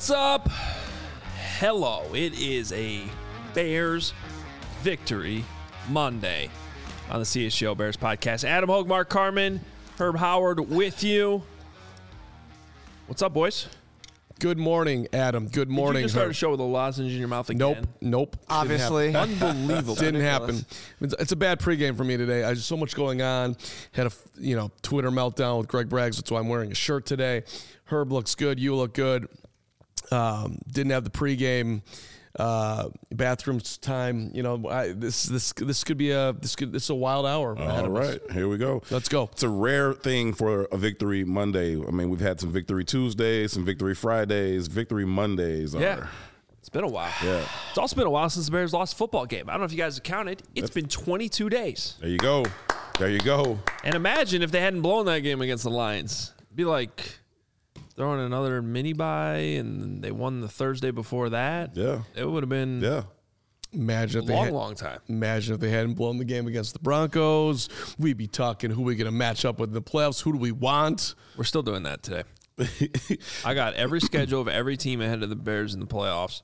What's up? Hello. It is a Bears Victory Monday on the CHGO Bears podcast. Adam Hogue, Mark Carman, Herb Howard with you. What's up, boys? Good morning, Adam. Good morning. Did you just start a show with a lozenge in your mouth again? Nope. Obviously. Unbelievable. Didn't happen. It's a bad pregame for me today. I just so much going on. Had a Twitter meltdown with Greg Braggs. That's why I'm wearing a shirt today. Herb looks good. You look good. Didn't have the pregame bathrooms time. This could be a wild hour. All right, here we go. Let's go. It's a rare thing for a Victory Monday. I mean, we've had some Victory Tuesdays, some Victory Fridays, Victory Mondays. Yeah. It's been a while. Yeah. It's also been a while since the Bears lost a football game. I don't know if you guys have counted. It's been 22 days. There you go. And imagine if they hadn't blown that game against the Lions. It'd be like throwing another mini bye, and they won the Thursday before that. Yeah. It would have been Imagine a if long time. Imagine if they hadn't blown the game against the Broncos. We'd be talking who we going to match up with in the playoffs. Who do we want? We're still doing that today. I got every schedule of every team ahead of the Bears in the playoffs,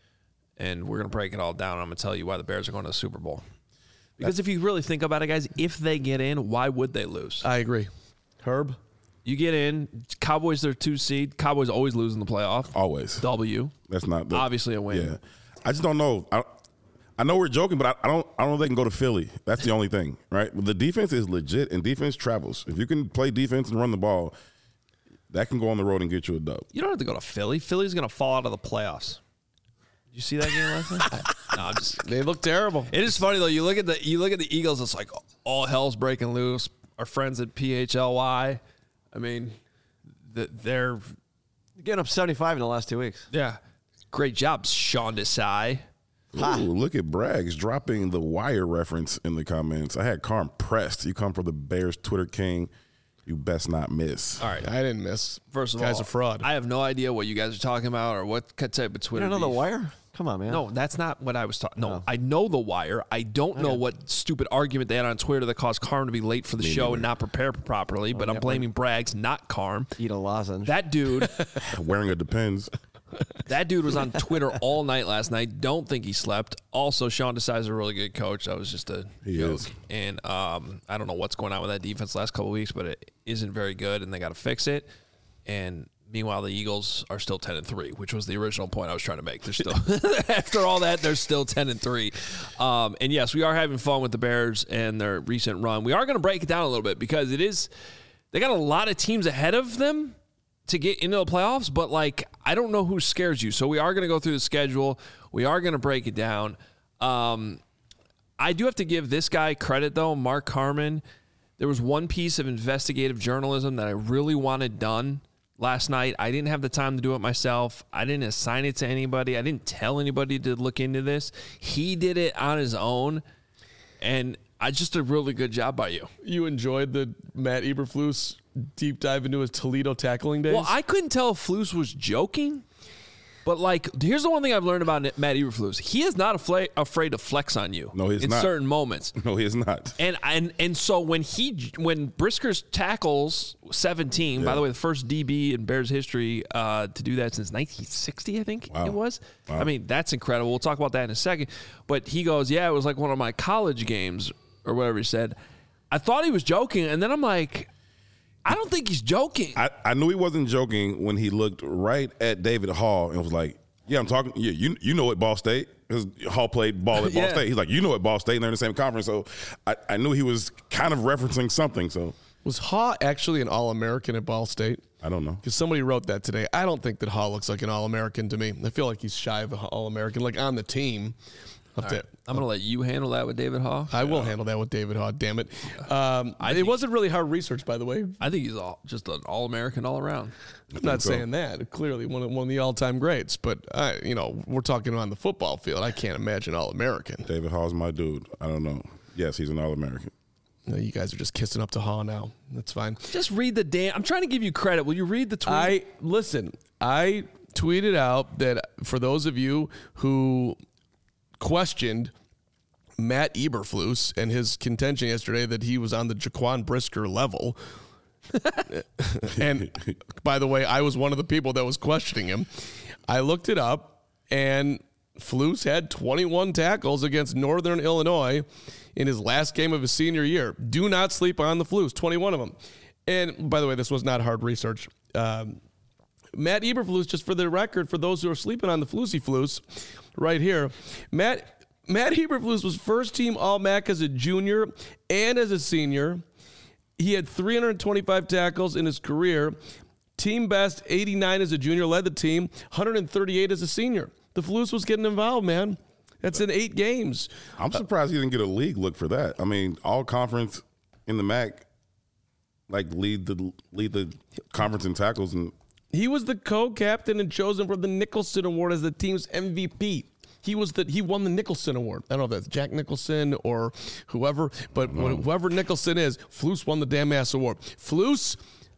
and we're going to break it all down. I'm going to tell you why the Bears are going to the Super Bowl. Because if you really think about it, guys, if they get in, why would they lose? I agree. Herb? You get in, Cowboys, they're 2 seed. Cowboys always lose in the playoff. Always. W. That's not obviously a win. Yeah. I just don't know. I know we're joking, but I don't know if they can go to Philly. That's the only thing, right? The defense is legit, and defense travels. If you can play defense and run the ball, that can go on the road and get you a dub. You don't have to go to Philly. Philly's going to fall out of the playoffs. Did you see that game last night? No, they look terrible. It is funny though. You look at the Eagles. It's like all hell's breaking loose. Our friends at PHLY. I mean, they're getting up 75 in the last 2 weeks. Yeah, great job, Sean Desai. Ooh, look at Braggs dropping the Wire reference in the comments. I had Carm pressed. You come for the Bears Twitter king. You best not miss. All right. I didn't miss. First of all, guy's a fraud. I have no idea what you guys are talking about or what type of Twitter. You don't know beef. The Wire? Come on, man. No, that's not what I was talking. No, I know The Wire. I don't know what stupid argument they had on Twitter that caused Carm to be late for the show and not prepare properly, but I'm blaming Braggs, not Carm. Eat a lozenge. That dude. Wearing a Depends. That dude was on Twitter all night last night. Don't think he slept. Also, Sean Desai is a really good coach. That was just a joke. And I don't know what's going on with that defense the last couple of weeks, but it isn't very good, and they got to fix it. And meanwhile, the Eagles are still 10-3, which was the original point I was trying to make. They're still after all that, they're still 10-3. And yes, we are having fun with the Bears and their recent run. We are going to break it down a little bit because they got a lot of teams ahead of them to get into the playoffs, but I don't know who scares you. So we are going to go through the schedule. We are going to break it down. I do have to give this guy credit though, Mark Carman. There was one piece of investigative journalism that I really wanted done last night. I didn't have the time to do it myself. I didn't assign it to anybody. I didn't tell anybody to look into this. He did it on his own, and I just did a really good job by you. You enjoyed the Matt Eberflus deep dive into his Toledo tackling days? Well, I couldn't tell if Flus was joking, but here's the one thing I've learned about Matt Eberflus. He is not afraid to flex on you. No, he's not. In certain moments. No, he is not. And so when Brisker's tackles 17, by the way, the first DB in Bears history to do that since 1960, I think it was. Wow. I mean, that's incredible. We'll talk about that in a second. But he goes, it was like one of my college games or whatever he said. I thought he was joking, and then I'm like, I don't think he's joking. I knew he wasn't joking when he looked right at David Hall and was like, yeah, I'm talking. Yeah, you know at Ball State. Because Hall played ball at Ball State. He's like, you know at Ball State, and they're in the same conference. So I knew he was kind of referencing something. So was Hall actually an All-American at Ball State? I don't know. Because somebody wrote that today. I don't think that Hall looks like an All-American to me. I feel like he's shy of an All-American, like on the team. I'm going to let you handle that with David Haw. I will handle that with David Haw, damn it. It wasn't really hard research, by the way. I think he's just an All-American all around. I'm not saying that. Clearly one of the all-time greats. But, we're talking on the football field. I can't imagine All-American. David Haw's my dude. I don't know. Yes, he's an All-American. No, you guys are just kissing up to Haw now. That's fine. Just read the damn. I'm trying to give you credit. Will you read the tweet? I tweeted out that for those of you who questioned Matt Eberflus and his contention yesterday that he was on the Jaquan Brisker level. And by the way, I was one of the people that was questioning him. I looked it up, and Flus had 21 tackles against Northern Illinois in his last game of his senior year. Do not sleep on the Flus, 21 of them. And by the way, this was not hard research. Matt Eberflus, just for the record, for those who are sleeping on the Flusy Flus, right here, Matt Eberflus was first team All-MAC as a junior and as a senior. He had 325 tackles in his career. Team best 89 as a junior, led the team, 138 as a senior. The Flus was getting involved, man. That's in 8 games. I'm surprised he didn't get a league look for that. I mean, all conference in the MAC, like lead the conference in tackles, and he was the co-captain and chosen for the Nicholson Award as the team's MVP. He won the Nicholson Award. I don't know if that's Jack Nicholson or whoever, but whoever Nicholson is, Flus won the damn ass award. Flus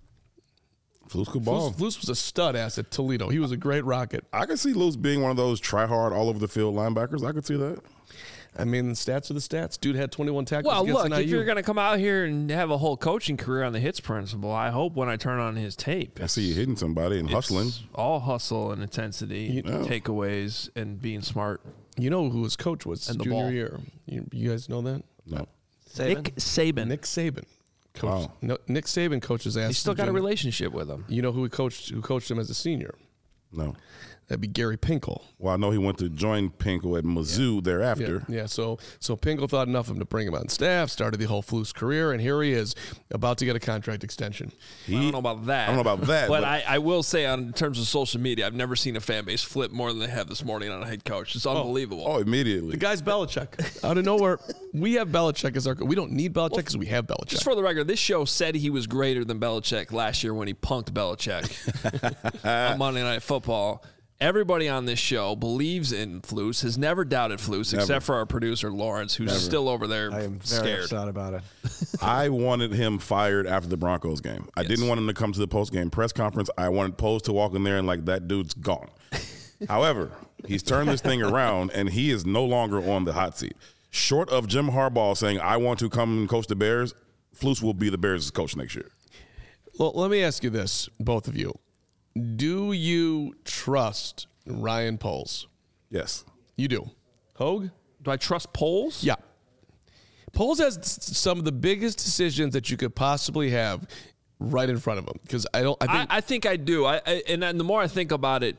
could ball. Flus was a stud ass at Toledo. He was a great rocket. I could see Luz being one of those try hard all over the field linebackers. I could see that. I mean, the stats are the stats. Dude had 21 tackles. Well, against look, NIU. if you're going to come out here and have a whole coaching career on the hits principle, I hope when I turn on his tape, I see you hitting somebody and hustling. All hustle and intensity, takeaways, and being smart. You know who his coach was And the junior ball. year? You guys know that? No. Nick Saban. Nick Saban. Coach. Wow. No, Nick Saban coaches ass. He's still got a relationship with him. You know who coached him as a senior? No. That'd be Gary Pinkel. Well, I know he went to join Pinkel at Mizzou thereafter. Yeah. So Pinkel thought enough of him to bring him on staff, started the whole Flus career, and here he is, about to get a contract extension. I don't know about that. I don't know about that, But but- I will say, in terms of social media, I've never seen a fan base flip more than they have this morning on a head coach. It's unbelievable. Oh, immediately. The guy's Belichick. Out of nowhere, we have Belichick as our. We don't need Belichick because we have Belichick. Just for the record, this show said he was greater than Belichick last year when he punked Belichick on Monday Night Football. Everybody on this show believes in Flus, has never doubted Flus, except for our producer, Lawrence, who's still over there I am very scared. upset about it. I wanted him fired after the Broncos game. I didn't want him to come to the post-game press conference. I wanted Poles to walk in there and that dude's gone. However, he's turned this thing around, and he is no longer on the hot seat. Short of Jim Harbaugh saying, I want to come and coach the Bears, Flus will be the Bears' coach next year. Well, let me ask you this, both of you. Do you trust Ryan Poles? Yes. You do. Hogue? Do I trust polls? Yeah. Poles has some of the biggest decisions that you could possibly have right in front of him. Because I think I do. And the more I think about it,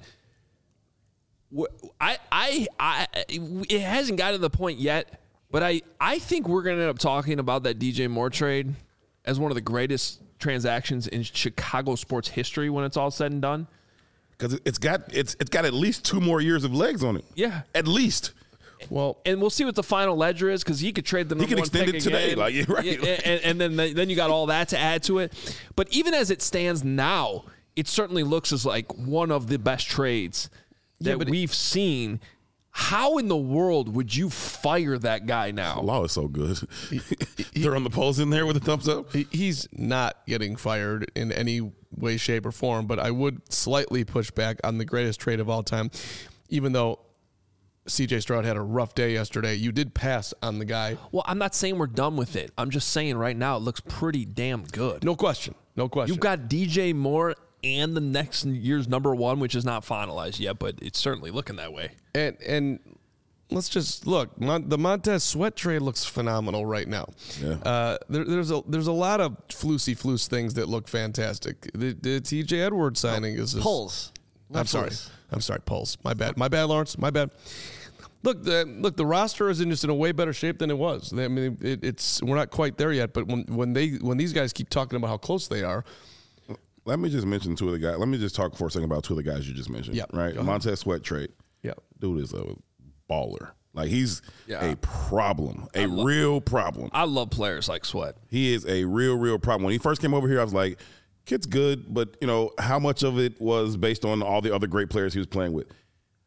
it hasn't gotten to the point yet, but I think we're going to end up talking about that DJ Moore trade as one of the greatest transactions in Chicago sports history when it's all said and done. Because it's got at least 2 more years of legs on it. Yeah. At least. Well, and we'll see what the final ledger is because he could trade the number one extend pick it today, again. like, yeah, right. And then you got all that to add to it. But even as it stands now, it certainly looks as like one of the best trades that we've seen. How in the world would you fire that guy now? Law is so good. Throwing the Poles in there with a thumbs up. he's not getting fired in any way, shape, or form, but I would slightly push back on the greatest trade of all time. Even though C.J. Stroud had a rough day yesterday, you did pass on the guy. Well, I'm not saying we're done with it. I'm just saying right now it looks pretty damn good. No question. No question. You've got DJ Moore and the next year's number one, which is not finalized yet, but it's certainly looking that way. And let's just look. The Montez Sweat trade looks phenomenal right now. Yeah. There's a lot of flus things that look fantastic. The T.J. Edwards signing is just, Pulls. I'm sorry, Pulse. My bad, Lawrence. My bad. Look, the roster is just in a way better shape than it was. I mean, we're not quite there yet. But when these guys keep talking about how close they are. Let me just mention 2 of the guys. Let me just talk for a second about 2 of the guys you just mentioned. Yeah, Right? go ahead. Montez Sweat trade. Yeah. Dude is a baller. Like, he's Yeah. a problem. Real problem. I love players like Sweat. He is a real problem. When he first came over here, I was like, kid's good, but, how much of it was based on all the other great players he was playing with?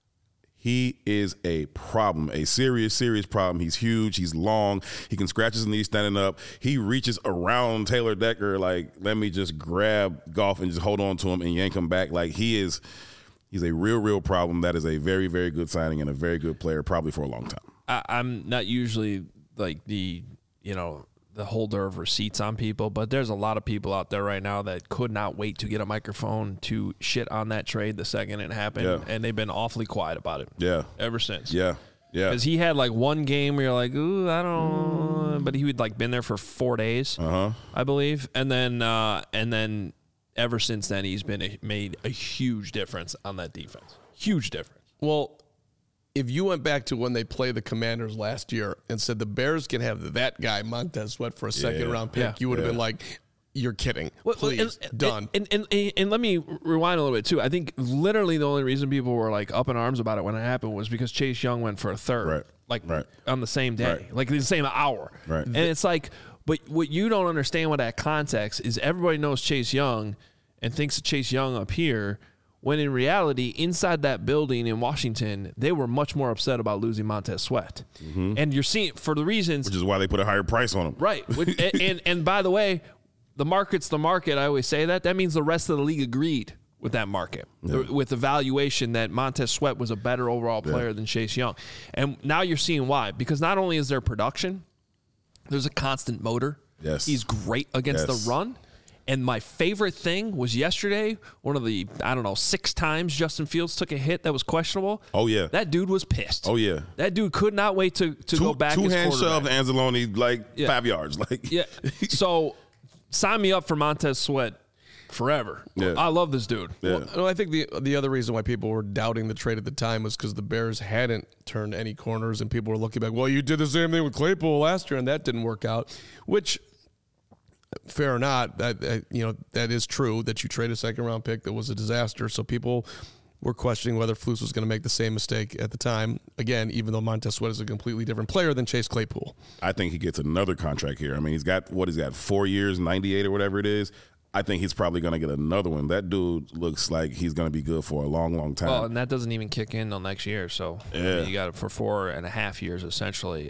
He is a problem, a serious problem. He's huge. He's long. He can scratch his knees standing up. He reaches around Taylor Decker like, let me just grab Goff and just hold on to him and yank him back. Like, he's a real problem. That is a very, very good signing and a very good player, probably for a long time. I'm not usually like the the holder of receipts on people, but there's a lot of people out there right now that could not wait to get a microphone to shit on that trade the second it happened, and they've been awfully quiet about it. Yeah. Ever since. Yeah. Yeah. Because he had like one game where you're like, ooh, I don't know. But he would like been there for 4 days, I believe. And then ever since then, he's been made a huge difference on that defense. Huge difference. Well, if you went back to when they played the Commanders last year and said the Bears can have that guy, Montez Sweat, for a second-round pick, you would have been like, you're kidding. Please, done. And let me rewind a little bit, too. I think literally the only reason people were, like, up in arms about it when it happened was because Chase Young went for a third. On the same day. Like, the same hour. Right. And it's like, but what you don't understand with that context is everybody knows Chase Young and thinks of Chase Young up here, when in reality, inside that building in Washington, they were much more upset about losing Montez Sweat. And you're seeing, for the reasons... Which is why they put a higher price on him. Right. and by the way, the market's the market. I always say that. That means the rest of the league agreed with that market, with the valuation that Montez Sweat was a better overall player than Chase Young. And now you're seeing why. Because not only is there production, there's a constant motor. Yes. He's great against the run. And my favorite thing was yesterday, one of the, 6 times Justin Fields took a hit that was questionable. Oh, yeah. That dude was pissed. Oh, yeah. That dude could not wait to go back as Two-hand shove quarterback. Anzalone, 5 yards. Yeah. So sign me up for Montez Sweat forever. Yeah. I love this dude. Yeah. Well, I think the other reason why people were doubting the trade at the time was because the Bears hadn't turned any corners, and people were looking back, well, you did the same thing with Claypool last year, and that didn't work out, which... Fair or not, that is true that you trade a second-round pick that was a disaster. So people were questioning whether Flus was going to make the same mistake at the time. Again, even though Montez Sweat is a completely different player than Chase Claypool. I think he gets another contract here. I mean, he's got 4 years, 98 or whatever it is. I think he's probably going to get another one. That dude looks like he's going to be good for a long, long time. Well, and that doesn't even kick in until next year. So you got it for 4.5 years, essentially.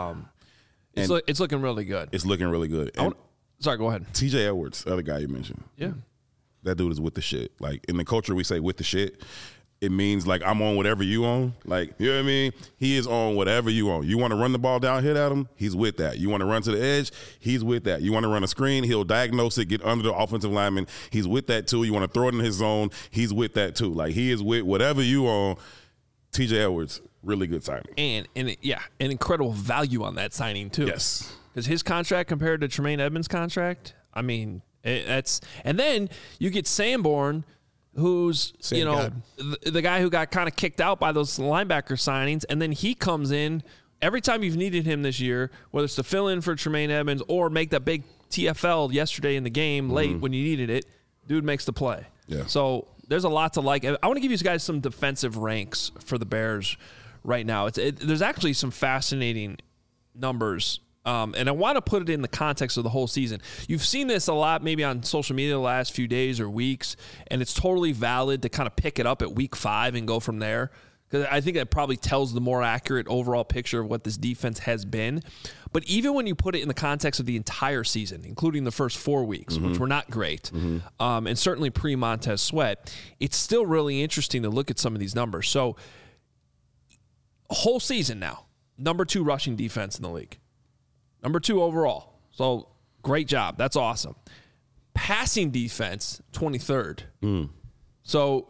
It's looking really good. It's looking really good. Sorry, go ahead. TJ Edwards, the other guy you mentioned. Yeah. That dude is with the shit. Like, in the culture, we say with the shit. It means, like, I'm on whatever you on. Like, you know what I mean? He is on whatever you on. You want to run the ball down, hit at him? He's with that. You want to run to the edge? He's with that. You want to run a screen? He'll diagnose it, get under the offensive lineman. He's with that, too. You want to throw it in his zone? He's with that, too. Like, he is with whatever you on. TJ Edwards, really good signing. And an incredible value on that signing, too. Yes. Because his contract compared to Tremaine Edmonds' contract, I mean, that's... And then you get Sanborn, who's, the guy who got kind of kicked out by those linebacker signings, and then he comes in every time you've needed him this year, whether it's to fill in for Tremaine Edmonds or make that big TFL yesterday in the game late when you needed it, dude makes the play. Yeah. So there's a lot to like. I want to give you guys some defensive ranks for the Bears right now. There's actually some fascinating numbers. And I want to put it in the context of the whole season. You've seen this a lot maybe on social media the last few days or weeks, and it's totally valid to kind of pick it up at week 5 and go from there, because I think that probably tells the more accurate overall picture of what this defense has been. But even when you put it in the context of the entire season, including the first 4 weeks, which were not great, and certainly pre-Montez Sweat, it's still really interesting to look at some of these numbers. So, whole season now, number 2 rushing defense in the league. Number 2 overall. So, great job. That's awesome. Passing defense, 23rd. So,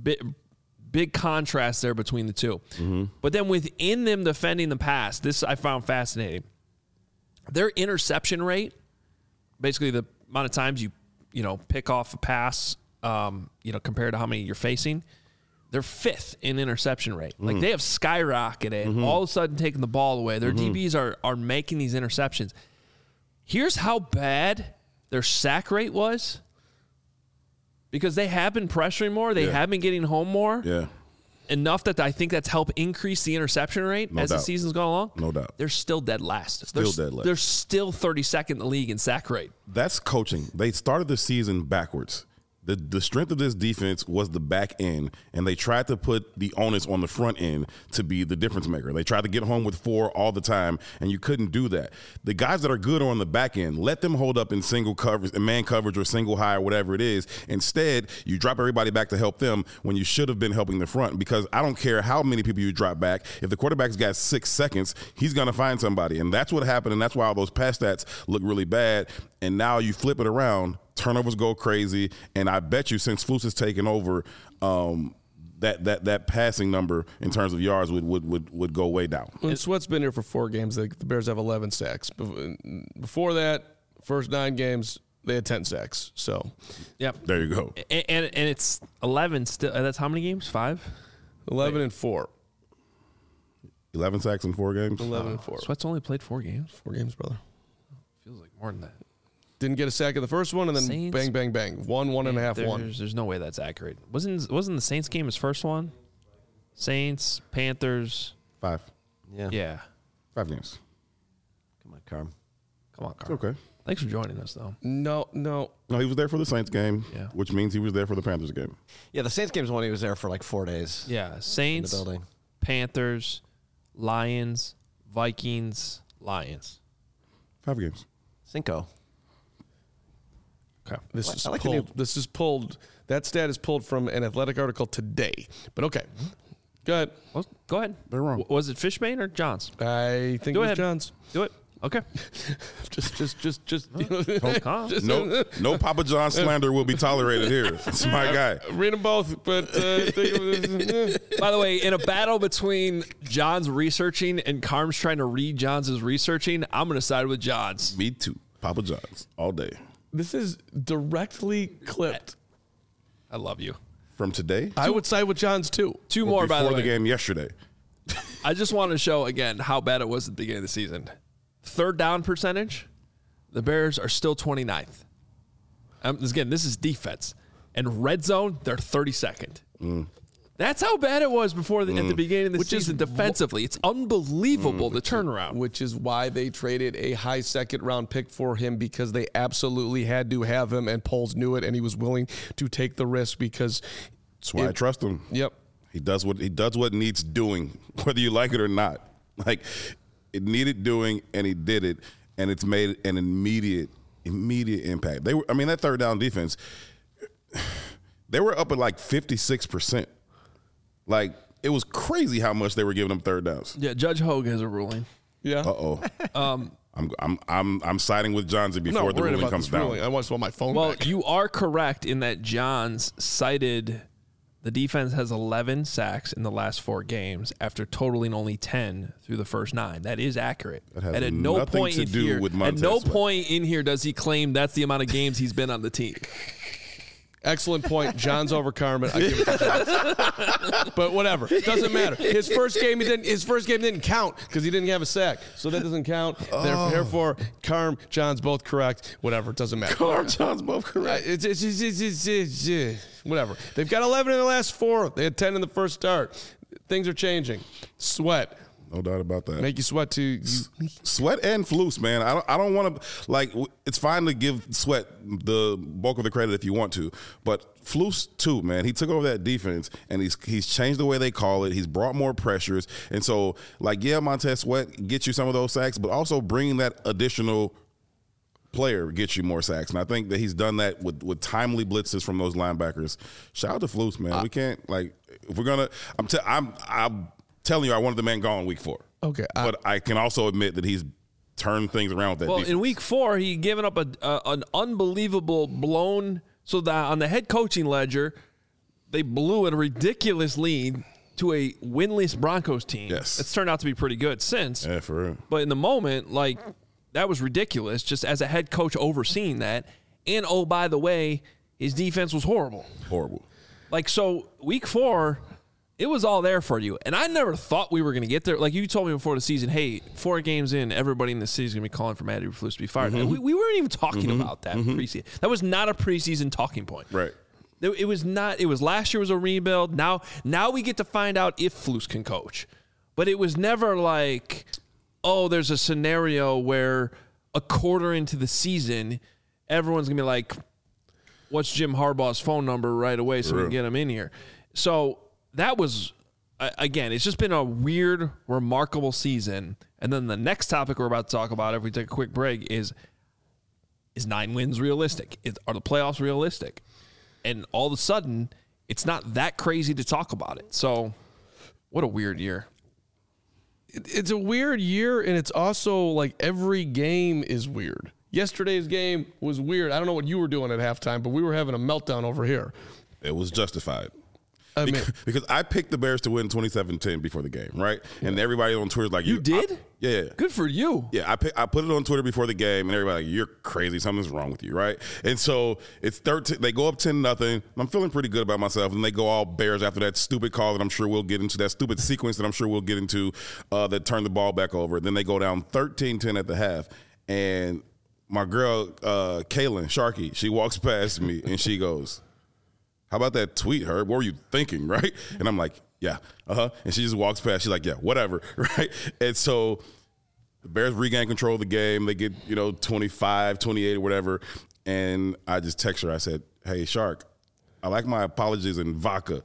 big contrast there between the two. But then within them defending the pass, this I found fascinating. Their interception rate, basically the amount of times you pick off a pass, compared to how many you're facing, they're 5th in interception rate. Like, they have skyrocketed, all of a sudden taking the ball away. Their DBs are making these interceptions. Here's how bad their sack rate was, because they have been pressuring more. They have been getting home more. Yeah. Enough that I think that's helped increase the interception rate as the season's gone along. No doubt. They're still dead last. Dead last. They're still 32nd in the league in sack rate. That's coaching. They started the season backwards. The strength of this defense was the back end, and they tried to put the onus on the front end to be the difference maker. They tried to get home with 4 all the time, and you couldn't do that. The guys that are good on the back end, let them hold up in single coverage, in man coverage or single high or whatever it is. Instead, you drop everybody back to help them when you should have been helping the front, because I don't care how many people you drop back. If the quarterback's got 6 seconds, he's going to find somebody, and that's what happened, and that's why all those pass stats look really bad. And now you flip it around, turnovers go crazy, and I bet you since Flus has taken over, that passing number in terms of yards would go way down. When Sweat's been here for 4 games, the Bears have 11 sacks. Before that, first 9 games, they had 10 sacks. So, Yep. There you go. And it's 11 still. That's how many games? 5? 11 and 4. 11 sacks in 4 games. 11 and 4. Sweat's only played 4 games. 4 games, brother. Feels like more than that. Didn't get a sack in the first one, and then Saints, bang, bang, bang. 1.5, 1. There's no way that's accurate. Wasn't the Saints game his first one? Saints, Panthers. 5. Yeah. 5 games. Come on, Carm. Come on, Carl. Okay. Thanks for joining us, though. No. No, he was there for the Saints game, Yeah. which means he was there for the Panthers game. Yeah, the Saints game's one he was there for like 4 days. Yeah. In the Saints, building. Panthers, Lions, Vikings, Lions. 5 games. Cinco. Okay. This is I like the pulled. new- This is pulled. That stat is pulled from an Athletic article today. But okay. Go ahead. Well, go ahead. They're wrong. Was it Fishbane or Johns? I think Go it was ahead. John's. Do it. Okay. Just Calm. No Papa John slander will be tolerated here. It's my guy. read them both, but think of By the way, in a battle between John's researching and Carm's trying to read John's researching, I'm going to side with John's. Me too. Papa John's all day. this is directly clipped. I love you. From today. I would side with John's too. 2 more, by the before way. the game yesterday. I just want to show again how bad it was at the beginning of the season. 3rd down percentage, the Bears are still 29th. This is defense. And red zone, they're 32nd. That's how bad it was before at the beginning of the season defensively. It's unbelievable, the turnaround. Which is why they traded a high 2nd round pick for him, because they absolutely had to have him, and Poles knew it, and he was willing to take the risk because. That's why I trust him. Yep. He does what needs doing, whether you like it or not. Like, it needed doing, and he did it, and it's made an immediate impact. That 3rd down defense, they were up at like 56%. Like, it was crazy how much they were giving them 3rd downs. Yeah, Judge Hogue has a ruling. Yeah. I'm siding with Johnsy before the ruling comes down. I want my phone Well, back. you are correct in that Johns cited the defense has 11 sacks in the last 4 games after totaling only 10 through the first 9. That is accurate. That has and at no nothing point to in do here, with at Montez no Sweat. point in here does he claim that's the amount of games he's been on the team. Excellent point. John's over Carmen. I give it to John. But whatever. Doesn't matter. His first game didn't count because he didn't have a sack. So that doesn't count. Therefore, Carm, John's both correct. Whatever. It doesn't matter. John's both correct. Whatever. They've got 11 in the last 4. They had 10 in the first start. Things are changing. Sweat. No doubt about that. Make you sweat too. Sweat and Flus, man. I don't want to, like, it's fine to give Sweat the bulk of the credit if you want to, but Flus too, man. He took over that defense, and he's changed the way they call it. He's brought more pressures, and so, like, yeah, Montez Sweat gets you some of those sacks, but also bringing that additional player gets you more sacks, and I think that he's done that with timely blitzes from those linebackers. Shout out to Flus, man. We can't, like, if we're gonna, I'm telling you, I wanted the man gone week 4. Okay. But I can also admit that he's turned things around with that Well, defense. in week 4, he given up an unbelievable blown. So that on the head coaching ledger, they blew a ridiculous lead to a winless Broncos team. Yes. It's turned out to be pretty good since. Yeah, for real. But in the moment, like, that was ridiculous just as a head coach overseeing that. And, oh, by the way, his defense was horrible. Horrible. Like, so week 4, it was all there for you. And I never thought we were going to get there. Like, you told me before the season, hey, 4 games in, everybody in the city is going to be calling for Matt Eberflus to be fired. And we weren't even talking about that preseason. That was not a preseason talking point. Right. It was not. It was last year was a rebuild. Now we get to find out if Flus can coach. But it was never like, oh, there's a scenario where a quarter into the season, everyone's going to be like, what's Jim Harbaugh's phone number right away so we can get him in here. So that was, again, it's just been a weird, remarkable season. And then the next topic we're about to talk about, if we take a quick break, is 9 wins realistic? Are the playoffs realistic? And all of a sudden, it's not that crazy to talk about it. So what a weird year. It's a weird year, and it's also like every game is weird. Yesterday's game was weird. I don't know what you were doing at halftime, but we were having a meltdown over here. It was justified. I mean, because I picked the Bears to win 27-10 before the game, right? And everybody on Twitter is like, You did? Yeah. Good for you. Yeah, I put it on Twitter before the game, and everybody like, you're crazy. Something's wrong with you, right? And so it's 13. They go up 10-0. I'm feeling pretty good about myself, and they go all Bears after that stupid call that I'm sure we'll get into, that stupid sequence that I'm sure we'll get into that turned the ball back over. Then they go down 13-10 at the half, and my girl, Kaylin Sharkey, she walks past me, and she goes, how about that tweet, Herb? What were you thinking, right? And I'm like, yeah, And she just walks past. She's like, yeah, whatever, right? And so the Bears regain control of the game. They get, 25, 28 or whatever. And I just text her. I said, hey, Shark, I like my apologies in vodka.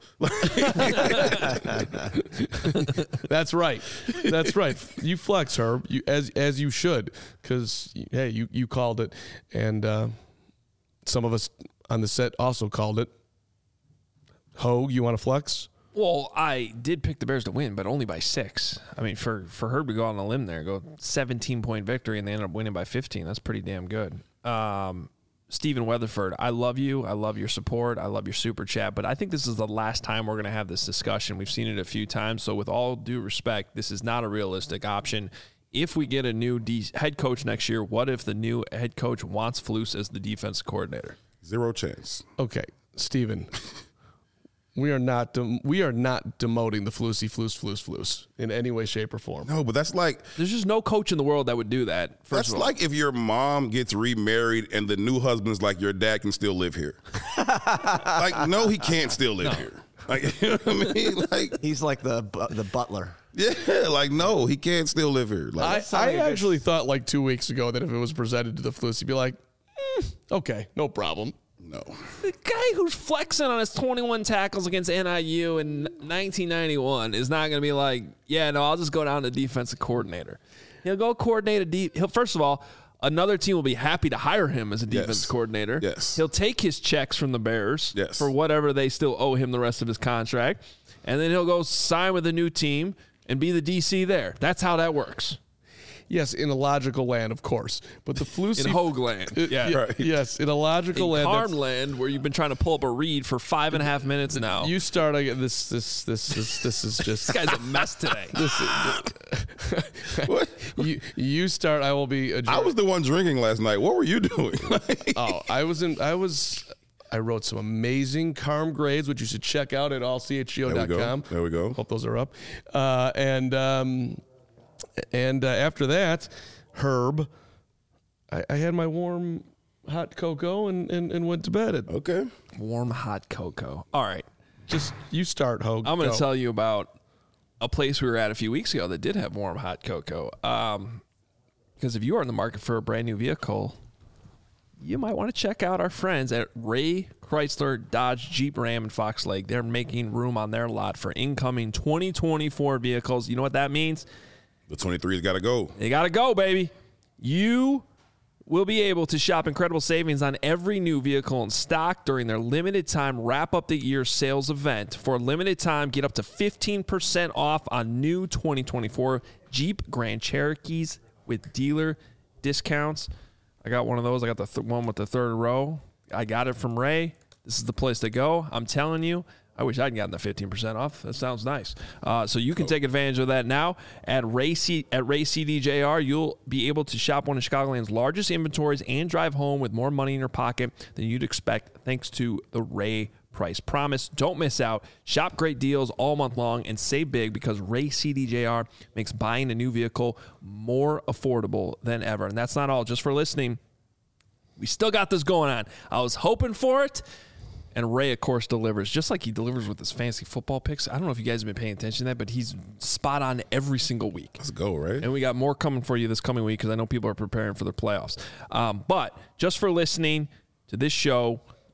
That's right. That's right. You flex, Herb, as you should, because, hey, you called it. And some of us on the set also called it. Hogue, you want to flex? Well, I did pick the Bears to win, but only by 6. I mean, for Herb to go on a limb there, go 17-point victory, and they ended up winning by 15. That's pretty damn good. Stephen Weatherford, I love you. I love your support. I love your super chat. But I think this is the last time we're going to have this discussion. We've seen it a few times. So with all due respect, this is not a realistic option. If we get a new head coach next year, what if the new head coach wants Flus as the defense coordinator? Zero chance. Okay, Stephen. We are not demoting the Flus in any way, shape, or form. No, but that's like... There's just no coach in the world that would do that. That's like if your mom gets remarried and the new husband's like, your dad can still live here. Like, no, he can't still live here. Like, you know what I mean? Like, he's like the butler. Yeah, like, no, he can't still live here. Like, I actually thought like 2 weeks ago that if it was presented to the Flus, he'd be like, okay, no problem. No. The guy who's flexing on his 21 tackles against NIU in 1991 is not going to be like, yeah, no, I'll just go down to defensive coordinator. He'll go coordinate first of all, another team will be happy to hire him as a defense coordinator. Yes. He'll take his checks from the Bears for whatever they still owe him the rest of his contract, and then he'll go sign with a new team and be the DC there. That's how that works. Yes, in a logical land, of course. But the Flus in Hogue land. Right. Yes, in a logical land. Carm land, where you've been trying to pull up a read for 5.5 minutes now. You start this is just this guy's a mess today. What? You start. I will be. I was the one drinking last night. What were you doing? I wrote some amazing Carm grades, which you should check out at allchgo.com. There we go. Hope those are up. And after that, Herb, I had my warm, hot cocoa and went to bed. Okay. Warm, hot cocoa. All right. Just you start, Hogue. I'm going to tell you about a place we were at a few weeks ago that did have warm, hot cocoa. Because if you are in the market for a brand new vehicle, you might want to check out our friends at Ray Chrysler Dodge Jeep Ram in Fox Lake. They're making room on their lot for incoming 2024 vehicles. You know what that means? The 23's got to go. They got to go, baby. You will be able to shop incredible savings on every new vehicle in stock during their limited time wrap up the year sales event. For a limited time, get up to 15% off on new 2024 Jeep Grand Cherokees with dealer discounts. I got one of those. I got the one with the third row. I got it from Ray. This is the place to go. I'm telling you. I wish I'd gotten the 15% off. That sounds nice. So you can take advantage of that now at Ray CDJR. You'll be able to shop one of Chicagoland's largest inventories and drive home with more money in your pocket than you'd expect thanks to the Ray Price Promise. Don't miss out. Shop great deals all month long and save big because Ray CDJR makes buying a new vehicle more affordable than ever. And that's not all. Just for listening, we still got this going on. I was hoping for it. And Ray, of course, delivers, just like he delivers with his fantasy football picks. I don't know if you guys have been paying attention to that, but he's spot on every single week. Let's go, right? And we got more coming for you this coming week because I know people are preparing for their playoffs. But just for listening to this show,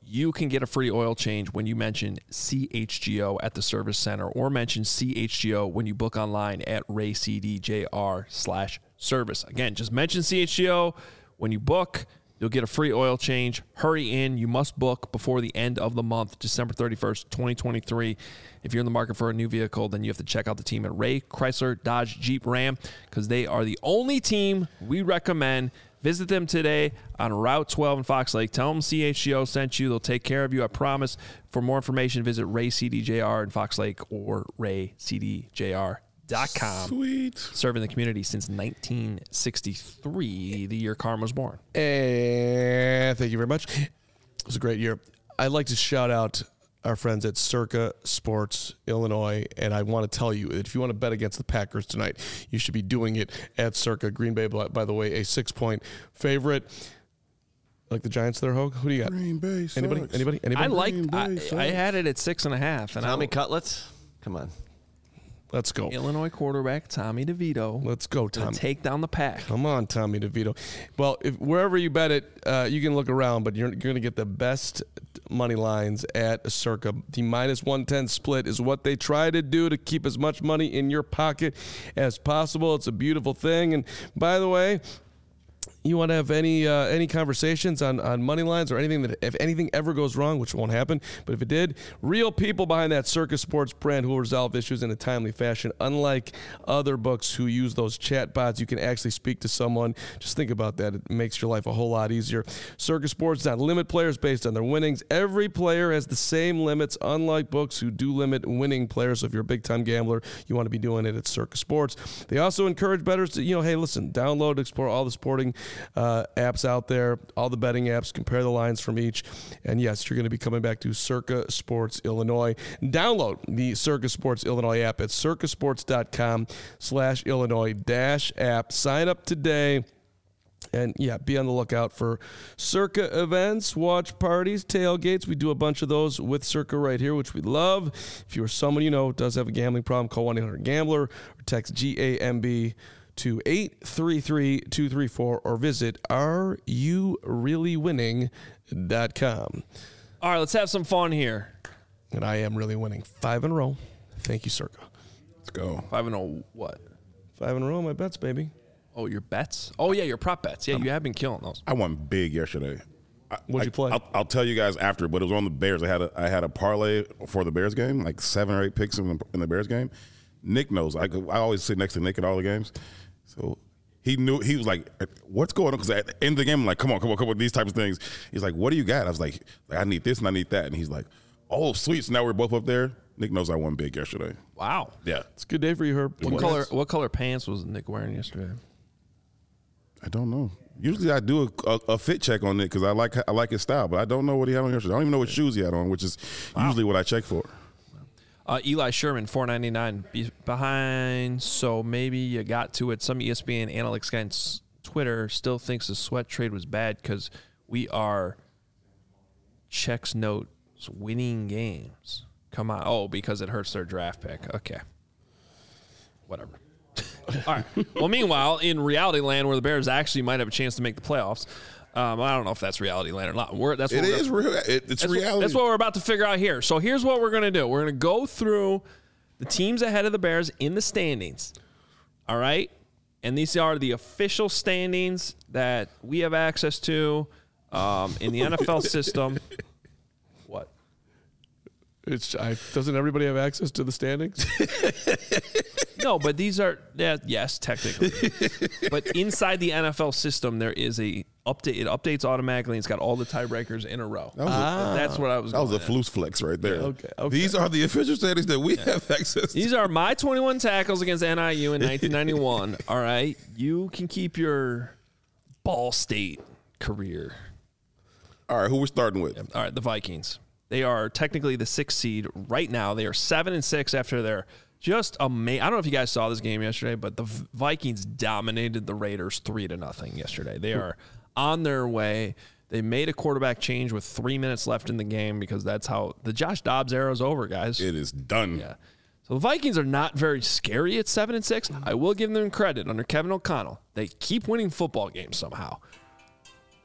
you can get a free oil change when you mention CHGO at the service center or mention CHGO when you book online at raycdjr/service. Again, just mention CHGO when you book. You'll get a free oil change. Hurry in. You must book before the end of the month, December 31st, 2023. If you're in the market for a new vehicle, then you have to check out the team at Ray Chrysler Dodge Jeep Ram because they are the only team we recommend. Visit them today on Route 12 in Fox Lake. Tell them CHGO sent you. They'll take care of you, I promise. For more information, visit RayCDJR in Fox Lake or RayCDJR.com. Sweet. Serving the community since 1963, the year Carm was born. And thank you very much. It was a great year. I'd like to shout out our friends at Circa Sports Illinois, and I want to tell you that if you want to bet against the Packers tonight, you should be doing it at Circa. Green Bay, by the way, a 6-point favorite. Like the Giants there, Hogue? Who do you got? Green Bay sucks. Anybody? I had it at 6.5. And Tommy Cutlets? Come on. Let's go. Illinois quarterback Tommy DeVito. Let's go, Tommy. Take down the Pack. Come on, Tommy DeVito. Well, wherever you bet it, you can look around, but you're going to get the best money lines at Circa. The -110 split is what they try to do to keep as much money in your pocket as possible. It's a beautiful thing. And by the way, you want to have any conversations on money lines or anything that if anything ever goes wrong, which won't happen, but if it did, real people behind that Circa Sports brand who will resolve issues in a timely fashion. Unlike other books who use those chat bots, you can actually speak to someone. Just think about that. It makes your life a whole lot easier. Circa Sports does not limit players based on their winnings. Every player has the same limits, unlike books who do limit winning players. So if you're a big-time gambler, you want to be doing it at Circa Sports. They also encourage bettors to, hey, listen, download, explore all the sporting apps out there, all the betting apps, compare the lines from each. And yes, you're going to be coming back to Circa Sports Illinois. Download the Circa Sports Illinois app at circasports.com/Illinois-app. Sign up today. And yeah, be on the lookout for Circa events, watch parties, tailgates. We do a bunch of those with Circa right here, which we love. If you are someone you know does have a gambling problem, call 1-800-GAMBLER or text GAMB to 833-234 or visit areyoureallywinning.com. All right, let's have some fun here. And I am really winning 5 in a row. Thank you, Circa. Let's go. 5-0 what? 5 in a row, my bets, baby. Oh, your bets? Oh, yeah, your prop bets. Yeah, you have been killing those. I won big yesterday. What'd you play? I'll tell you guys after, but it was on the Bears. I had a parlay for the Bears game, like 7 or 8 picks in the Bears game. Nick knows. I always sit next to Nick at all the games. So he knew, he was like, what's going on? Because at the end of the game, I'm like, come on, these types of things. He's like, what do you got? I was like, I need this and I need that. And he's like, oh, sweet. So now we're both up there. Nick knows I won big yesterday. Wow. Yeah. It's a good day for you, Herb. What color pants was Nick wearing yesterday? I don't know. Usually I do a fit check on Nick because I like his style, but I don't know what he had on yesterday. I don't even know what shoes he had on, which is usually what I check for. Eli Sherman, $4.99 behind, so maybe you got to it. Some ESPN analytics guy on Twitter still thinks the Sweat trade was bad because we are checks notes winning games. Come on. Oh, because it hurts their draft pick. Okay. Whatever. All right. Well, meanwhile, in reality land where the Bears actually might have a chance to make the playoffs, I don't know if that's reality land or not. It's reality. That's what we're about to figure out here. So here's what we're going to do. We're going to go through the teams ahead of the Bears in the standings. All right? And these are the official standings that we have access to in the NFL system. What? Doesn't everybody have access to the standings? No, but these are yes, technically. But inside the NFL system, there is a update. It updates automatically. It's got all the tiebreakers in a row. That's what I was. That was a flus flex right there. Okay. These are the official standings that we have access to. These are my 21 tackles against NIU in 1991. All right, you can keep your Ball State career. All right, who we're starting with? All right, the Vikings. They are technically the 6th seed right now. They are 7-6 after their just amazing. I don't know if you guys saw this game yesterday, but the Vikings dominated the Raiders 3-0 yesterday. They are on their way. They made a quarterback change with 3 minutes left in the game because that's how the Josh Dobbs era is over, guys. It is done. Yeah. So the Vikings are not very scary at 7-6. I will give them credit under Kevin O'Connell. They keep winning football games somehow.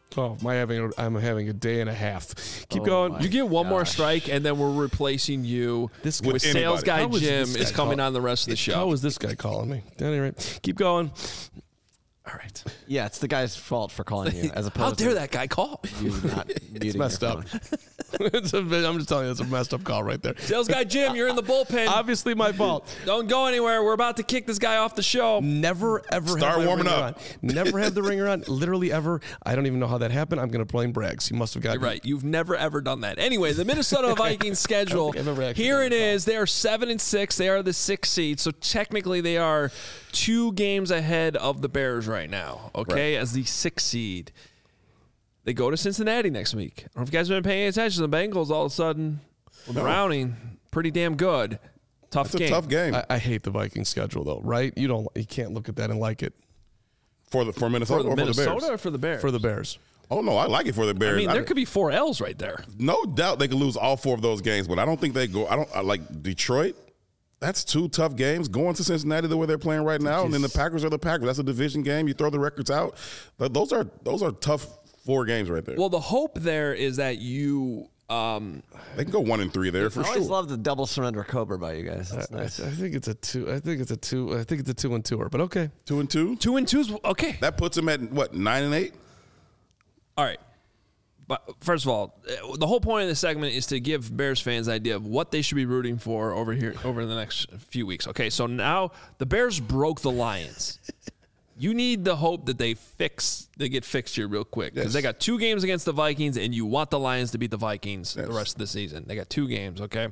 Oh, I'm having a day and a half. Keep going. You get one more strike, and then we're replacing you with sales guy How is Jim this is guy coming call- on the rest of the show. How is this guy calling me? At any rate, keep going. All right. Yeah, it's the guy's fault for calling you, as opposed How dare to that guy call? you not muting It's messed your up. phone. I'm just telling you, it's a messed up call right there. Sales guy Jim, you're in the bullpen. Obviously, my fault. Don't go anywhere. We're about to kick this guy off the show. Never ever Start have my warming ringer up. on. Never have the ringer on. Literally ever. I don't even know how that happened. I'm going to blame Braggs. He must have gotten You're right. You've never ever done that. Anyway, the Minnesota Vikings schedule. think I've ever actually Here done it is. They are 7-6. They are the 6th seed. So technically, they are 2 games ahead of the Bears right now. Okay, as the 6th seed. They go to Cincinnati next week. I don't know if you guys have been paying attention. The Bengals all of a sudden were Browning pretty damn good. Tough It's game. a tough game I hate the Vikings schedule though, right? You can't look at that and like it for Minnesota For or for the Minnesota Bears. or for the Bears? for the Bears. Oh no, I like it for the Bears. I mean, there could be 4 L's right there. No doubt they could lose all 4 of those games, but I don't think they go. I like Detroit. That's 2 tough games. Going to Cincinnati the way they're playing right now, and then the Packers are the Packers. That's a division game. You throw the records out. Those are tough 4 games right there. Well, the hope there is that you They can go 1-3 there for I always sure. love the double surrender Cobra by you guys. That's nice. I think it's a 2. I think it's a 2. I think it's a 2-2er, but okay. 2-2. 2-2's okay. That puts them at what 9-8. All right. But first of all, the whole point of this segment is to give Bears fans an idea of what they should be rooting for over the next few weeks. Okay, so now the Bears broke the Lions. You need the hope that they get fixed here real quick because Yes. they got 2 games against the Vikings, and you want the Lions to beat the Vikings the rest of the season. They got 2 games, okay?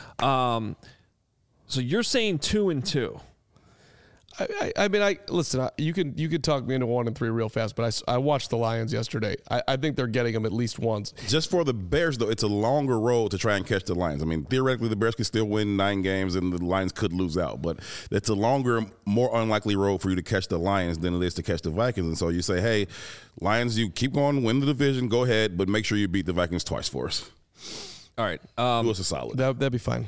So you're saying 2-2. I mean, listen. You could talk me into 1-3 real fast, but I watched the Lions yesterday. I think they're getting them at least once. Just for the Bears, though, it's a longer road to try and catch the Lions. I mean, theoretically, the Bears could still win 9 games and the Lions could lose out. But it's a longer, more unlikely road for you to catch the Lions than it is to catch the Vikings. And so you say, hey, Lions, you keep going, win the division, go ahead, but make sure you beat the Vikings twice for us. All right. Do us a solid. That'd be fine.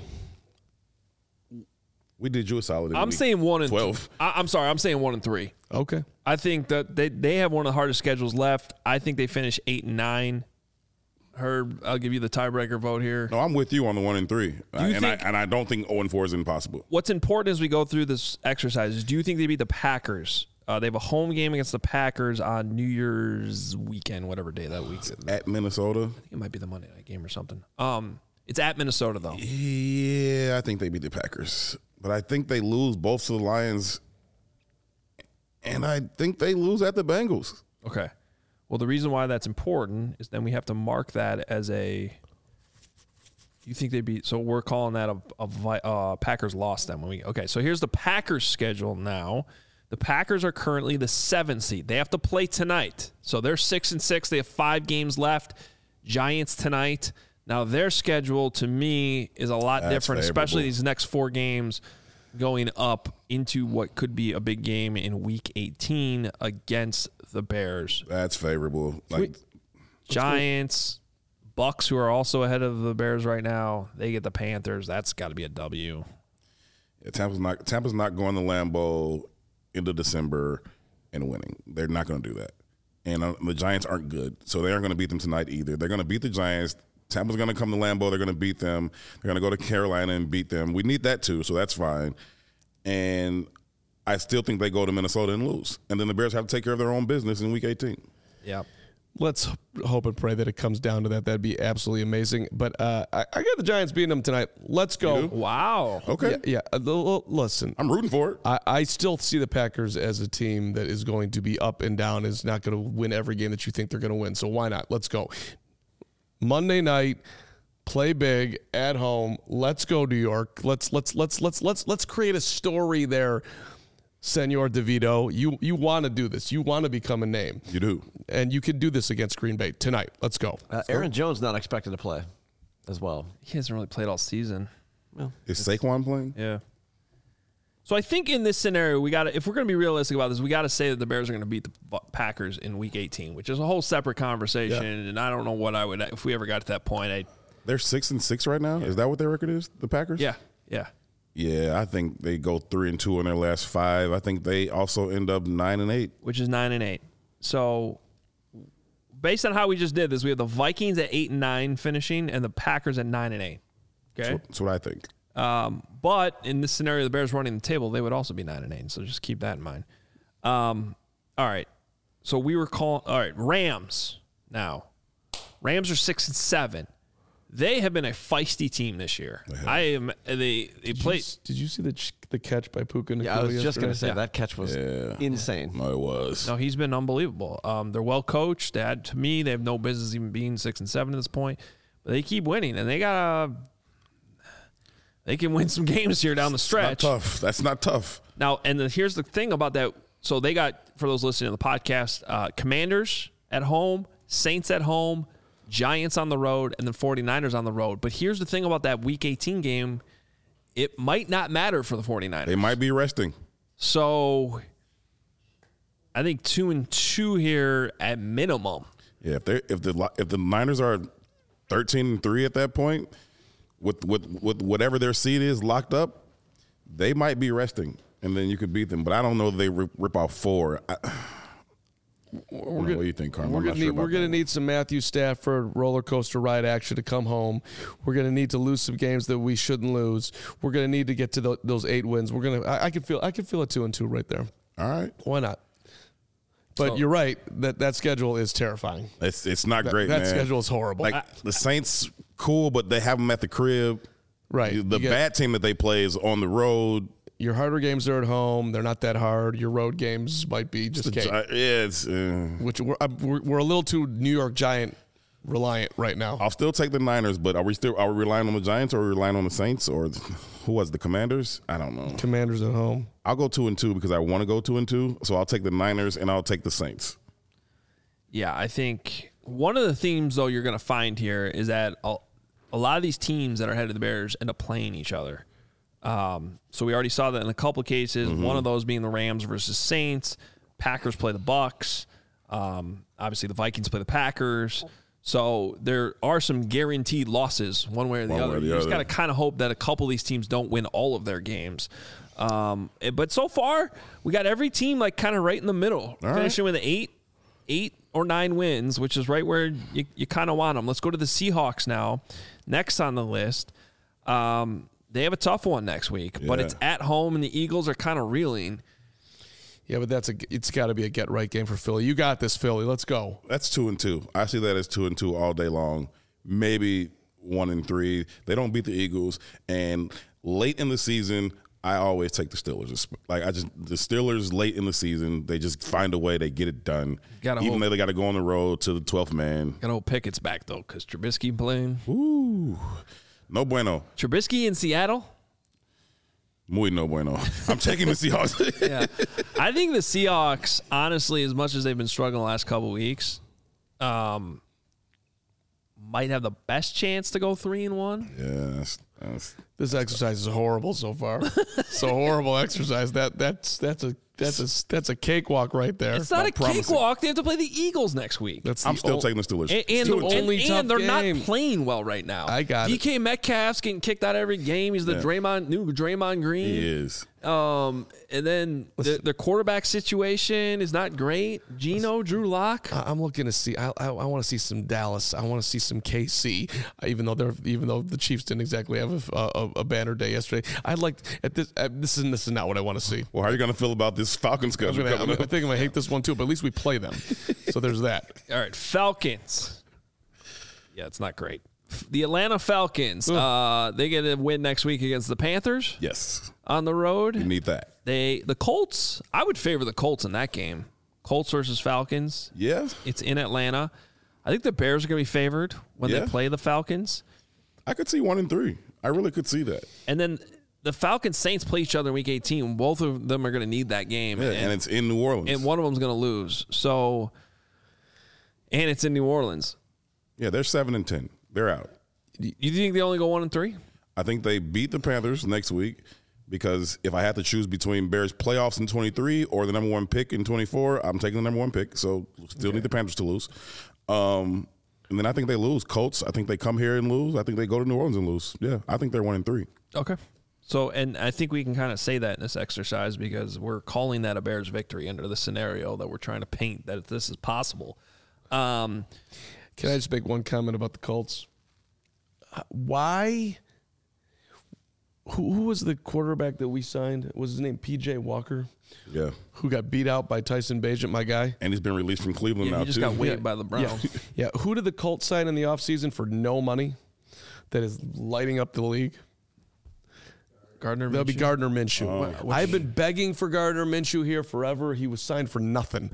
We did you a solid. I'm saying 1-12. 12. I'm sorry. I'm saying 1-3. Okay. I think that they have one of the hardest schedules left. I think they finish 8-9. Herb, I'll give you the tiebreaker vote here. No, I'm with you on the 1-3. I don't think 0-4 is impossible. What's important as we go through this exercise is, do you think they beat the Packers? They have a home game against the Packers on New Year's weekend, whatever day that week is. At Minnesota? I think it might be the Monday night game or something. It's at Minnesota, though. Yeah, I think they beat the Packers. But I think they lose both to the Lions, and I think they lose at the Bengals. Okay. Well, the reason why that's important is then we have to mark that as a. You think they beat? So we're calling that a Packers loss then. Okay. So here's the Packers schedule now. The Packers are currently the 7th seed. They have to play tonight, so they're 6-6. They have 5 games left. Giants tonight. Now, their schedule, to me, is a lot different, especially these next 4 games going up into what could be a big game in Week 18 against the Bears. That's favorable. Giants, Bucks, who are also ahead of the Bears right now, they get the Panthers. That's got to be a W. Yeah, Tampa's not going to Lambeau into December and winning. They're not going to do that. And the Giants aren't good, so they aren't going to beat them tonight either. They're going to beat the Giants. Tampa's going to come to Lambeau. They're going to beat them. They're going to go to Carolina and beat them. We need that too, so that's fine. And I still think they go to Minnesota and lose. And then the Bears have to take care of their own business in Week 18. Yeah. Let's hope and pray that it comes down to that. That'd be absolutely amazing. But I got the Giants beating them tonight. Let's go. Wow. Okay. Yeah. Listen, I'm rooting for it. I still see the Packers as a team that is going to be up and down, is not going to win every game that you think they're going to win. So why not? Let's go. Monday night, play big at home. Let's go, New York. Let's create a story there, Senor DeVito. You want to do this. You want to become a name. You do. And you can do this against Green Bay tonight. Let's go. Aaron Jones not expected to play as well. He hasn't really played all season. Is Saquon playing? Yeah. So I think in this scenario, if we're going to be realistic about this, we got to say that the Bears are going to beat the Packers in Week 18, which is a whole separate conversation. Yeah. And I don't know what I would, if we ever got to that point. They're 6-6 right now. Yeah. Is that what their record is? The Packers? Yeah. Yeah. Yeah, I think they go 3-2 in their last 5. I think they also end up 9-8, which is 9-8. So based on how we just did this, we have the Vikings at 8-9 finishing, and the Packers at 9-8. Okay, That's what I think. but in this scenario, the Bears running the table, they would also be 9-8. So just keep that in mind. All right. So we were calling. All right, Rams. Now, Rams are 6-7. They have been a feisty team this year. They played. Did you see the catch by Puka Nacua? Yeah, I was just going to yesterday? say that catch was insane. No, it was. No, he's been unbelievable. They're well coached. To me, they have no business even being 6-7 at this point. But they keep winning, and they can win some games here down the stretch. Not tough. That's not tough. Now, and here's the thing about that. So they got, for those listening to the podcast, Commanders at home, Saints at home, Giants on the road, and then 49ers on the road. But here's the thing about that Week 18 game. It might not matter for the 49ers. They might be resting. So I think 2-2 here at minimum. Yeah, if the Niners are 13-3 at that point, with whatever their seed is locked up, they might be resting, and then you could beat them. But I don't know if they rip off 4. What do you think, Carmen? We're going to need some Matthew Stafford roller coaster ride action to come home. We're going to need to lose some games that we shouldn't lose. We're going to need to get to those 8 wins. I can feel a 2-2 right there. All right, why not? But you're right that schedule is terrifying. It's not great. That man. schedule is horrible. Like the Saints, cool, but they have them at the crib. Right. The bad team that they play is on the road. Your harder games are at home. They're not that hard. Your road games might be just cake. It's which we're a little too New York Giant reliant right now. I'll still take the Niners, but are we relying on the Giants or are we relying on the Saints or who was the Commanders? I don't know. Commanders at home. I'll go 2-2 because I want to go 2-2. So I'll take the Niners and I'll take the Saints. Yeah, I think one of the themes though you're going to find here is that a lot of these teams that are ahead of the Bears end up playing each other. So we already saw that in a couple of cases. Mm-hmm. One of those being the Rams versus Saints. Packers play the Bucks. Obviously, the Vikings play the Packers. So there are some guaranteed losses one way or the other. You just got to kind of hope that a couple of these teams don't win all of their games. But so far, we got every team like kind of right in the middle, finishing with 8 or 9 wins, which is right where you kind of want them. Let's go to the Seahawks now. Next on the list. They have a tough one next week, but it's at home, and the Eagles are kind of reeling. Yeah, but it's got to be a get-right game for Philly. You got this, Philly. Let's go. That's 2-2. I see that as 2-2 all day long. Maybe 1-3. They don't beat the Eagles, and late in the season, I always take the Steelers. The Steelers late in the season, they just find a way. They get it done. Even though they got to go on the road to the 12th man. Got to hope Pickett's back though, because Trubisky playing. Ooh. No bueno. Trubisky in Seattle? Muy no bueno. I'm taking the Seahawks. Yeah. I think the Seahawks, honestly, as much as they've been struggling the last couple of weeks, might have the best chance to go 3-1. Yes. This exercise is horrible so far. It's a horrible exercise. That's a cakewalk right there. It's not a cakewalk. They have to play the Eagles next week. I'm still taking the Steelers. And they're not playing well right now. I got it. DK Metcalf's getting kicked out every game. He's the new Draymond Green. He is. And then the quarterback situation is not great. Geno, Drew Lock. I'm looking to see. I want to see some Dallas. I want to see some KC. Even though the Chiefs didn't exactly have a banner day yesterday. I'd like at this. This is not what I want to see. Well, how are you going to feel about this Falcons schedule? I think I'm gonna hate this one too. But at least we play them. So there's that. All right, Falcons. Yeah, it's not great. The Atlanta Falcons. They get a win next week against the Panthers. Yes. On the road. You need that. The Colts. I would favor the Colts in that game. Colts versus Falcons. Yeah. It's in Atlanta. I think the Bears are going to be favored when they play the Falcons. I could see 1-3. I really could see that. And then the Falcons Saints play each other in Week 18. Both of them are going to need that game. Yeah, and it's in New Orleans. And one of them's going to lose. So, and it's in New Orleans. Yeah, they're 7-10. They're out. You think they only go 1-3? I think they beat the Panthers next week because if I had to choose between Bears playoffs in 23 or the number 1 pick in 24, I'm taking the number 1 pick. So still need the Panthers to lose. And then I think they lose. Colts, I think they come here and lose. I think they go to New Orleans and lose. Yeah, I think they're 1-3. Okay. So, and I think we can kind of say that in this exercise because we're calling that a Bears victory under the scenario that we're trying to paint that this is possible. Can I just make one comment about the Colts? Why? Who was the quarterback that we signed? Was his name P.J. Walker? Yeah. Who got beat out by Tyson Bagent, my guy? And he's been released from Cleveland now, he just too. got waived by the Browns. Yeah. Who did the Colts sign in the offseason for no money that is lighting up the league? Gardner Minshew. That'll be Gardner Minshew. I've been begging for Gardner Minshew here forever. He was signed for nothing.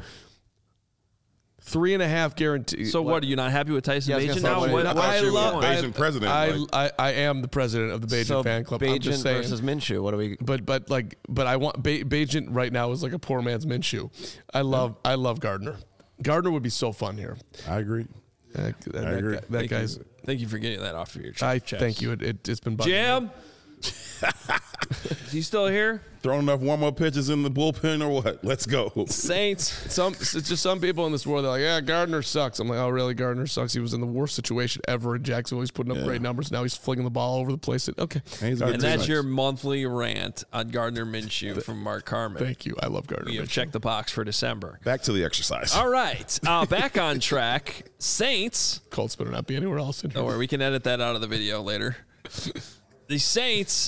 3.5 guarantee. So what? Are you not happy with Tyson Yeah, I was Bagent gonna now? say, What, what- what's I your love- point? Bagent president. I am the president of the Bagent So fan club. I'm just Bagent saying. versus Minshew. What do we? But I want Bagent right now is like a poor man's Minshew. I love Gardner. Gardner would be so fun here. I agree. That agree. That guy's. Thank you for getting that off of your chest. Thank you. It's been bugging me. Jam. Is he still here? Throwing enough warm-up pitches in the bullpen or what? Let's go. Saints. It's just some people in this world. They're like, yeah, Gardner sucks. I'm like, oh, really? Gardner sucks. He was in the worst situation ever in Jacksonville. He's putting up great numbers. Now he's flinging the ball all over the place. Okay. He's a good And that's teammate. your monthly rant on Gardner Minshew from Mark Carmen. Thank you. I love Gardner. We have Minshew. checked the box for December. Back to the exercise. All right. Back on track. Saints. Colts better not be anywhere else in here. Don't worry, we can edit that out of the video later. The Saints,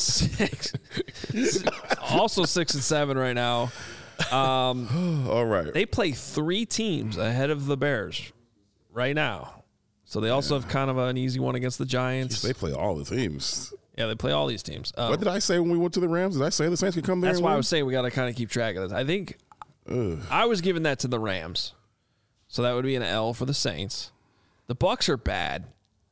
also 6-7 right now. All right. They play 3 teams ahead of the Bears right now. So they also have kind of an easy one against the Giants. They play all the teams. Yeah, they play all these teams. What did I say when we went to the Rams? Did I say the Saints could come there? That's and why I win? was saying we got to kind of keep track of this. I think I was giving that to the Rams. So that would be an L for the Saints. The Bucs are bad.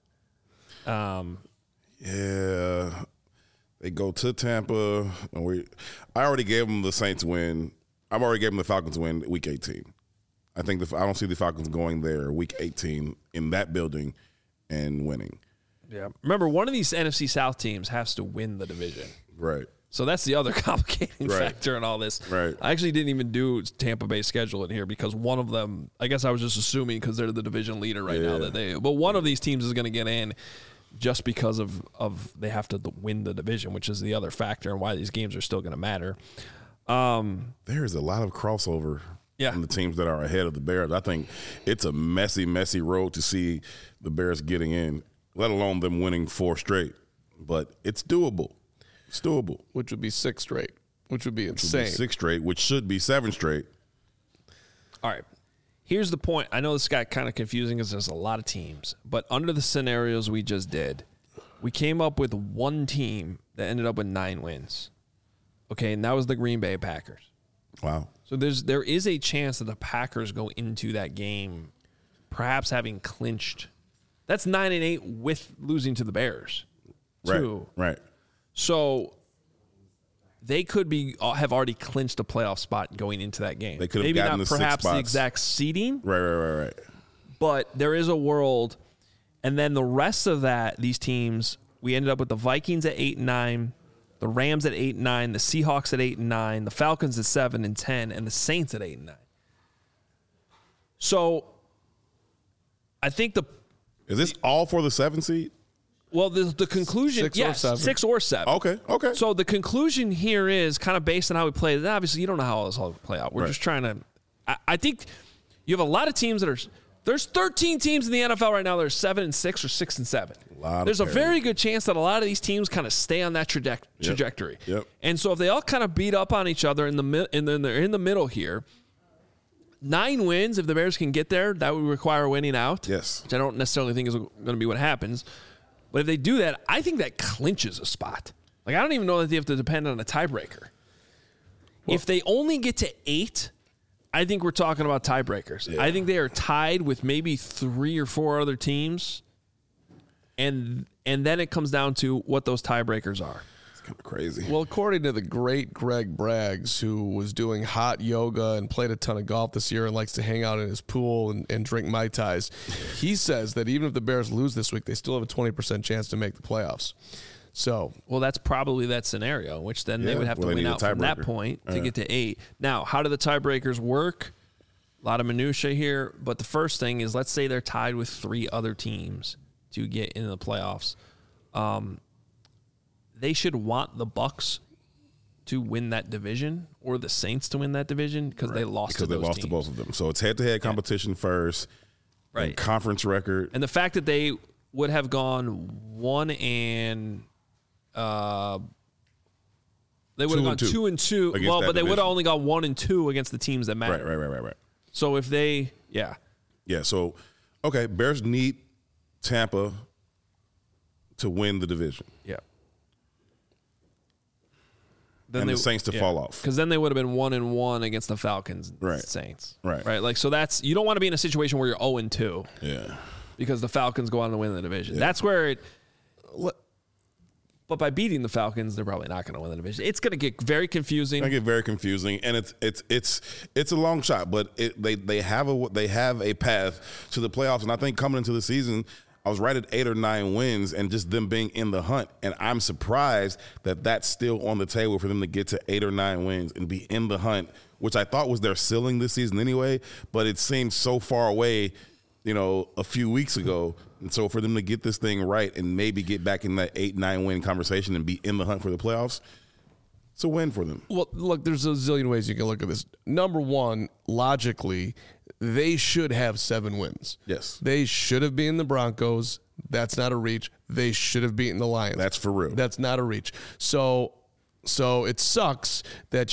Yeah. They go to Tampa. And I already gave them the Saints win. I've already gave them the Falcons win week 18. I think I don't see the Falcons going there week 18 in that building and winning. Yeah. Remember, one of these NFC South teams has to win the division. Right. So that's the other complicating Right. factor in all this. Right. I actually didn't even do Tampa Bay's schedule in here because one of them, I guess I was just assuming because they're the division leader right now but one of these teams is going to get in just because of they have to win the division, which is the other factor and why these games are still going to matter. There's a lot of crossover Yeah. in the teams that are ahead of the Bears. I think it's a messy, messy road to see the Bears getting in, let alone them winning 4 straight. But it's doable. It's doable. Which would be 6 straight, which would be insane. 6 straight, which should be 7 straight. All right. Here's the point. I know this got kind of confusing because there's a lot of teams, but under the scenarios we just did, we came up with one team that ended up with 9 wins. Okay, and that was the Green Bay Packers. Wow. So there is a chance that the Packers go into that game perhaps having clinched. That's 9-8 with losing to the Bears, too. Right. So they could have already clinched a playoff spot going into that game. They could have maybe gotten not the 6 perhaps the spots. exact seeding, Right. but there is a world. And then the rest of these teams, we ended up with the Vikings at 8-9, the Rams at 8-9, the Seahawks at 8-9, the Falcons at 7-10, and the Saints at 8-9. So I think Is this all for the 7 seed? Well, the conclusion, 6 or yes, 7. 6 or 7. Okay. So the conclusion here is kind of based on how we played it. Obviously, you don't know how this all will play out. We're Right. just trying to. I think you have a lot of teams that are. There's 13 teams in the NFL right now that are 7-6 or 6-7. There's a very good chance that a lot of these teams kind of stay on that trajectory. Yep. And so if they all kind of beat up on each other and then they're in the middle here, 9 wins, if the Bears can get there, that would require winning out. Yes. Which I don't necessarily think is going to be what happens. But if they do that, I think that clinches a spot. Like, I don't even know that they have to depend on a tiebreaker. If they only get to 8, I think we're talking about tiebreakers. Yeah. I think they are tied with maybe 3 or 4 other teams. And then it comes down to what those tiebreakers are. It's kind of crazy. Well, according to the great Greg Braggs, who was doing hot yoga and played a ton of golf this year and likes to hang out in his pool and drink Mai Tais, he says that even if the Bears lose this week, they still have a 20% chance to make the playoffs. So, Well, that's probably that scenario, which then they Yeah, would have to well, they win need a out from that tiebreaker. point to get to 8. Now, how do the tiebreakers work? A lot of minutia here, but the first thing is, let's say they're tied with 3 other teams to get into the playoffs. They should want the Bucs to win that division or the Saints to win that division because they lost to those teams. To both of them. So it's head-to-head competition first, and conference record. And the fact that they would have gone 1 and they would have gone 2 and 2. Well, but they would have only gone 1 and 2 against the teams that matter. Right. So if they, yeah. So okay, Bears need Tampa to win the division. Yeah. Then the Saints to fall off. Because then they would have been 1 and 1 against the Falcons and Saints. Right. Like, so that's, you don't want to be in a situation where you're 0 and 2. Yeah. Because the Falcons go on to win the division. Yeah. That's where but by beating the Falcons, they're probably not going to win the division. It's going to get very confusing. And it's a long shot, but they have a path to the playoffs. And I think coming into the season, I was right at 8 or 9 wins and just them being in the hunt. And I'm surprised that that's still on the table for them to get to 8 or 9 wins and be in the hunt, which I thought was their ceiling this season anyway, but it seems so far away, a few weeks ago. And so for them to get this thing right and maybe get back in that 8-9 win conversation and be in the hunt for the playoffs, it's a win for them. Well, look, there's a zillion ways you can look at this. Number one, logically, they should have 7 wins. Yes. They should have beaten the Broncos. That's not a reach. They should have beaten the Lions. That's for real. That's not a reach. So it sucks that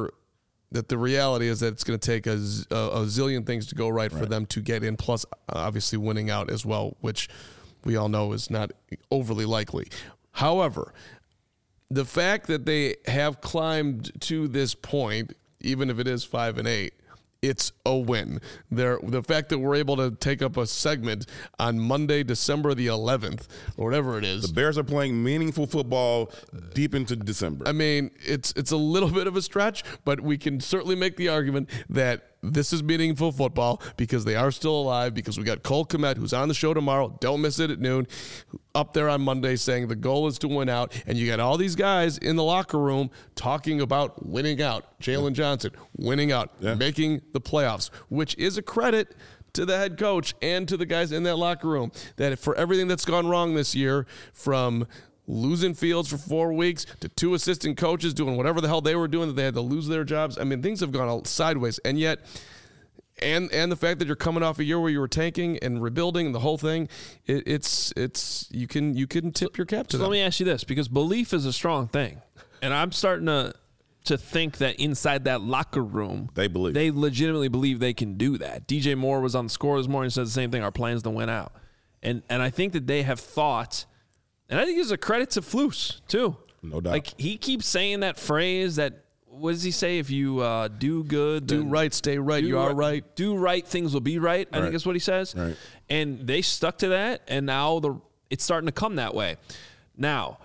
the reality is that it's going to take a zillion things to go right for them to get in, plus obviously winning out as well, which we all know is not overly likely. However, the fact that they have climbed to this point, even if it is 5 and 8, it's a win. The fact that we're able to take up a segment on Monday, December the 11th, or whatever it is. The Bears are playing meaningful football deep into December. I mean, it's a little bit of a stretch, but we can certainly make the argument that this is meaningful football because they are still alive, because we got Cole Kmet, who's on the show tomorrow. Don't miss it at noon. Up there on Monday saying the goal is to win out. And you got all these guys in the locker room talking about winning out. Jalen Johnson, winning out, making the playoffs, which is a credit to the head coach and to the guys in that locker room, that for everything that's gone wrong this year, from losing Fields for 4 weeks to 2 assistant coaches doing whatever the hell they were doing that they had to lose their jobs. I mean, things have gone sideways. And yet, and the fact that you're coming off a year where you were tanking and rebuilding and the whole thing, it's you can tip your cap to them. Let me ask you this, because belief is a strong thing. And I'm starting to think that inside that locker room, they legitimately believe they can do that. DJ Moore was on the score this morning and said the same thing, our plan's to win out. And I think that they have thought, and I think it's a credit to Flus, too. No doubt. Like, he keeps saying that phrase that, what does he say? If you do good, do right, stay right, you are right. Do right, things will be right, I think is what he says. Right. And they stuck to that, and now it's starting to come that way. Now,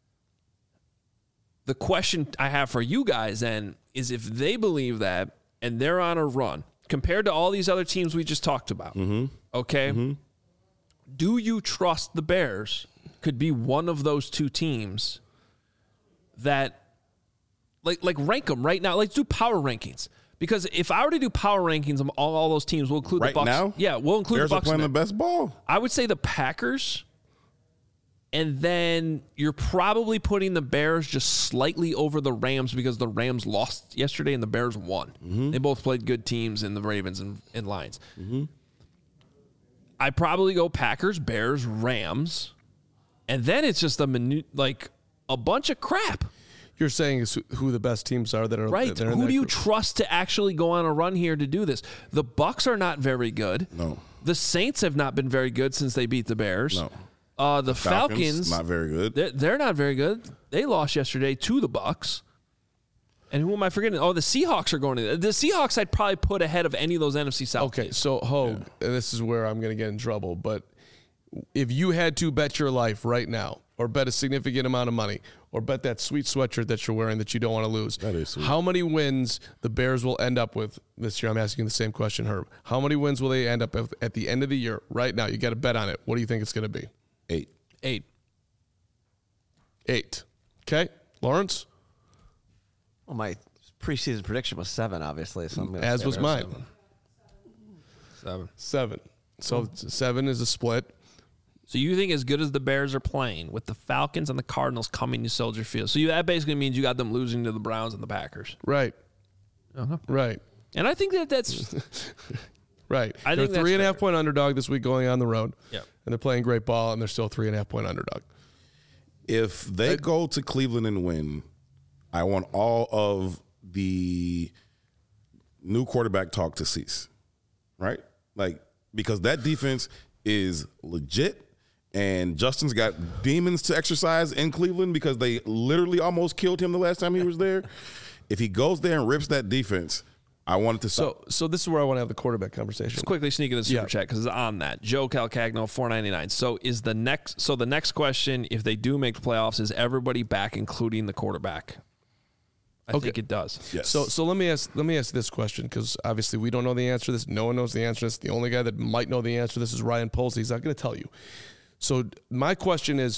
the question I have for you guys then is, if they believe that and they're on a run, compared to all these other teams we just talked about, okay, do you trust the Bears could be one of those 2 teams that, like rank them right now? Let's do power rankings. Because if I were to do power rankings of all those teams, we'll include the Bucs. Right now? Yeah, we'll include Bears the Bucs. Bears are playing the best ball. I would say the Packers, and then you're probably putting the Bears just slightly over the Rams because the Rams lost yesterday and the Bears won. They both played good teams in the Ravens and Lions. I'd probably go Packers, Bears, Rams, and then it's just a bunch of crap. You're saying is who the best teams are that are right. Who do you trust to actually go on a run here to do this? The Bucs are not very good. No. The Saints have not been very good since they beat the Bears. No. The Falcons not very good. They're not very good. They lost yesterday to the Bucs. And who am I forgetting? Oh, the Seahawks are going to. The Seahawks I'd probably put ahead of any of those NFC South Okay, teams. so Hogue, this is where I'm going to get in trouble, but if you had to bet your life right now, or bet a significant amount of money, or bet that sweet sweatshirt that you're wearing that you don't want to lose, that is sweet. How many wins the Bears will end up with this year? I'm asking the same question, Herb. How many wins will they end up at the end of the year right now? You got to bet on it. What do you think it's going to be? 8. 8. Okay. Lawrence? Well, my preseason prediction was 7, obviously. So I'm gonna as was mine. 7. 7. So 7 is a split. So you think as good as the Bears are playing with the Falcons and the Cardinals coming to Soldier Field, so that basically means you got them losing to the Browns and the Packers. Right. Uh-huh. Right. And I think that's right. I they're think that's 3.5 point underdog this week going on the road. Yep. And they're playing great ball, and they're still 3.5 point underdog. If they go to Cleveland and win, I want all of the new quarterback talk to cease, right? Like, because that defense is legit, and Justin's got demons to exercise in Cleveland because they literally almost killed him the last time he was there. If he goes there and rips that defense, I want it to stop. So this is where I want to have the quarterback conversation. Let's quickly sneak in the super chat because it's on that. Joe Calcagno, $4.99. So the next question, if they do make the playoffs, is everybody back, including the quarterback? I think it does. Yes. So let me ask this question, because obviously we don't know the answer to this. No one knows the answer to this. The only guy that might know the answer to this is Ryan Poles. He's not going to tell you. So my question is,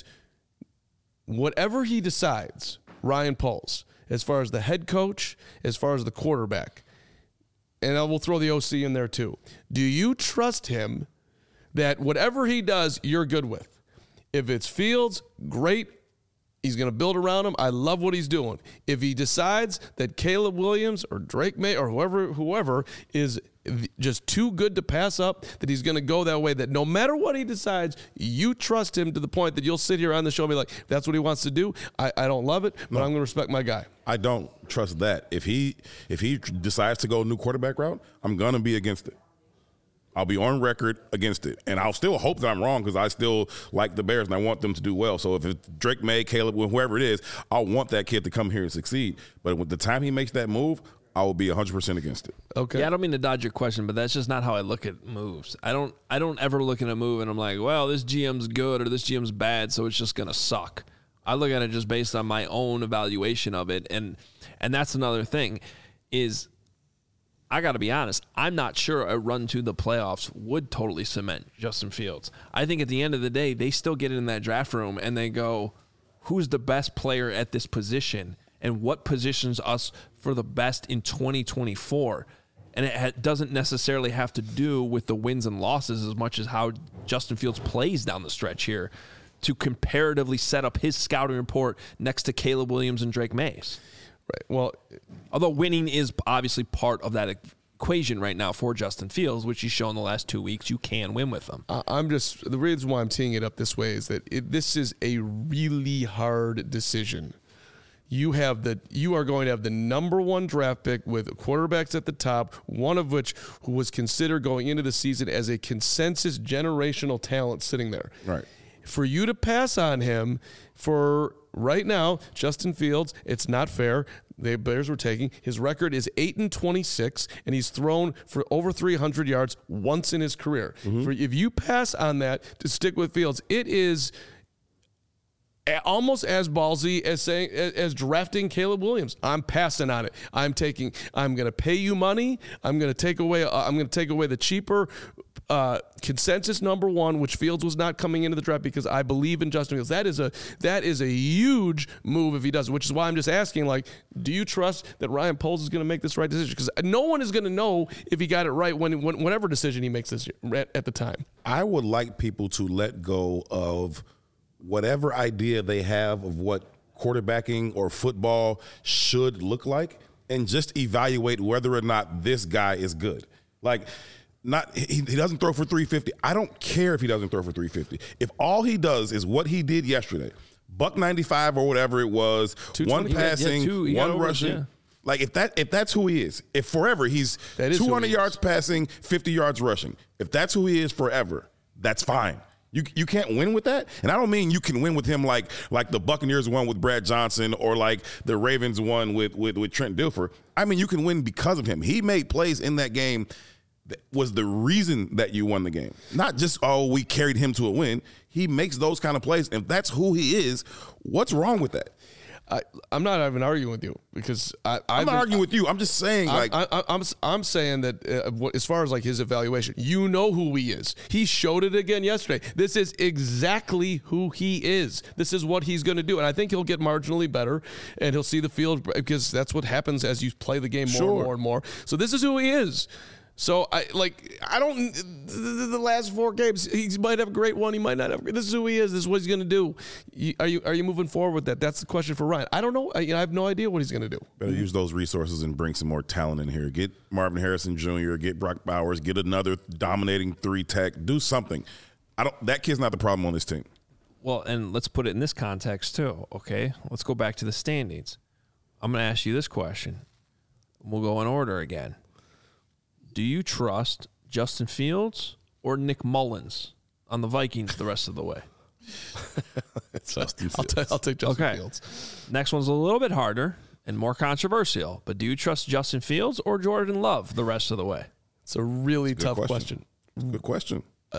whatever he decides, Ryan Poles, as far as the head coach, as far as the quarterback, and I will throw the OC in there too. Do you trust him that whatever he does, you're good with? If it's Fields, great. He's going to build around him. I love what he's doing. If he decides that Caleb Williams or Drake May or whoever is just too good to pass up, that he's going to go that way, that no matter what he decides, you trust him to the point that you'll sit here on the show and be like, if that's what he wants to do, I don't love it, but I'm going to respect my guy. I don't trust that. If he decides to go a new quarterback route, I'm going to be against it. I'll be on record against it. And I'll still hope that I'm wrong because I still like the Bears and I want them to do well. So if it's Drake May, Caleb, whoever it is, I want that kid to come here and succeed. But with the time he makes that move, I will be 100% against it. Okay. Yeah, I don't mean to dodge your question, but that's just not how I look at moves. I don't ever look at a move and I'm like, well, this GM's good or this GM's bad, so it's just going to suck. I look at it just based on my own evaluation of it. And that's another thing is – I got to be honest, I'm not sure a run to the playoffs would totally cement Justin Fields. I think at the end of the day, they still get in that draft room and they go, who's the best player at this position and what positions us for the best in 2024? And it doesn't necessarily have to do with the wins and losses as much as how Justin Fields plays down the stretch here to comparatively set up his scouting report next to Caleb Williams and Drake Mays. Right. Well, although winning is obviously part of that equation right now for Justin Fields, which he's shown the last 2 weeks, you can win with them. The reason why I'm teeing it up this way is that this is a really hard decision. You are going to have the number one draft pick with quarterbacks at the top, one of which who was considered going into the season as a consensus generational talent sitting there. Right. For you to pass on him for right now, Justin Fields, it's not fair. The Bears were taking his record is 8-26, and he's thrown for over 300 yards once in his career. Mm-hmm. If you pass on that to stick with Fields, it is almost as ballsy as drafting Caleb Williams. I'm passing on it. I'm going to pay you money. I'm going to take away the cheaper consensus number one, which Fields was not coming into the draft because I believe in Justin Fields. That is a huge move if he does it, which is why I'm just asking, like, do you trust that Ryan Poles is going to make this right decision? Because no one is going to know if he got it right whatever decision he makes this year at the time. I would like people to let go of whatever idea they have of what quarterbacking or football should look like and just evaluate whether or not this guy is good. Like, he doesn't throw for 350. I don't care if he doesn't throw for 350. If all he does is what he did yesterday, $195 or whatever it was, one passing, one rushing. Yeah. Like, if that's who he is, if forever he's 200 yards passing, 50 yards rushing, if that's who he is forever, that's fine. You can't win with that. And I don't mean you can win with him like the Buccaneers won with Brad Johnson or like the Ravens won with Trent Dilfer. I mean, you can win because of him. He made plays in that game that was the reason that you won the game. Not just, we carried him to a win. He makes those kind of plays. And if that's who he is, what's wrong with that? I'm not even arguing with you because I'm not arguing with you. I'm just saying, I'm saying that as far as like his evaluation, you know who he is. He showed it again yesterday. This is exactly who he is. This is what he's going to do, and I think he'll get marginally better, and he'll see the field because that's what happens as you play the game more and more and more. So this is who he is. So I don't. The last 4 games, he might have a great one. He might not have. This is who he is. This is what he's going to do. Are you moving forward with that? That's the question for Ryan. I don't know. I have no idea what he's going to do. Better use those resources and bring some more talent in here. Get Marvin Harrison Jr., get Brock Bowers, get another dominating 3-tech. Do something. That kid's not the problem on this team. Well, and let's put it in this context too, okay? Let's go back to the standings. I'm going to ask you this question. We'll go in order again. Do you trust Justin Fields or Nick Mullins on the Vikings the rest of the way? Justin Fields. I'll take Justin Fields. Next one's a little bit harder and more controversial, but do you trust Justin Fields or Jordan Love the rest of the way? It's a really tough question. Good question.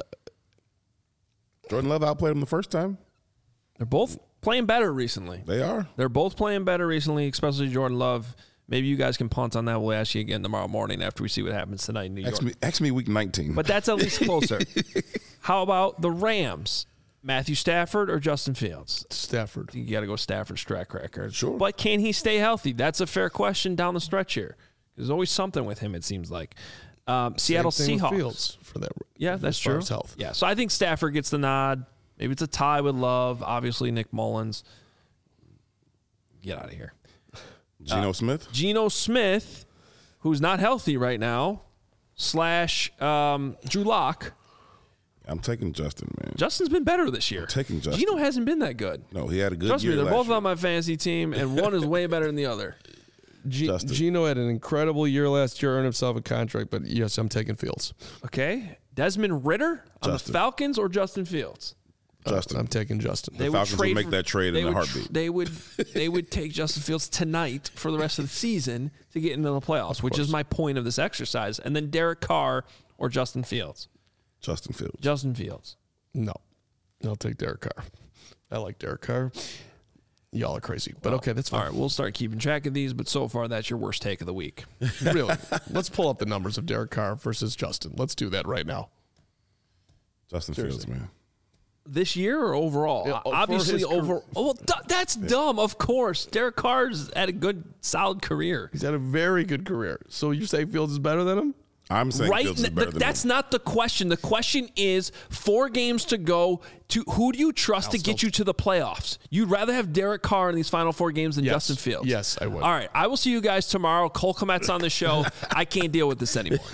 Jordan Love outplayed him the first time. They're both playing better recently. They are. They're both playing better recently, especially Jordan Love. Maybe you guys can punt on that. We'll ask you again tomorrow morning after we see what happens tonight in New York. Ask me week 19. But that's at least closer. How about the Rams? Matthew Stafford or Justin Fields? Stafford. You got to go Stafford's track record. Sure. But can he stay healthy? That's a fair question down the stretch here. There's always something with him, it seems like. Seattle Seahawks. Fields for that. Yeah, that's as far true. as health. Yeah, so I think Stafford gets the nod. Maybe it's a tie with Love. Obviously, Nick Mullins. Get out of here. Geno Smith? Geno Smith, who's not healthy right now, / Drew Lock. I'm taking Justin, man. Justin's been better this year. Taking Justin. Geno hasn't been that good. No, he had a good Trust year me, they're last both year. on my fantasy team, and one is way better than the other. Geno had an incredible year last year, earned himself a contract, but yes, I'm taking Fields. Okay. Desmond Ridder on Justin. the Falcons or Justin Fields? Justin. I'm taking Justin. The Falcons would make that trade in a heartbeat. They would take Justin Fields tonight for the rest of the season to get into the playoffs, which is my point of this exercise. And then Derek Carr or Justin Fields? Justin Fields. Justin Fields. No. I'll take Derek Carr. I like Derek Carr. Y'all are crazy. But okay, that's fine. All right, we'll start keeping track of these, but so far that's your worst take of the week. Really. Let's pull up the numbers of Derek Carr versus Justin. Let's do that right now. Justin Fields, man. This year or overall? Yeah, Obviously, that's dumb. Of course, Derek Carr's had a good, solid career. He's had a very good career. So you say Fields is better than him? I'm saying Fields is better than That's him. not the question. The question is 4 games to go. To who do you trust to get you to the playoffs? You'd rather have Derek Carr in these final 4 games than Yes. Justin Fields. Yes, I would. All right, I will see you guys tomorrow. Cole Kmet's on the show. I can't deal with this anymore.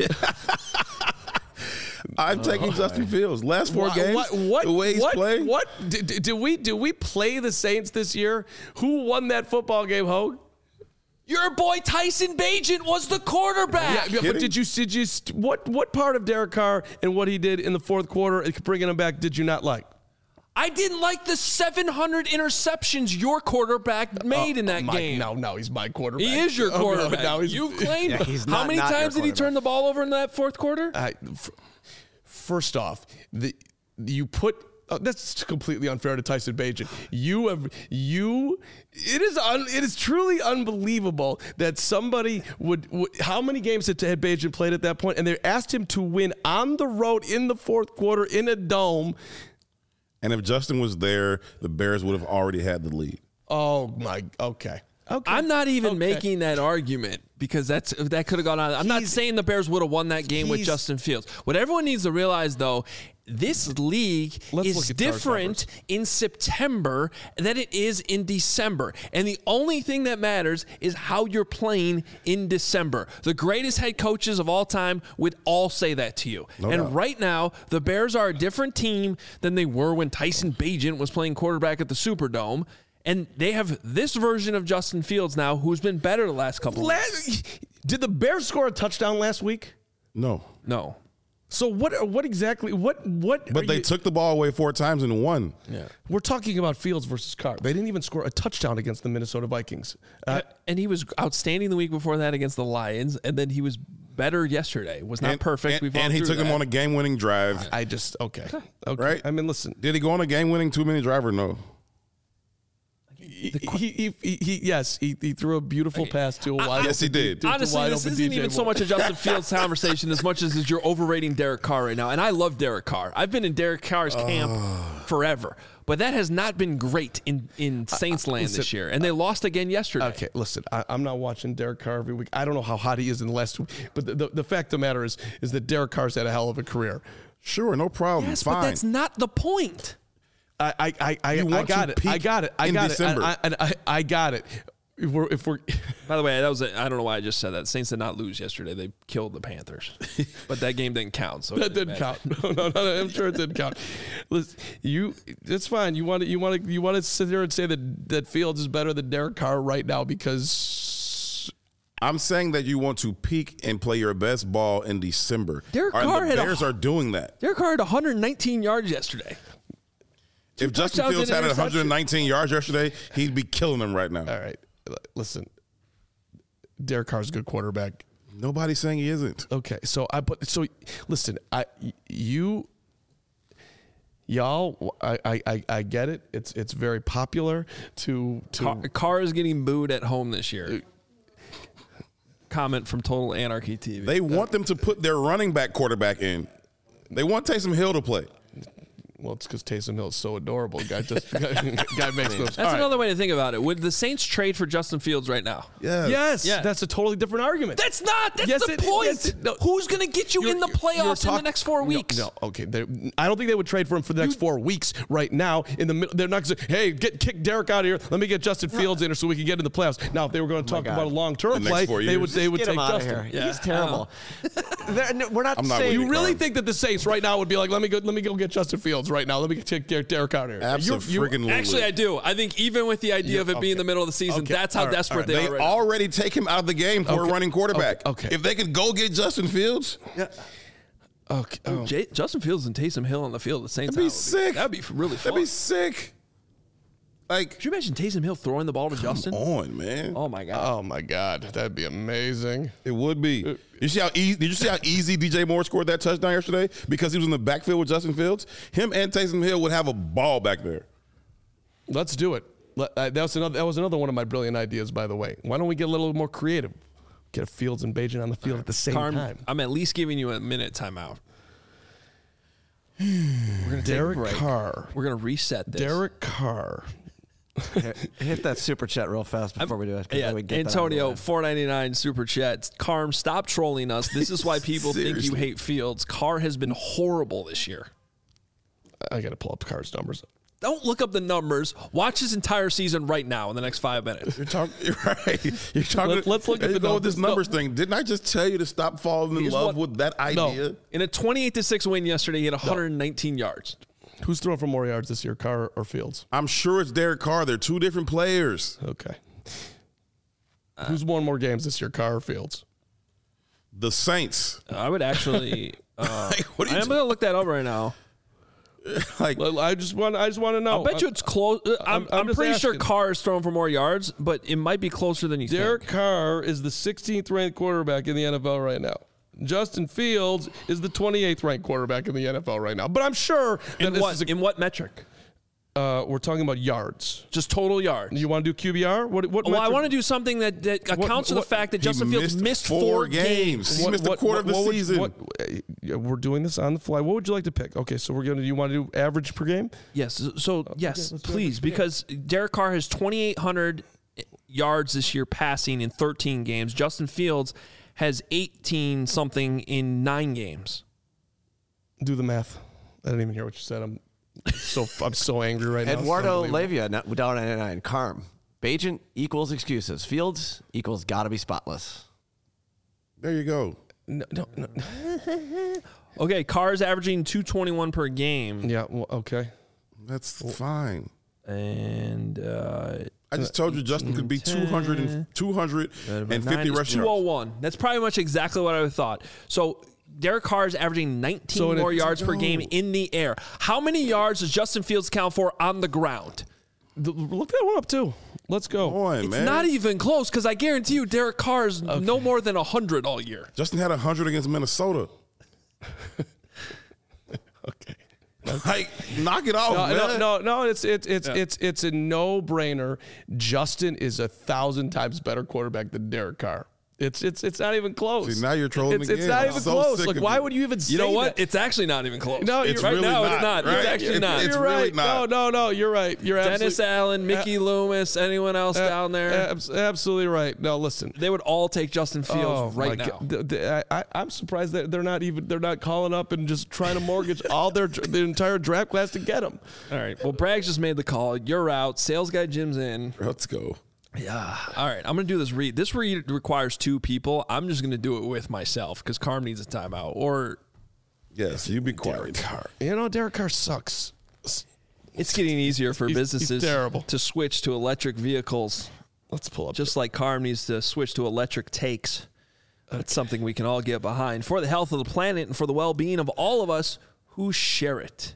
I'm taking Justin Fields. Last 4 games, the way he's playing. What? Do we play the Saints this year? Who won that football game, Hogue? Your boy Tyson Bagent was the quarterback. Yeah, but did you what part of Derek Carr and what he did in the fourth quarter, bringing him back, did you not like? I didn't like the 700 interceptions your quarterback made in that game. No, he's my quarterback. He is your quarterback. No, You've claimed. Yeah, he's How not many your times did he turn the ball over in that fourth quarter? First off, you put. That's completely unfair to Tyson Bagent. It is truly unbelievable that somebody would how many games had Bagent played at that point, and they asked him to win on the road in the fourth quarter in a dome. And if Justin was there, the Bears would have already had the lead. Oh my, okay. I'm not even making that argument because that could have gone on. I'm not saying the Bears would have won that game with Justin Fields. What everyone needs to realize, though, this league is different in September than it is in December. And the only thing that matters is how you're playing in December. The greatest head coaches of all time would all say that to you. No doubt. Right now, the Bears are a different team than they were when Tyson Bagent was playing quarterback at the Superdome. And they have this version of Justin Fields now, who's been better the last couple of weeks. Did the Bears score a touchdown last week? No. So what exactly? But they took the ball away 4 times and won. Yeah. We're talking about Fields versus Carr. They didn't even score a touchdown against the Minnesota Vikings. And he was outstanding the week before that against the Lions, and then he was better yesterday. Was not perfect. And he took him on a game-winning drive. Okay. Right? I mean, listen. Did he go on a game-winning 2-minute drive or no? he threw a beautiful pass to a wide. Yes, he did. Honestly, this isn't even so much a Justin Fields conversation as much as you're overrating Derek Carr right now. And I love Derek Carr. I've been in Derek Carr's camp forever. But that has not been great in Saints land this year. And they lost again yesterday. Okay, listen, I'm not watching Derek Carr every week. I don't know how hot he is in the last week. But the fact of the matter is that Derek Carr's had a hell of a career. Sure, no problem. Yes, Fine. but that's not the point. I got it. I got it. I got it. If we're By the way, I don't know why I just said that. Saints did not lose yesterday. They killed the Panthers, but that game didn't count. So that didn't count. No, I'm sure it didn't count. Listen, it's fine. You want to sit here and say that Fields is better than Derek Carr right now because I'm saying that you want to peak and play your best ball in December. Derek Carr the Bears are doing that. Derek Carr had 119 yards yesterday. If Justin Fields had 119 yards yesterday, he'd be killing them right now. All right. Listen, Derek Carr's a good quarterback. Nobody's saying he isn't. Okay, listen, y'all, I get it. It's very popular to Carr is getting booed at home this year. Comment from Total Anarchy TV. They want them to put their running back quarterback in. They want Taysom Hill to play. Well, it's because Taysom Hill is so adorable. Guy makes moves. That's another way to think about it. Would the Saints trade for Justin Fields right now? Yes. Yeah. That's a totally different argument. That's not. That's the point. Who's going to get you in the playoffs in the next 4 weeks? No, okay. I don't think they would trade for him for the next 4 weeks right now. In the middle, they're not going to say, hey, kick Derek out of here. Let me get Justin Fields in so we can get in the playoffs. Now, if they were going to talk about a long-term play, they would take Justin. Yeah. He's terrible. We're not saying. You really think that the Saints right now would be like, let me go get Justin Fields right now. Let me take Derek out of here. Absolutely. Actually, I do. I think even with the idea of it being the middle of the season, that's how desperate they are. They already take him out of the game for a running quarterback. Okay. If they could go get Justin Fields. Yeah. Okay. Justin Fields and Taysom Hill on the field at the Saints. That'd be sick. That'd be really fun. That'd be sick. Like, could you imagine Taysom Hill throwing the ball to Justin? Come on, man. Oh my God. That'd be amazing. It would be. Did you see how easy DJ Moore scored that touchdown yesterday? Because he was in the backfield with Justin Fields. Him and Taysom Hill would have a ball back there. Let's do it. That was another one of my brilliant ideas, by the way. Why don't we get a little more creative? Get Fields and Bajan on the field at the same time. I'm at least giving you a minute timeout. We're gonna Derek Carr. We're gonna reset this. Derek Carr. Hit that super chat real fast before we do it. Yeah, Antonio, $4.99 super chat. Carm, stop trolling us. This is why people think you hate Fields. Carr has been horrible this year. I got to pull up Carr's numbers. Don't look up the numbers. Watch his entire season right now in the next 5 minutes. You're right. You're talking. Let's look at this numbers thing. Didn't I just tell you to stop falling in love with that idea? No. In a 28-6 win yesterday, he had 119 yards. Who's throwing for more yards this year, Carr or Fields? I'm sure it's Derek Carr. They're two different players. Okay. Who's won more games this year, Carr or Fields? The Saints. I would actually. I'm going to look that up right now. I just want to know. I bet you it's close. I'm pretty sure Carr is throwing for more yards, but it might be closer than you think. Derek Carr is the 16th ranked quarterback in the NFL right now. Justin Fields is the 28th ranked quarterback in the NFL right now. But I'm sure in what metric? We're talking about yards. Just total yards. You want to do QBR? What I want to do something that accounts for the fact that Justin Fields missed 4 games. He missed a quarter of the season. We're doing this on the fly. What would you like to pick? Okay, so you want to do average per game? Yes. So, yes, please, because Derek Carr has 2,800 yards this year passing in 13 games. Justin Fields has 18-something in 9 games. Do the math. I didn't even hear what you said. I'm so angry right now. Eduardo Levia, $1.99. Carm. Bajan equals excuses. Fields equals got to be spotless. There you go. No. Okay, Carr's averaging 221 per game. Yeah, well, okay. That's fine. And I just told you Justin could be 250 rushing 201. That's probably much exactly what I would have thought. So Derek Carr is averaging 19 more yards per game in the air. How many yards does Justin Fields count for on the ground? Look that one up, too. Let's go. Boy, it's not even close, because I guarantee you Derek Carr is no more than 100 all year. Justin had 100 against Minnesota. Okay. Like, knock it off, man. No. It's a no-brainer. Justin is 1,000 times better quarterback than Derek Carr. It's not even close. See, now you're trolling again. It's not even so close. sick Like, of why it. would you even say You know what? that? It's actually not even close. No, It's you're right really now not, it's not. right? It's actually not. It's You're really right. not. No. You're right. You're Dennis Allen, Mickey Loomis, anyone else down there? Absolutely right. No, listen. They would all take Justin Fields right now. I'm surprised that they're not calling up and just trying to mortgage all their entire draft class to get him. All right. Well, Braggs just made the call. You're out. Sales guy Jim's in. Let's go. Yeah. All right. I'm going to do this read. This read requires 2 people. I'm just going to do it with myself because Carm needs a timeout. Or Yes, you be quiet. You know, Derek Carr sucks. it's getting easier for He's businesses terrible. to switch to electric vehicles. Let's pull up. Just like Carm needs to switch to electric takes. That's something we can all get behind for the health of the planet and for the well-being of all of us who share it.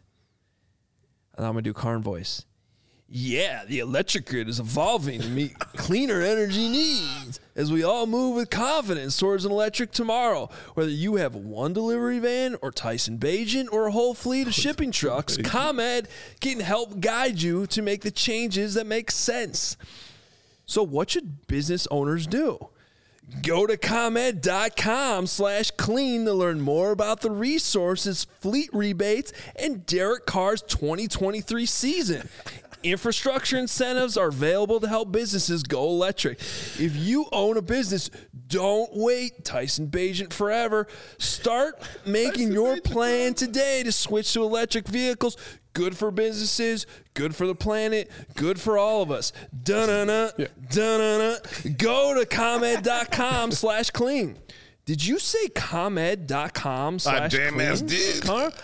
And I'm going to do Carm voice. Yeah, the electric grid is evolving to meet cleaner energy needs as we all move with confidence towards an electric tomorrow. Whether you have one delivery van or Tyson Bagent or a whole fleet of shipping trucks, ComEd can help guide you to make the changes that make sense. So what should business owners do? Go to ComEd.com/clean to learn more about the resources, fleet rebates, and Derek Carr's 2023 season. Infrastructure incentives are available to help businesses go electric. If you own a business, don't wait Tyson Bagent forever. Start making your plan today to switch to electric vehicles. Good for businesses, good for the planet, good for all of us. Dun-dun-dun, dun-dun-dun. Go to ComEd.com/clean. Did you say ComEd.com/clean? I damn ass did.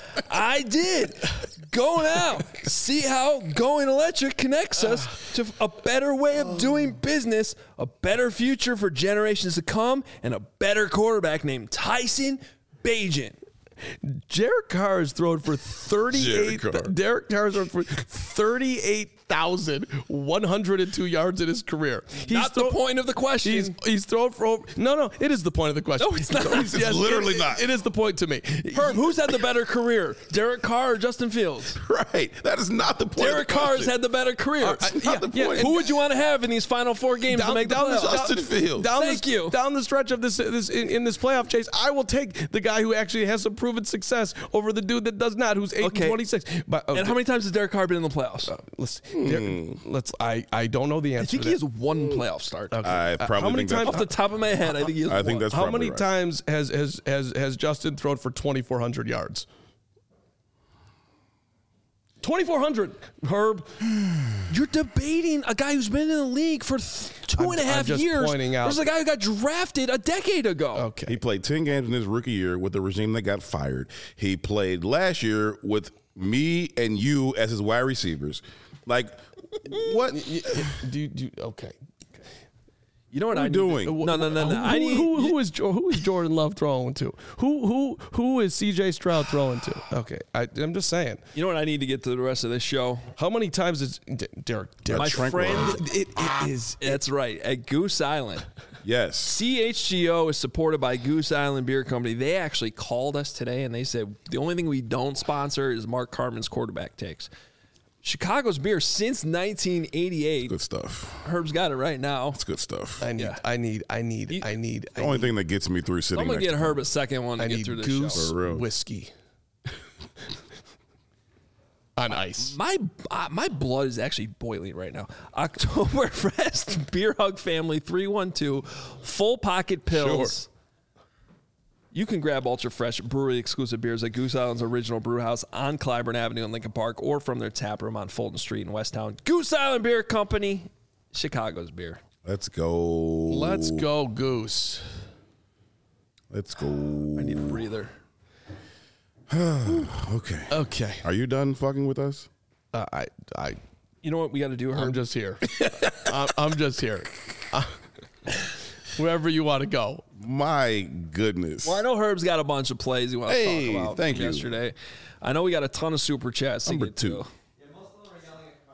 I did. Go now. See how going electric connects us to a better way of doing business, a better future for generations to come, and a better quarterback named Tyson Bagent. Derek Carr has thrown for 38. Derek Carr has thrown for 38,102 yards in his career. Not the point of the question. He's thrown for over. No, it is the point of the question. No, it's not. It's literally not. It is the point to me. Herb, who's had the better career, Derek Carr or Justin Fields? Right. That is not the point. Derek Carr's had the better career. Who would you want to have in these final 4 games to make the playoffs? Justin Fields. Thank you. Down the stretch of this in this playoff chase, I will take the guy who actually has some proven success over the dude that does not, who's 8-26. But and how many times has Derek Carr been in the playoffs? I don't know the answer. I think he has 1 playoff start. Okay. I probably how many think times Off the top of my head, I think he has 1. I think that's how probably many right. times has Justin thrown for 2,400 yards? 2,400, Herb. You're debating a guy who's been in the league for 2.5 I'm just years. pointing out. There's a guy who got drafted a decade ago. Okay. He played 10 games in his rookie year with the regime that got fired. He played last year with me and you as his wide receivers. Like, what? Okay. You know what What are I'm we doing? No. I need Who is Jordan Love throwing to? Who is CJ Stroud throwing to? Okay, I'm just saying. You know what I need to get to the rest of this show? How many times is Derek? My tranquilizer. friend, it is. That's right. At Goose Island. Yes. CHGO is supported by Goose Island Beer Company. They actually called us today and they said the only thing we don't sponsor is Mark Carman's quarterback takes. Chicago's beer since 1988. Good stuff. Herb's got it right now. It's good stuff. I need. The only thing that gets me through sitting I'm gonna next get to Herb a second one to I get need through this Goose show. For real. whiskey on ice. My blood is actually boiling right now. Oktoberfest Beer Hug Family 312 full pocket pills. Sure. You can grab ultra fresh brewery exclusive beers at Goose Island's original brew house on Clybourne Avenue in Lincoln Park or from their tap room on Fulton Street in Westtown. Goose Island Beer Company, Chicago's beer. Let's go. Let's go, Goose. Let's go. I need a breather. Okay. Okay. Are you done fucking with us? You know what we got to do, Herb? I'm just here. I'm just here. Wherever you want to go. My goodness. Well, I know Herb's got a bunch of plays he wants to talk about thank from you. yesterday. I know we got a ton of super chats to Number get 2. to.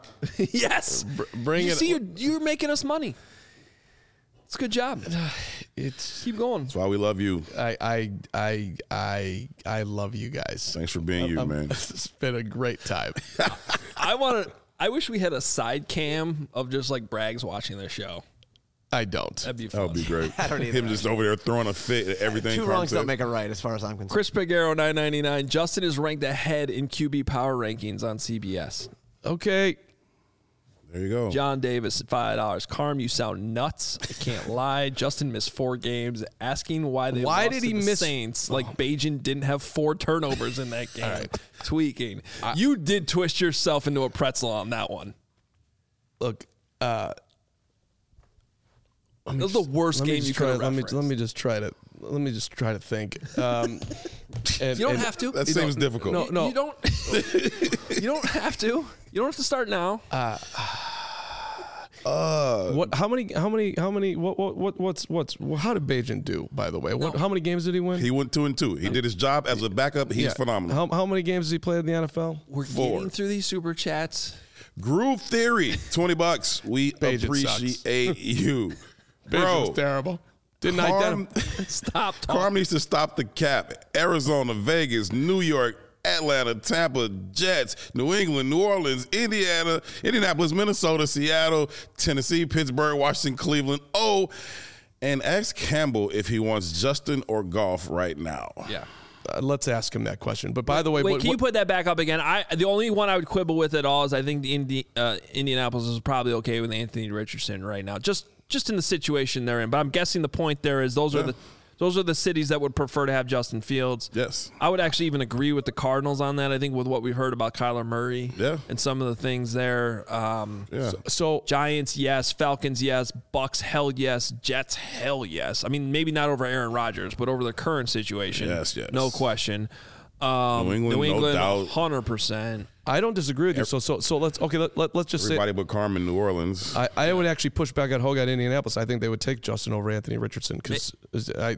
Yes. Bring You it. see, you're making us money. It's a good job. Keep going. That's why we love you. I love you guys. Thanks for being you, man. It's been a great time. I wish we had a side cam of just like Braggs watching their show. I don't. That'd be That fun. would be great. I don't either. Him just over there throwing a fit at everything. Two Carm wrongs said. don't make a right, as far as I'm concerned. Chris Pagaro, $9.99. Justin is ranked ahead in QB power rankings on CBS. Okay. There you go. John Davis at $5. Carm, you sound nuts. I can't lie. Justin missed 4 games. Asking why they Why lost did to he the miss- Saints like Bajan didn't have 4 turnovers in that game. Tweaking. You did twist yourself into a pretzel on that one. Look, That was the worst game you could have referenced. Let me just try to think. And, You don't have to. That seems difficult. No. You don't. You don't have to. You don't have to start now. What? How many? How did Bajan do? By the way, how many games did he win? He went 2-2. He did his job as a backup. He's phenomenal. How many games has he played in the NFL? We're 4. getting through these super chats. Groove Theory, $20. We Bajan appreciate you, Bajan was bro. terrible. Didn't Carm, identify. Stop talking. Carm needs to stop the cap. Arizona, Vegas, New York, Atlanta, Tampa, Jets, New England, New Orleans, Indiana, Indianapolis, Minnesota, Seattle, Tennessee, Pittsburgh, Washington, Cleveland. Oh, and ask Campbell if he wants Justin or Goff right now. Yeah. Let's ask him that question. But by the way, Wait, can you put that back up again? The only one I would quibble with at all is I think the Indianapolis is probably okay with Anthony Richardson right now, just in the situation they're in. But I'm guessing the point there is those are the cities that would prefer to have Justin Fields. Yes. I would actually even agree with the Cardinals on that. I think with what we heard about Kyler Murray and some of the things there. So Giants, yes. Falcons, yes. Bucks, hell yes. Jets, hell yes. I mean, maybe not over Aaron Rodgers, but over the current situation. Yes. No question. New England, no doubt. 100%. I don't disagree with you. So let's just Everybody but Carm in New Orleans. I would actually push back at Hogue at Indianapolis. I think they would take Justin over Anthony Richardson because I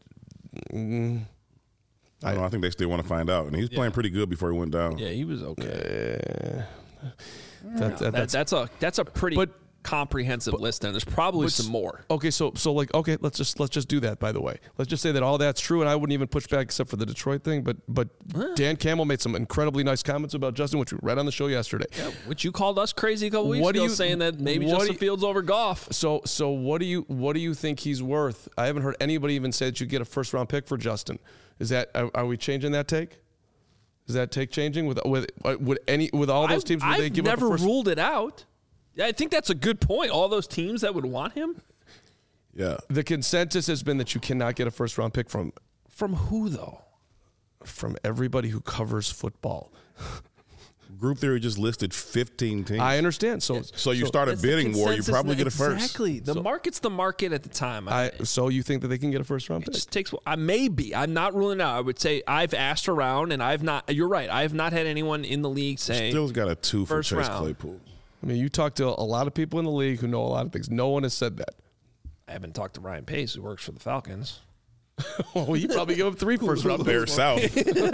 think they still want to find out. And he was playing pretty good before he went down. Yeah, he was okay. that's That's a pretty comprehensive list, and there's probably some more. Okay, so let's just do that. By the way, let's just say that all that's true, and I wouldn't even push back except for the Detroit thing. But Dan Campbell made some incredibly nice comments about Justin, which we read on the show yesterday. Yeah, which you called us crazy a couple weeks ago, saying that maybe Justin Fields over Goff. So what do you think he's worth? I haven't heard anybody even say that you get a first round pick for Justin. Is that are we changing that take? Is that take changing with all those teams? Would they give I've never up a first? ruled it out. Yeah, I think that's a good point. All those teams that would want him. Yeah. The consensus has been that you cannot get a first round pick from who though? From everybody who covers football. Group Theory just listed 15 teams. I understand. So you start a bidding war, you probably get a first. Exactly. The market's the market at the time. So you think that they can get a first round pick? It just takes. Maybe. I'm not ruling it out. I would say I've asked around, and I've not. You're right. I have not had anyone in the league say. Still's got a 2 for first Chase round. Claypool. I mean, you talk to a lot of people in the league who know a lot of things. No one has said that. I haven't talked to Ryan Pace, who works for the Falcons. Well, you probably give up 3 first round Bear picks. South.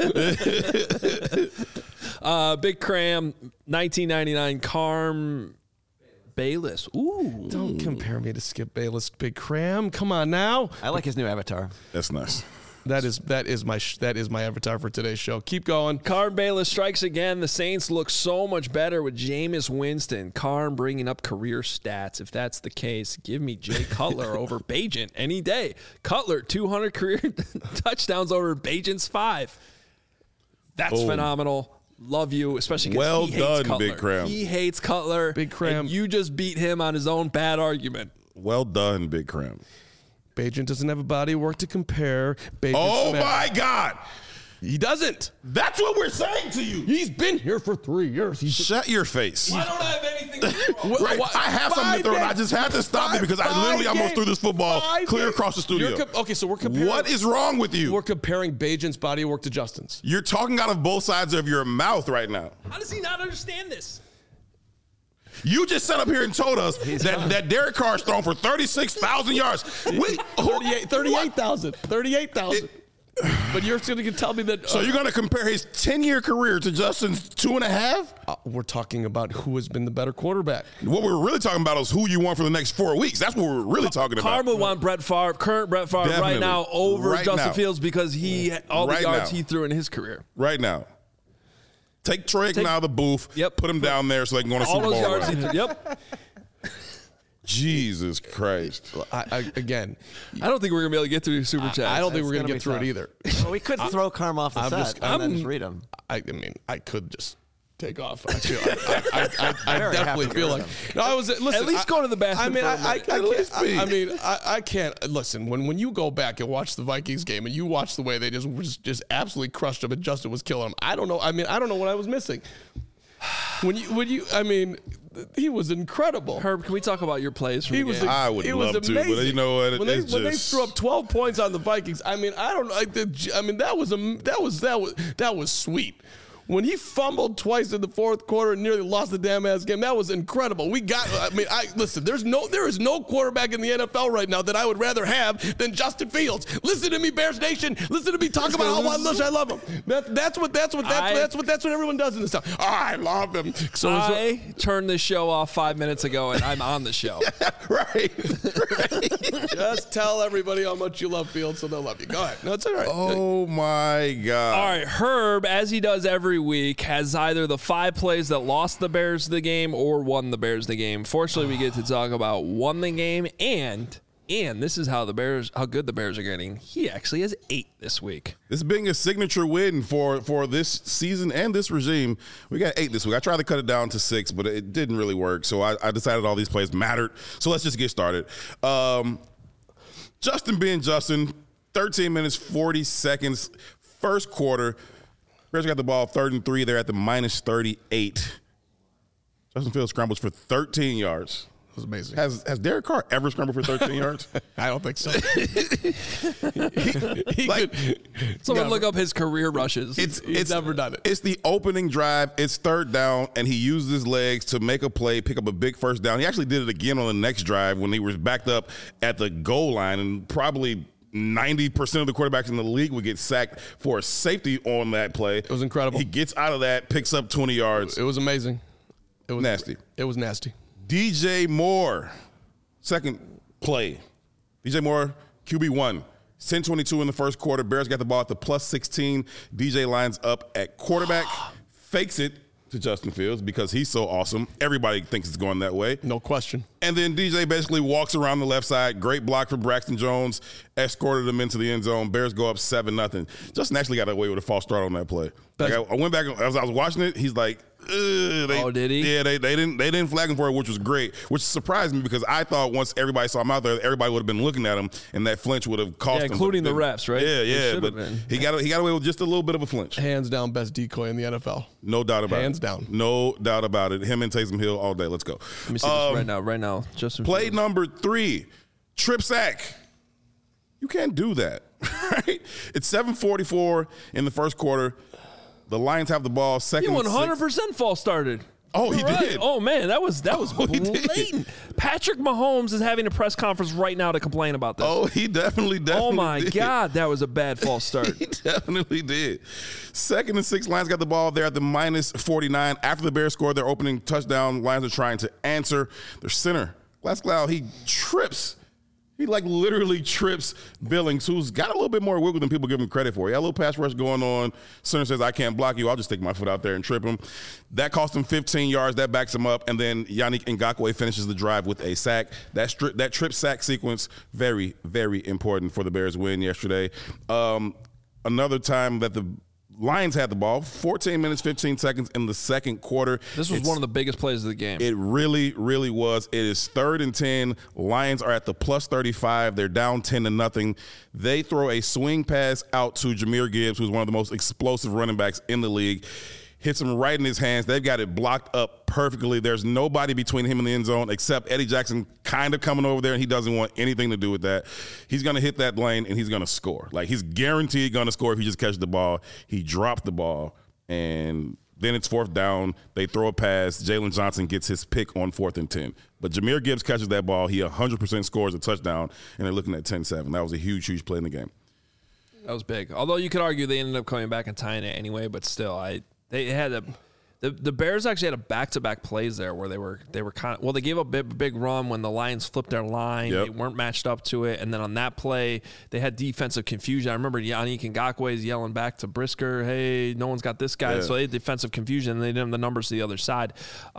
Big Cram, 1999. Carm Bayless. Ooh. Don't compare me to Skip Bayless, Big Cram. Come on now. I like his new avatar. That's nice. That is my avatar for today's show. Keep going. Carm Bayless strikes again. The Saints look so much better with Jameis Winston. Carm bringing up career stats. If that's the case, give me Jay Cutler over Bajan any day. Cutler, 200 career touchdowns over Bajan's 5. That's phenomenal. Love you, especially because Well he hates done, Cutler. Big Cram. He hates Cutler. Big Cram. And you just beat him on his own bad argument. Well done, Big Cram. Bajan doesn't have a body of work to compare. Oh, my God. He doesn't. That's what we're saying to you. He's been here for 3 years. Shut your face. I don't have anything to do. Right. I have something to throw, and I just had to stop it because I literally almost threw this football clear across the studio. Okay, so we're comparing. What is wrong with you? We're comparing Bajan's body of work to Justin's. You're talking out of both sides of your mouth right now. How does he not understand this? You just sat up here and told us that Derek Carr's thrown for 36,000 yards. 38,000. 38,000. But you're going to tell me that. So you're going to compare his 10-year career to Justin's 2.5? We're talking about who has been the better quarterback. What we're really talking about is who you want for the next 4 weeks. That's what we're really talking about. Carm would want Brett Favre, current Brett Favre, Definitely. right now over Right Justin now. Fields because all the Right yards now. he threw in his career. Right now. Take Troy Aikman out of the booth. Yep. Put him down there so they can go on a All Super those Bowl yards run. he threw. Yep. Jesus Christ. Again, I don't think we're going to be able to get through Super Chat. I don't think we're going to It's get gonna through be it either. Well, we could throw Carm off the set and then just read them. I mean, I could just take off. I Very definitely happy to feel read like. them. No, I was listen. At least go to the bathroom I mean, for a minute. I can't listen. When you go back and watch the Vikings game and you watch the way they just absolutely crushed him and Justin was killing him. I don't know. I mean, I don't know what I was missing. When you, I mean, he was incredible. Herb, can we talk about your plays from He the was. game? I would he love was to, but amazing. you know what? When they It's just- threw up 12 points on the Vikings, I mean, I don't know. I mean, that was sweet. When he fumbled twice in the fourth quarter and nearly lost the damn ass game, that was incredible. Listen, there is no quarterback in the NFL right now that I would rather have than Justin Fields. Listen to me, Bears Nation. Listen to me talk about how much I love him. That's what everyone does in this town. I love him. So I turned this show off 5 minutes ago, and I'm on the show. Right. just tell everybody how much you love Fields so they'll love you. Go ahead. No, it's all right. Oh, my God. All right, Herb, as he does every week, has either the 5 plays that lost the Bears the game or won the Bears the game. Fortunately, we get to talk about won the game, and this is how good the Bears are getting. He actually has 8 this week. This being a signature win for this season and this regime. We got 8 this week. I tried to cut it down to 6, but it didn't really work. So I decided all these plays mattered. So let's just get started. Justin being Justin, 13 minutes, 40 seconds, first quarter. Bears got the ball 3rd and 3. They're at the minus 38. Justin Fields scrambles for 13 yards. It was amazing. Has Derek Carr ever scrambled for 13 yards? I don't think so. Someone look up his career rushes. He's never done it. It's the opening drive. It's 3rd down, and he used his legs to make a play, pick up a big first down. He actually did it again on the next drive when he was backed up at the goal line, and probably 90% of the quarterbacks in the league would get sacked for a safety on that play. It was incredible. He gets out of that, picks up 20 yards. It was amazing. It was Nasty. It was nasty. DJ Moore, second play. DJ Moore, QB1. 10-22 in the first quarter. Bears got the ball at the plus 16. DJ lines up at quarterback, fakes it to Justin Fields because he's so awesome. Everybody thinks it's going that way. No question. And then DJ basically walks around the left side. Great block from Braxton Jones. Escorted him into the end zone. Bears go up 7-0. Justin actually got away with a false start on that play. Like I went back as I was watching it. He's like, did he? Yeah, they didn't flag him for it, which was great. Which surprised me because I thought once everybody saw him out there, everybody would have been looking at him, and that flinch would have cost him. Including the refs, right? Yeah. But he got away with just a little bit of a flinch. Hands down, best decoy in the NFL. No doubt about it. Hands down. No doubt about it. Him and Taysom Hill all day. Let's go. Let me see this right now. Justin Play Fields. number 3, trip sack. You can't do that, right? It's 7:44 in the first quarter. The Lions have the ball. Second. He and 100% 6. false started. Oh, he You're right. did. Oh man, that was he did. blatant. Patrick Mahomes is having a press conference right now to complain about this. Oh, he definitely Oh my did. God, that was a bad false start. He definitely did. 2nd and 6, Lions got the ball there at the minus 49. After the Bears scored their opening touchdown, Lions are trying to answer. Their center, Glasgow, he trips. He literally trips Billings, who's got a little bit more wiggle than people give him credit for. He had a little pass rush going on. Center says, I can't block you. I'll just stick my foot out there and trip him. That cost him 15 yards. That backs him up. And then Yannick Ngakoue finishes the drive with a sack. That trip sack sequence, very, very important for the Bears win yesterday. Another time that the Lions had the ball, 14 minutes, 15 seconds in the second quarter. This was one of the biggest plays of the game. It really, really was. It is 3rd and 10. Lions are at the plus 35. They're down 10-0. They throw a swing pass out to Jahmyr Gibbs, who's one of the most explosive running backs in the league. Hits him right in his hands. They've got it blocked up perfectly. There's nobody between him and the end zone except Eddie Jackson kind of coming over there, and he doesn't want anything to do with that. He's going to hit that lane, and he's going to score. He's guaranteed going to score if he just catches the ball. He dropped the ball, and then it's 4th down. They throw a pass. Jalen Johnson gets his pick on 4th and 10. But Jahmyr Gibbs catches that ball. He 100% scores a touchdown, and they're looking at 10-7. That was a huge, huge play in the game. That was big. Although you could argue they ended up coming back and tying it anyway, but still, they had the Bears actually had a back-to-back plays there where they were kind of, well, they gave up a big run when the Lions flipped their line. Yep. They weren't matched up to it, and then on that play they had defensive confusion. I remember Yannick Ngakoue is yelling back to Brisker, "Hey, no one's got this guy." Yeah. So they had defensive confusion, and they didn't have the numbers to the other side.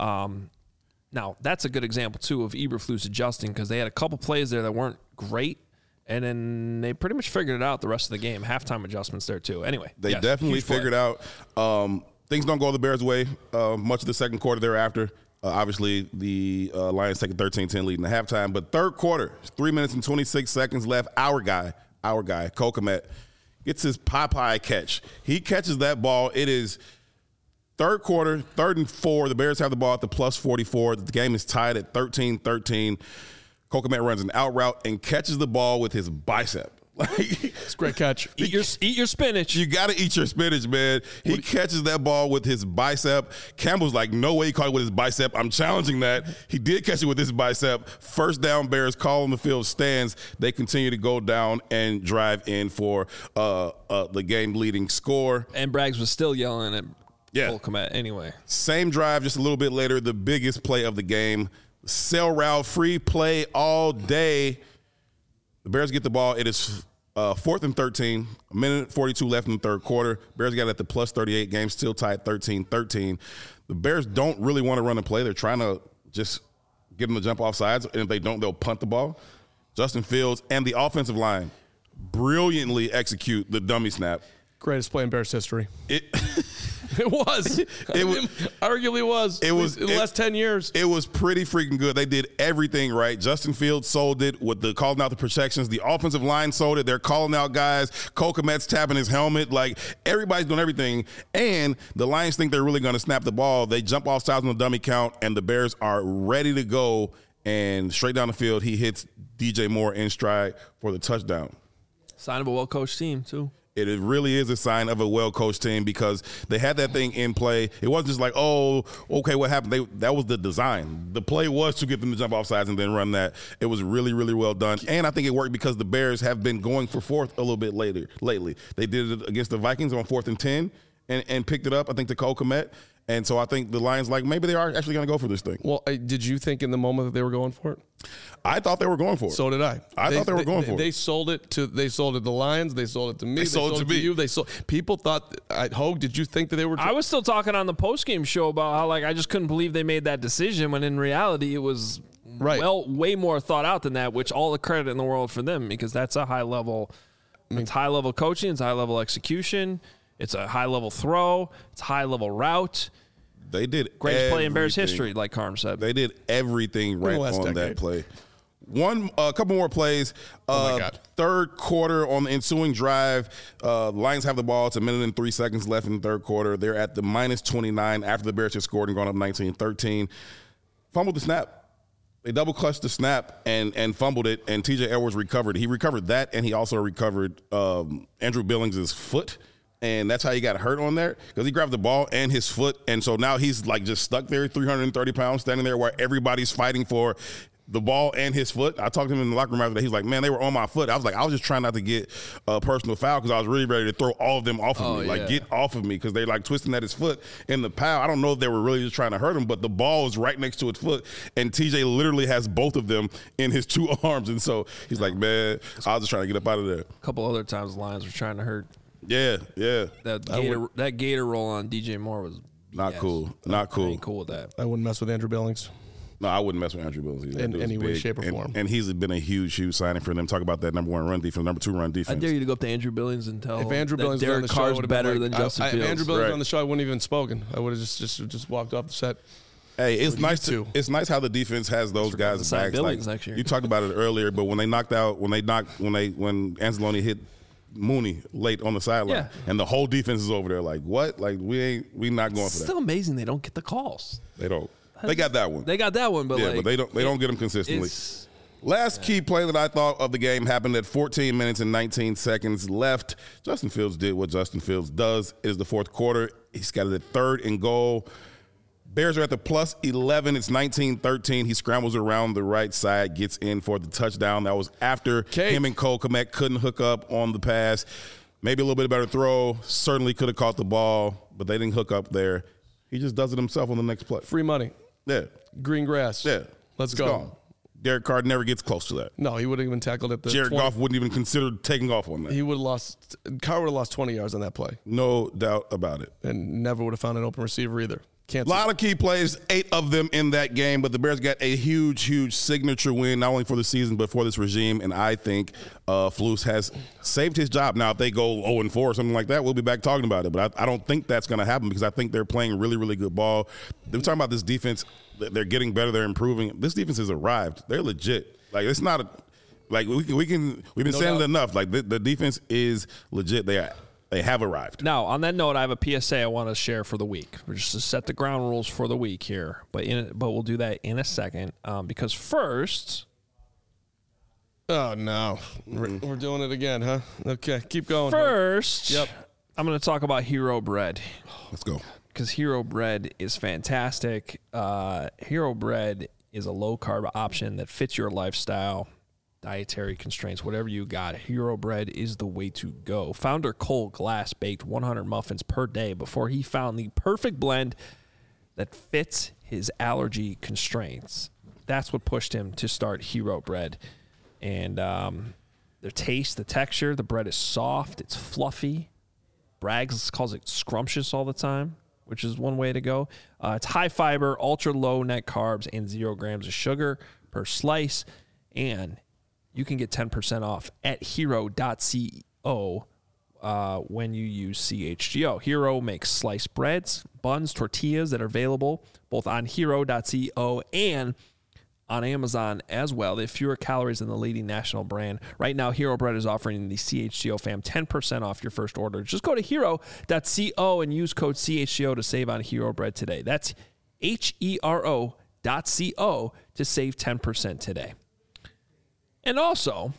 Now that's a good example too of Eberflus adjusting, because they had a couple plays there that weren't great. And then they pretty much figured it out the rest of the game. Halftime adjustments there too. Anyway, They yes, definitely huge play. figured out. Things don't go the Bears' way much of the second quarter thereafter. Obviously, the Lions take a 13-10 lead in the halftime. But third quarter, 3 minutes and 26 seconds left. Our guy, Cole Kmet, gets his Popeye catch. He catches that ball. It is third quarter, 3rd and 4. The Bears have the ball at the plus 44. The game is tied at 13-13. Cole Kmet runs an out route and catches the ball with his bicep. It's a great catch. Eat your spinach. You got to eat your spinach, man. He catches that ball with his bicep. Campbell's like, no way he caught it with his bicep. I'm challenging that. He did catch it with his bicep. First down, Bears call on the field stands. They continue to go down and drive in for the game-leading score. And Braggs was still yelling at Cole Kmet anyway. Same drive, just a little bit later, the biggest play of the game. Sail route, free play all day. The Bears get the ball. It is 4th and 13, a minute 42 left in the third quarter. Bears got it at the plus 38, game still tied 13-13. The Bears don't really want to run a play. They're trying to just get them to jump off sides, and if they don't, they'll punt the ball. Justin Fields and the offensive line brilliantly execute the dummy snap. Greatest play in Bears history. It was. It arguably was. It was in the last 10 years. It was pretty freaking good. They did everything right. Justin Fields sold it with the calling out the protections. The offensive line sold it. They're calling out guys. Cole Kmet's tapping his helmet. Like, everybody's doing everything. And the Lions think they're really going to snap the ball. They jump off sides on the dummy count, and the Bears are ready to go. And straight down the field, he hits DJ Moore in stride for the touchdown. Sign of a well-coached team, too. It really is a sign of a well-coached team, because they had that thing in play. It wasn't just like, oh, okay, what happened? That was the design. The play was to get them to jump off sides and then run that. It was really, really well done. And I think it worked because the Bears have been going for fourth a little bit lately. They did it against the Vikings on 4th and 10 and picked it up, I think, to Cole Kmet. And so I think the Lions, like, maybe they are actually going to go for this thing. Well, did you think in the moment that they were going for it? I thought they were going for it. So did I. I thought they were going for it. They sold it to the Lions. They sold it to me. They sold it to me. you. People thought. Hogue, did you think that they were? I was still talking on the postgame show about how, like, I just couldn't believe they made that decision, when in reality it was way more thought out than that. Which all the credit in the world for them, because that's a high level. It's high level coaching. It's high level execution. It's a high level throw. It's high level route. They did greatest play in Bears history, like Carm said. They did everything right on that play. A couple more plays. Oh my God. Third quarter on the ensuing drive, the Lions have the ball. It's 1 minute and 3 seconds left in the third quarter. They're at the minus 29 after the Bears had scored and gone up 19-13. Fumbled the snap. They double clutched the snap and fumbled it, and TJ Edwards recovered. He recovered that, and he also recovered Andrew Billings' foot. And that's how he got hurt on there, because he grabbed the ball and his foot. And so now he's like just stuck there, 330 pounds, standing there while everybody's fighting for the ball and his foot. I talked to him in the locker room after that. He's like, man, they were on my foot. I was like, I was just trying not to get a personal foul, because I was really ready to throw all of them off of me. Like, get off of me, because they're like twisting at his foot in the pile. I don't know if they were really just trying to hurt him, but the ball is right next to his foot. And TJ literally has both of them in his two arms. And so he's like, man, I was just trying to get up out of there. A couple other times the Lions were trying to hurt. Yeah. That gator roll on DJ Moore was not cool. Not cool. I ain't cool with that. I wouldn't mess with Andrew Billings. No, I wouldn't mess with Andrew Billings either. In any way, shape, or form. And he's been a huge signing for them. Talk about that number 1 run defense, number 2 run defense. I dare you to go up to Andrew Billings and tell if Andrew Billings Derek was on the show, Carr's I would've better been like, than Justin Fields. If Andrew Billings Right. on the show, I wouldn't even spoken. I would have just walked off the set. Hey, it's nice how the defense has those guys' backs. Billings Like, next year. you talked about it earlier, but when Anzalone hit Mooney late on the sideline, and the whole defense is over there like, what? Like, we not going for that. Still amazing they don't get the calls. They don't. They got that one. They got that one, but but they don't get them consistently. Last key play that I thought of the game happened at 14 minutes and 19 seconds left. Justin Fields did what Justin Fields does. It is the fourth quarter. He's got it at 3rd and goal. Bears are at the plus 11. It's 19-13. He scrambles around the right side, gets in for the touchdown. That was after him and Cole Kmet couldn't hook up on the pass. Maybe a little bit better throw. Certainly could have caught the ball, but they didn't hook up there. He just does it himself on the next play. Free money. Yeah. Green grass. Yeah. Let's It's go. gone. Derek Carr never gets close to that. No, he wouldn't even tackled at the Jared 20. Goff wouldn't even consider taking off on that. He would have lost. Carr would have lost 20 yards on that play, No doubt about it. and never would have found an open receiver either. Can't. A lot of key plays, 8 of them in that game, but the Bears got a huge, huge signature win, not only for the season, but for this regime, and I think Flus has saved his job. Now, if they go 0-4 or something like that, we'll be back talking about it, but I don't think that's going to happen because I think they're playing really, really good ball. They're talking about this defense. They're getting better. They're improving. This defense has arrived. They're legit. Like, it's not a – like, we've been saying it enough. Like, the defense is legit. They have arrived. Now, on that note, I have a PSA I want to share for the week. We're just to set the ground rules for the week here, but we'll do that in a second because first. Oh no, we're doing it again, huh? Okay, keep going. First, Yep. I'm going to talk about Hero Bread Let's go. because Hero Bread is fantastic. Hero Bread is a low carb option that fits your lifestyle. Dietary constraints, whatever you got, Hero Bread is the way to go. Founder Cole Glass baked 100 muffins per day before he found the perfect blend that fits his allergy constraints. That's what pushed him to start Hero Bread. And the taste, the texture, the bread is soft, it's fluffy. Braggs calls it scrumptious all the time, which is one way to go. It's high fiber, ultra low net carbs, and 0 grams of sugar per slice. And you can get 10% off at hero.co when you use CHGO. Hero makes sliced breads, buns, tortillas that are available both on hero.co and on Amazon as well. They have fewer calories than the leading national brand. Right now, Hero Bread is offering the CHGO fam 10% off your first order. Just go to hero.co and use code CHGO to save on Hero Bread today. That's HERO.co to save 10% today. And also,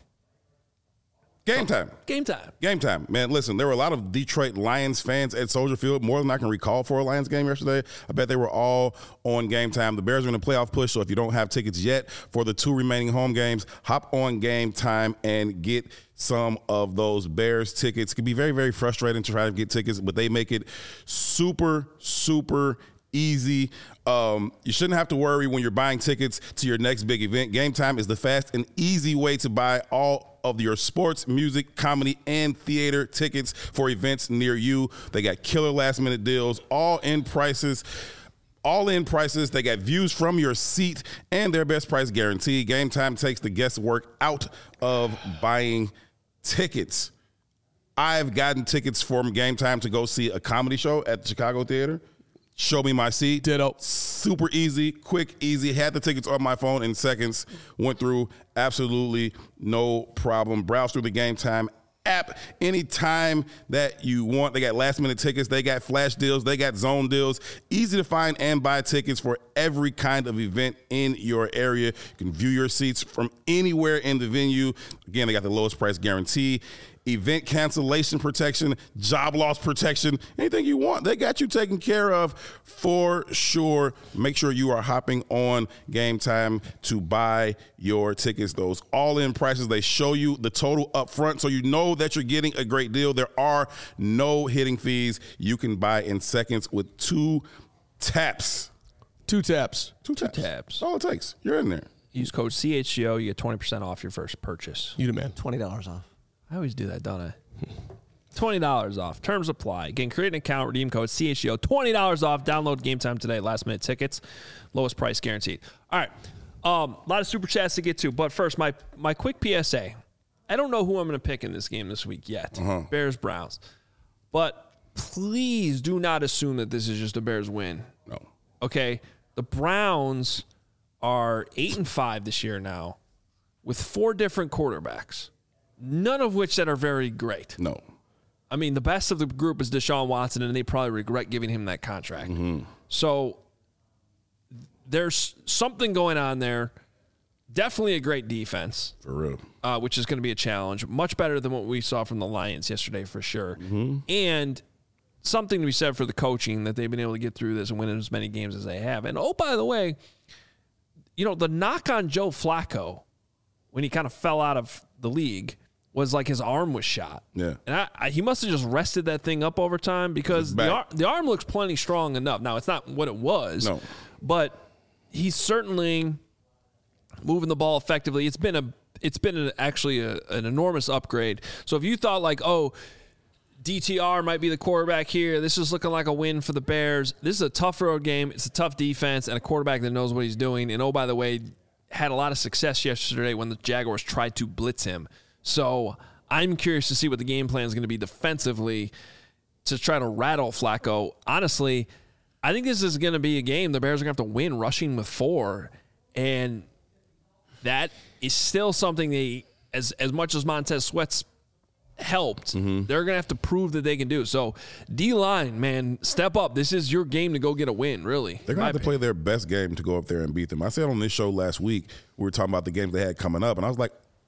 Game time. game time. Game time. Man, listen, there were a lot of Detroit Lions fans at Soldier Field, more than I can recall for a Lions game yesterday. I bet they were all on Game Time. The Bears are in a playoff push, so if you don't have tickets yet for the 2 remaining home games, hop on Game Time and get some of those Bears tickets. It can be very, very frustrating to try to get tickets, but they make it super, super easy. You shouldn't have to worry when you're buying tickets to your next big event. Game Time is the fast and easy way to buy all of your sports, music, comedy, and theater tickets for events near you. They got killer last-minute deals, all-in prices. They got views from your seat and their best price guarantee. Game Time takes the guesswork out of buying tickets. I've gotten tickets from Game Time to go see a comedy show at the Chicago Theater. Show me my seat. Ditto. Super easy, quick, easy. Had the tickets on my phone in seconds. Went through absolutely no problem. Browse through the Game Time app anytime that you want. They got last-minute tickets. They got flash deals. They got zone deals. Easy to find and buy tickets for every kind of event in your area. You can view your seats from anywhere in the venue. Again, they got the lowest price guarantee, event cancellation protection, job loss protection, anything you want. They got you taken care of for sure. Make sure you are hopping on Game Time to buy your tickets. Those all-in prices, they show you the total up front so you know that you're getting a great deal. There are no hidden fees. You can buy in seconds with 2 taps. 2 taps. 2 taps. taps. That's all it takes. You're in there. Use code CHGO. You get 20% off your first purchase. You the man. $20 off. I always do that, don't I? $20 off. Terms apply. Again, create an account, redeem code CHGO. $20 off. Download Game Time today. Last minute tickets. Lowest price guaranteed. All right. A lot of super chats to get to. But first, my quick PSA. I don't know who I'm going to pick in this game this week yet. Bears, Browns. But please do not assume that this is just a Bears win. No. Okay? The Browns are 8-5 this year now with 4 different quarterbacks. None of which that are very great. No. I mean, the best of the group is Deshaun Watson, and they probably regret giving him that contract. So there's something going on there. Definitely a great defense. For real. Which is going to be a challenge. Much better than what we saw from the Lions yesterday for sure. And something to be said for the coaching that they've been able to get through this and win as many games as they have. And, oh, by the way, you know, the knock on Joe Flacco when he kind of fell out of the league was like his arm was shot. Yeah. And he must have just rested that thing up over time because the arm looks plenty strong enough. Now, it's not what it was. No. But he's certainly moving the ball effectively. It's been actually an enormous upgrade. So if you thought like, oh, DTR might be the quarterback here, this is looking like a win for the Bears. This is a tough road game. It's a tough defense and a quarterback that knows what he's doing. And oh, by the way, had a lot of success yesterday when the Jaguars tried to blitz him. So I'm curious to see what the game plan is going to be defensively to try to rattle Flacco. Honestly, I think this is going to be a game the Bears are going to have to win rushing with 4. And that is still something they, as much as Montez Sweat's helped, they're going to have to prove that they can do. So D-line, man, step up. This is your game to go get a win, really. They're going to have to play their best game to go up there and beat them. I said on this show last week, we were talking about the games they had coming up, and I was like,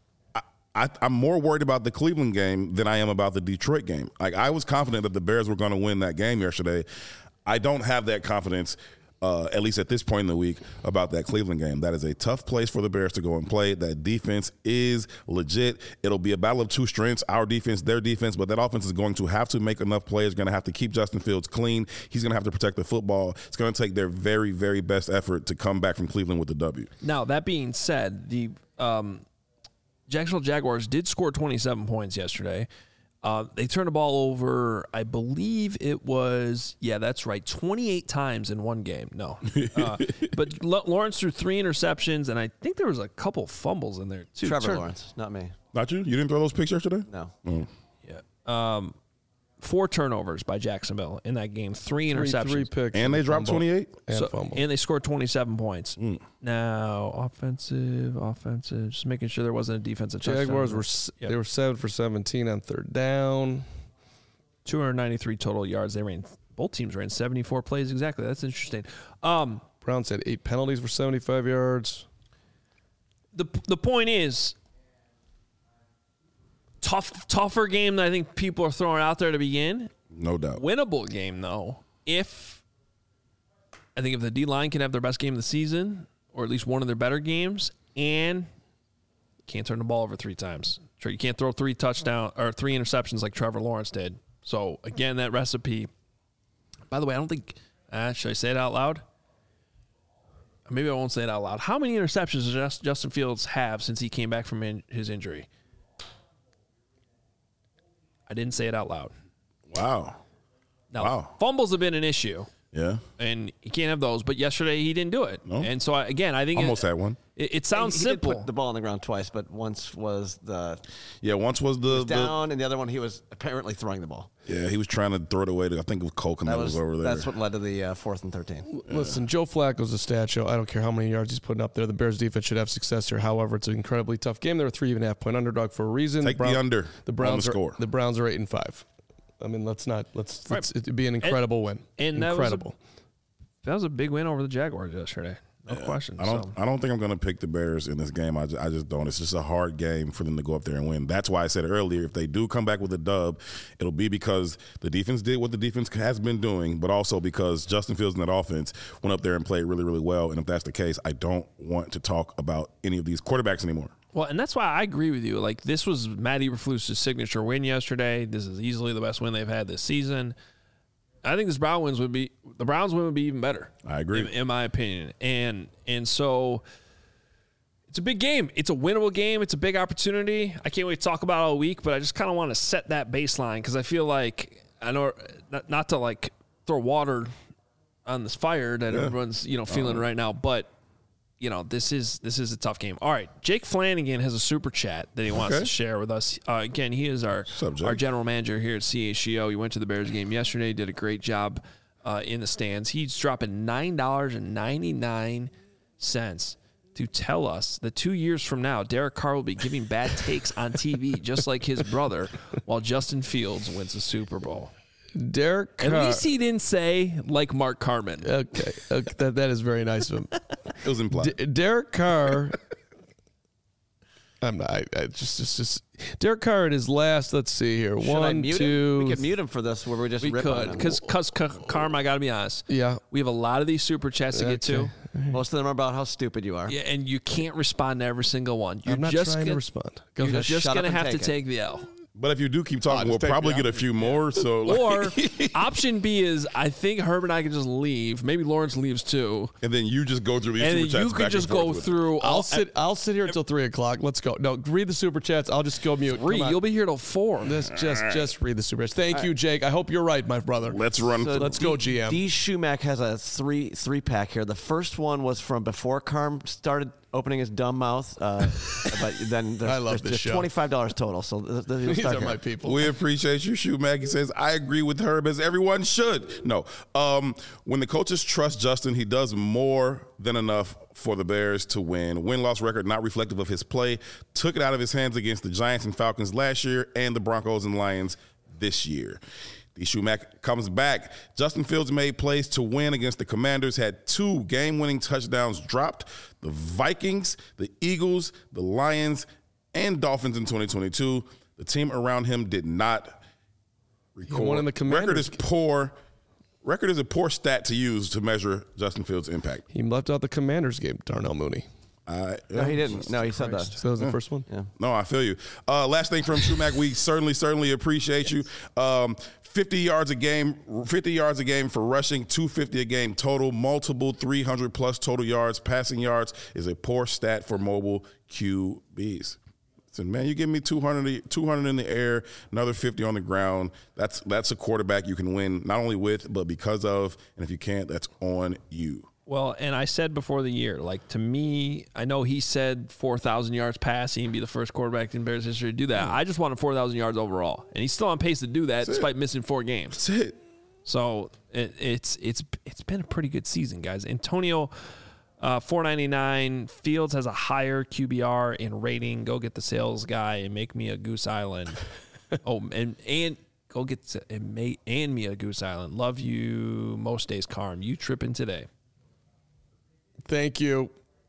I'm more worried about the Cleveland game than I am about the Detroit game. Like, I was confident that the Bears were going to win that game yesterday. I don't have that confidence, at least at this point in the week, about that Cleveland game. That is a tough place for the Bears to go and play. That defense is legit. It'll be a battle of two strengths, our defense, their defense, but that offense is going to have to make enough plays, going to have to keep Justin Fields clean. He's going to have to protect the football. It's going to take their very, very best effort to come back from Cleveland with the W. Now, that being said, the Jacksonville Jaguars did score 27 points yesterday. They turned the ball over, I believe it was, that's right, 28 times in one game. No. But Lawrence threw 3 interceptions, and I think there was a couple fumbles in there, too. Trevor Lawrence, not me. Not you? You didn't throw those picks yesterday? No. Oh. Yeah. 4 turnovers by Jacksonville in that game, 3 interceptions. 3 picks. And they dropped 28? And they scored 27 points. Now, offensive, just making sure there wasn't a defensive touchdown. Jaguars they were 7 for 17 on third down. 293 total yards. Both teams ran 74 plays exactly. That's interesting. Browns had 8 penalties for 75 yards. The point is, tougher game than I think people are throwing out there to begin. No doubt. Winnable game, though. If the D-line can have their best game of the season, or at least one of their better games, and can't turn the ball over 3 times. You can't throw 3 touchdowns or 3 interceptions like Trevor Lawrence did. So, again, that recipe. By the way, I don't think should I say it out loud? Maybe I won't say it out loud. How many interceptions does Justin Fields have since he came back from his injury? I didn't say it out loud. Wow. Now, fumbles have been an issue. Yeah. And you can't have those. But yesterday he didn't do it. No. And so, again, I think almost had one. It sounds simple. He did put the ball on the ground twice, but once was once was the down, and the other one he was apparently throwing the ball. Yeah, he was trying to throw it away to, I think it was Colkin that was over there. That's what led to the 4th and 13. Listen, Joe Flacco's a stat show. I don't care how many yards he's putting up there. The Bears defense should have success here. However, it's an incredibly tough game. They're a 3.5 point underdog for a reason. Take the under. The Browns on the score. The Browns are 8-5. I mean, it'd be an incredible win. And incredible. That was a big win over the Jaguars yesterday. No question. I don't think I'm going to pick the Bears in this game. I just don't. It's just a hard game for them to go up there and win. That's why I said earlier, if they do come back with a dub, it'll be because the defense did what the defense has been doing, but also because Justin Fields and that offense went up there and played really, really well. And if that's the case, I don't want to talk about any of these quarterbacks anymore. Well, and that's why I agree with you. Like, this was Matt Eberflus's signature win yesterday. This is easily the best win they've had this season. I think the Browns win would be even better. I agree. In my opinion. And so it's a big game. It's a winnable game. It's a big opportunity. I can't wait to talk about it all week, but I just kind of want to set that baseline because I feel like, I know not to like throw water on this fire that everyone's, feeling right now, but this is a tough game. All right, Jake Flanagan has a super chat that he wants to share with us. Again, he is our general manager here at CHGO. He went to the Bears game yesterday, did a great job in the stands. He's dropping $9.99 to tell us that 2 years from now, Derek Carr will be giving bad takes on TV, just like his brother, while Justin Fields wins the Super Bowl. Derek Carr. At least he didn't say like Mark Carman. Okay. That is very nice of him. It was implied. Derek Carr. I'm not. I just Derek Carr at his last. Let's see here. Should I mute him? 2. We could mute him for this where we just rip on him. Because Carm, I got to be honest. Yeah. We have a lot of these super chats to get to. Most of them are about how stupid you are. Yeah, and you can't respond to every single one. You're I'm not just trying to gonna, respond. Go You're ahead. just Shut going to up and have to take it. take the L. But if you do keep talking, we'll just take probably me get a out. few more. So, Or option B is I think Herb and I can just leave. Maybe Lawrence leaves too. and then you just go through these And super then chats you back could and just forth go with it. through. I'll sit here until 3 o'clock. Let's go. No, read the super chats. I'll just go mute. Three. Come on. You'll be here till 4. Just read the super chats. Thank you, Jake. I hope you're right, my brother. Let's run. Let's go, GM. D. Schumack has a three pack here. The first one was from before Carm started opening his dumb mouth. But then I love this there's show. $25 total. So These are my people. We appreciate you, Shoemack. He says, I agree with Herb as everyone should. No. When the coaches trust Justin, he does more than enough for the Bears to win. Win-loss record not reflective of his play. Took it out of his hands against the Giants and Falcons last year and the Broncos and Lions this year. D. Schumack comes back. Justin Fields made plays to win against the Commanders, had 2 game-winning touchdowns dropped. The Vikings, the Eagles, the Lions, and Dolphins in 2022. The team around him did not record. won in the Commanders. Record is poor. Record is a poor stat to use to measure Justin Fields' impact. He left out the Commanders game, Darnell Mooney. No, he didn't. No, he said that. So that was the first one? Yeah. No, I feel you. Last thing from Schumack, we certainly appreciate you. 50 yards a game for rushing, 250 a game total, multiple 300-plus total yards. Passing yards is a poor stat for mobile QBs. Listen, man, you give me 200 in the air, another 50 on the ground. That's a quarterback you can win not only with, but because of. And if you can't, that's on you. Well, and I said before the year, like, to me, I know he said 4,000 yards passing and be the first quarterback in Bears history to do that. I just wanted 4,000 yards overall, and he's still on pace to do that despite missing 4 games. That's it. So it's been a pretty good season, guys. Antonio, 499. Fields has a higher QBR in rating. Go get the sales guy and make me a Goose Island. and go get and me a Goose Island. Love you most days, Carm. You tripping today? Thank you.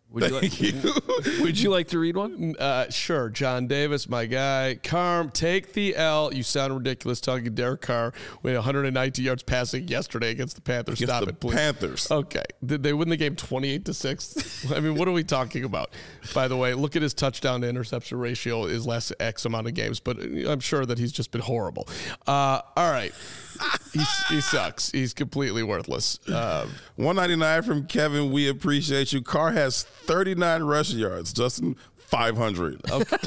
Would you like to read one? Sure. John Davis, my guy. Carm, take the L. You sound ridiculous talking Derek Carr. We had 190 yards passing yesterday against the Panthers. Against Stop the it, please. Panthers. Okay. Did they win the game 28-6? I mean, what are we talking about? By the way, look at his touchdown to interception ratio his last X amount of games, but I'm sure that he's just been horrible. All right. He sucks. He's completely worthless. 199 from Kevin. We appreciate you. Carr has 39 rushing yards. Justin, 500. Okay.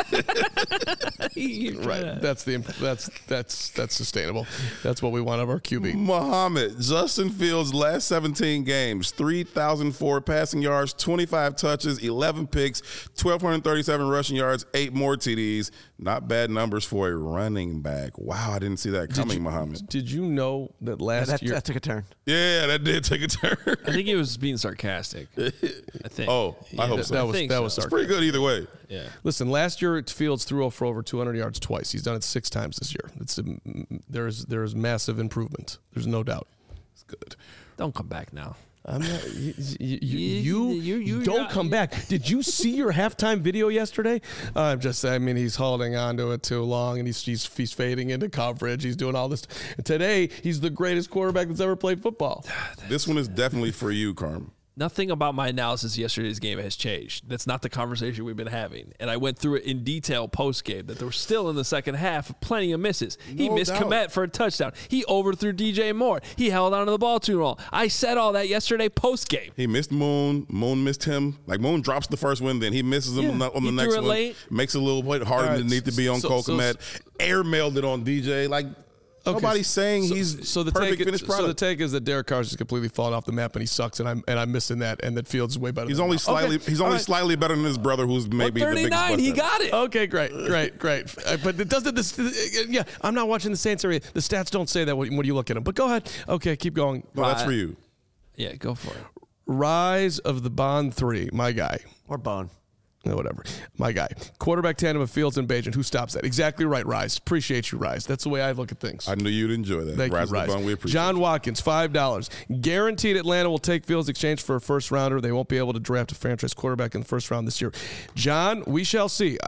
Right. That's sustainable. That's what we want of our QB. Muhammad, Justin Fields' last 17 games, 3,004 passing yards, 25 touches, 11 picks, 1,237 rushing yards, 8 more TDs. Not bad numbers for a running back. Wow, I didn't see that coming, Muhammad. Did you know that last year? That took a turn. Yeah, that did take a turn. I think he was being sarcastic. I think. Oh, I hope so. That was think so. sarcastic. It's pretty good either way. Yeah. Listen, last year Fields threw for over 200 yards twice. He's done it 6 times this year. There is massive improvement. There's no doubt. It's good. Don't come back now. I'm not, you don't come back. Did you see your halftime video yesterday? I mean, he's holding on to it too long, and he's fading into coverage. He's doing all this. And today, he's the greatest quarterback that's ever played football. This one is definitely for you, Carm. Nothing about my analysis of yesterday's game has changed. That's not the conversation we've been having. And I went through it in detail post-game, that there were still in the second half plenty of misses. He missed Kmet for a touchdown. He overthrew DJ Moore. He held onto the ball too long. I said all that yesterday post-game. He missed Moon. Moon missed him. Like, Moon drops the first one, then he misses him on the next one. Late. Makes it a little bit harder than it needs to be on Cole Kmet. Airmailed it on DJ. Like, nobody's saying he's the perfect finished product. So the take is that Derek Carr's just completely fallen off the map and he sucks, and I'm missing that, and that Fields is way better. He's than only him. slightly Okay. he's only slightly better than his brother, who's maybe the biggest. 39, he got it. Okay, great. But it doesn't. Yeah, I'm not watching the Saints area. The stats don't say that when you look at them. But go ahead. Okay, keep going. No, that's for you. Yeah, go for it. Rise of the Bond 3, my guy. Or Bone. Whatever. My guy. Quarterback tandem of Fields and Bagent. Who stops that? Exactly right, Rise. Appreciate you, Rise. That's the way I look at things. I knew you'd enjoy that. Thank Rise you, Rise. Bun, we appreciate John it. Watkins, $5. Guaranteed Atlanta will take Fields in exchange for a first rounder. They won't be able to draft a franchise quarterback in the first round this year. John, we shall see.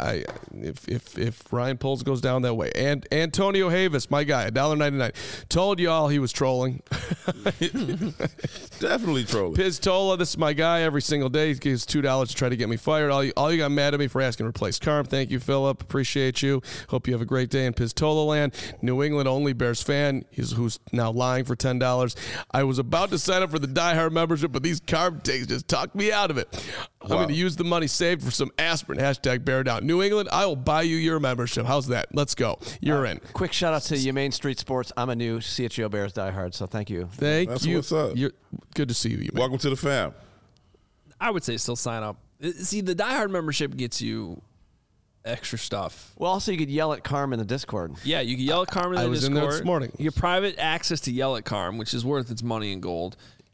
If Ryan Poles goes down that way. And Antonio Havis, my guy, $1.99. Told y'all he was trolling. Definitely trolling. Piztola, this is my guy every single day. He gives $2 to try to get me fired. All you got mad at me for asking to replace Carm. Thank you, Philip. Appreciate you. Hope you have a great day in Piztola land. New England only Bears fan. Who's now lying for $10. I was about to sign up for the Die Hard membership, but these Carm takes just talked me out of it. I'm going to use the money saved for some aspirin. Hashtag bear down. New England, I will buy you your membership. How's that? Let's go. You're in. Quick shout out to Humane Street Sports. I'm a new CHGO Bears diehard, so thank you. Thank you. What's up. Good to see you. Man. Welcome to the fam. I would say still sign up. See, the Die Hard membership gets you extra stuff. Well, also you could yell at Carm in the Discord. Yeah, you can yell at Carm in the Discord. I was in there this morning. You get private access to yell at Carm, which is worth its money in gold.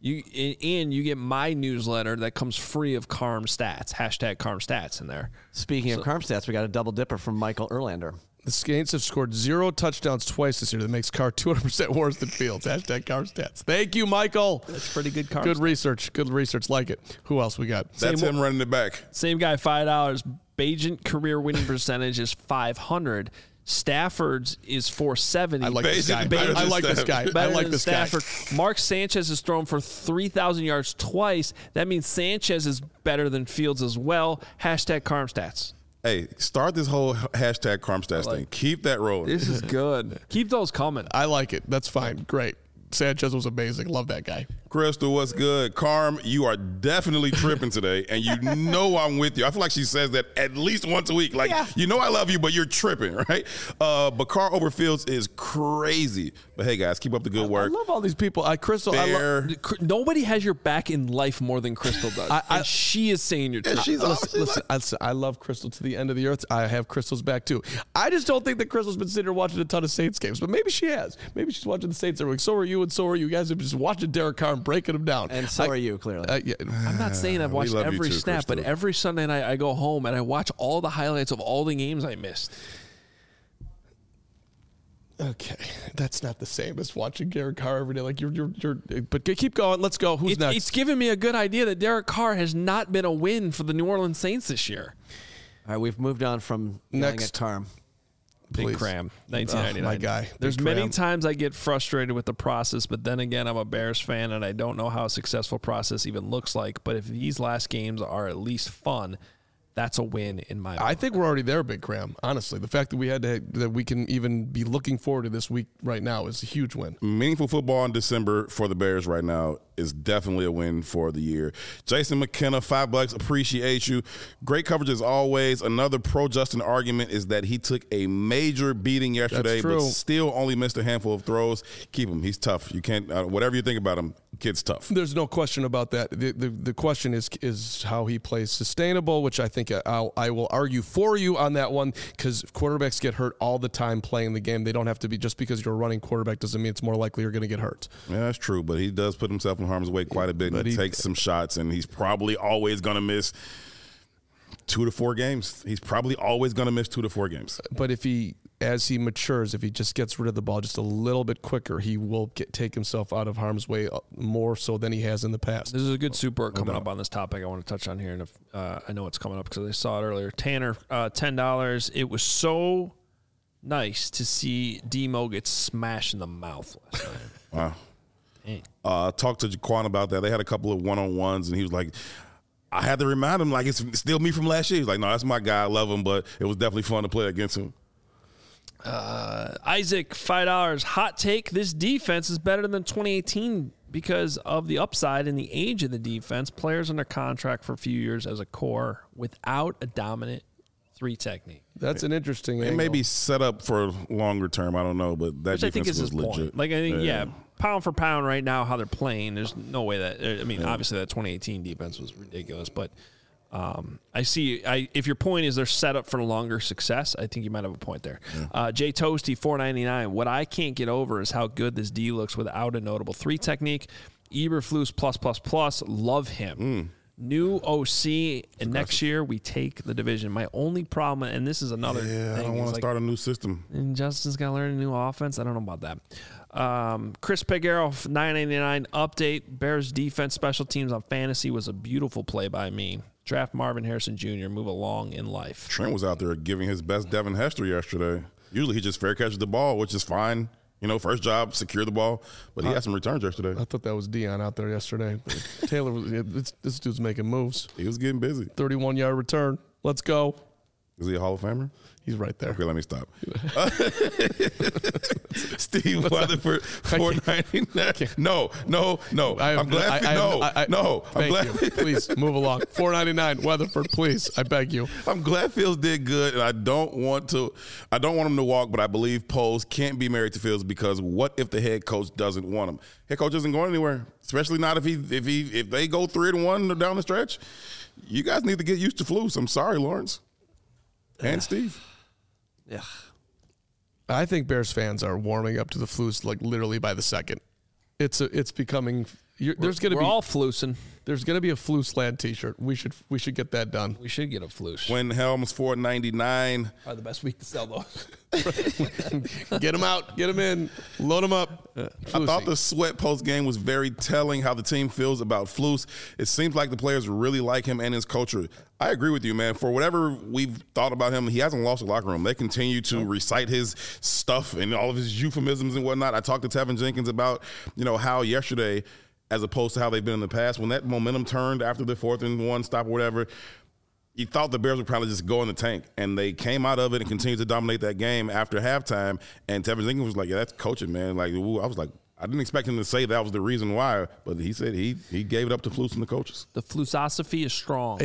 And you get my newsletter that comes free of Carm stats. Hashtag Carm stats in there. Speaking of Carm stats, we got a double dipper from Michael Erlander. The Saints have scored 0 touchdowns twice this year. That makes Carr 200% worse than Fields. Hashtag Carr stats. Thank you, Michael. That's pretty good Carr Good stats. research. Good research. Like it. Who else we got? That's him running it back. Same guy, $5. Bagent career winning percentage is 500. Stafford's is 470. I like this guy. Bagent. I like this guy. I Better like than this Stafford. guy. Mark Sanchez has thrown for 3,000 yards twice. That means Sanchez is better than Fields as well. Hashtag Carm stats. Hey, start this whole hashtag Carm stats thing. Keep that rolling. This is good. Keep those coming. I like it. That's fine. Great. Sanchez was amazing. Love that guy. Crystal, what's good? Carm, you are definitely tripping today, and you know I'm with you. I feel like she says that at least once a week. Like, you know I love you, but you're tripping, right? But Carr over Fields is crazy. But hey, guys, keep up the good work. I love all these people. Crystal, Nobody has your back in life more than Crystal does. And she is saying you're tripping. Listen, I love Crystal to the end of the earth. I have Crystal's back too. I just don't think that Crystal's been sitting here watching a ton of Saints games, but maybe she has. Maybe she's watching the Saints every week. So are you, and so are you guys. Have just watching Derek Carr and breaking them down. And so are you, clearly. Yeah. I'm not saying I've watched love you every too, snap, but Crystal. every Sunday night I go home and I watch all the highlights of all the games I missed. Okay, that's not the same as watching Derek Carr every day. Like but keep going. Let's go. Who's next? It's given me a good idea that Derek Carr has not been a win for the New Orleans Saints this year. All right, we've moved on from yelling Next. at Carm. Big Please. Cram, 1999. My guy. There's Big many Cram. times I get frustrated with the process, but then again, I'm a Bears fan and I don't know how a successful process even looks like. But if these last games are at least fun, that's a win in my I book. think we're already there, Big Cram. Honestly, the fact that that we can even be looking forward to this week right now is a huge win. Meaningful football in December for the Bears right now is definitely a win for the year. Jason McKenna, $5. Appreciate you. Great coverage as always. Another pro Justin argument is that he took a major beating yesterday, but still only missed a handful of throws. Keep him. He's tough. You can't. Whatever you think about him, kid's tough. There's no question about that. The question is how he plays sustainable, which I think I will argue for you on that one, because quarterbacks get hurt all the time playing the game. They don't have to be, just because you're a running quarterback doesn't mean it's more likely you're going to get hurt. Yeah, that's true, but he does put himself in harm's way quite a bit, and he takes some shots, and he's probably always going to miss 2 to 4 games. He's probably always going to miss 2 to 4 games. But as he matures, if he just gets rid of the ball just a little bit quicker, he will take himself out of harm's way more so than he has in the past. This is a good super coming up on this topic I want to touch on here, and I know it's coming up because I saw it earlier. Tanner, $10. It was so nice to see Demo get smashed in the mouth last night. Wow. Dang. Talked to Jaquan about that. They had a couple of one-on-ones, and he was like, I had to remind him, like, it's still me from last year. He's like, no, that's my guy. I love him, but it was definitely fun to play against him. Isaac, $5. Hot take, this defense is better than 2018 because of the upside and the age of the defense. Players under contract for a few years as a core without a dominant 3 technique. That's an interesting It angle. may be set up for longer term. I don't know, but that Which I think defense is his was legit. point. Like, I think, yeah, pound for pound right now, how they're playing, there's no way that, I mean, obviously that 2018 defense was ridiculous, but if your point is they're set up for longer success, I think you might have a point there. Jay Toasty, $4.99. What I can't get over is how good this D looks without a notable 3 technique. Eberflus +++, love him. New OC, and next year we take the division. My only problem, and this is another thing. I don't want to start a new system. And Justin's got to learn a new offense. I don't know about that. Chris Peguero, $9.99 update. Bears defense, special teams on fantasy was a beautiful play by me. Draft Marvin Harrison Jr. Move along in life. Trent was out there giving his best Devin Hester yesterday. Usually he just fair catches the ball, which is fine. First job, secure the ball. But he had some returns yesterday. I thought that was Dion out there yesterday. Taylor, this dude's making moves. He was getting busy. 31-yard return. Let's go. Is he a Hall of Famer? He's right there. Okay, let me stop. Steve Weatherford, $4.99. No. I'm glad. Thank you. Please move along. $4.99. Weatherford, please. I beg you. I'm glad Fields did good, and I don't want him to walk, but I believe Poles can't be married to Fields because what if the head coach doesn't want him? Head coach isn't going anywhere, especially not if they go 3-1 down the stretch. You guys need to get used to Flus. I'm sorry, Lawrence and Steve. Yeah. I think Bears fans are warming up to the Flus like literally by the second. It's becoming. We're all flusing. There's gonna be a Flusland T-shirt. We should get that done. We should get a flus. When Helms $4.99. Probably the best week to sell those. Get them out. Get them in. Load them up. I thought the Sweat post game was very telling how the team feels about Flus. It seems like the players really like him and his culture. I agree with you, man. For whatever we've thought about him, he hasn't lost the locker room. They continue to recite his stuff and all of his euphemisms and whatnot. I talked to Tevin Jenkins about, how yesterday, as opposed to how they've been in the past, when that momentum turned after the 4th-and-1 stop or whatever, you thought the Bears would probably just go in the tank. And they came out of it and continued to dominate that game after halftime. And Tevin Jenkins was like, yeah, that's coaching, man. Like, ooh, I was like, I didn't expect him to say that was the reason why, but he said he gave it up to Flus and the coaches. The Flusosophy is strong.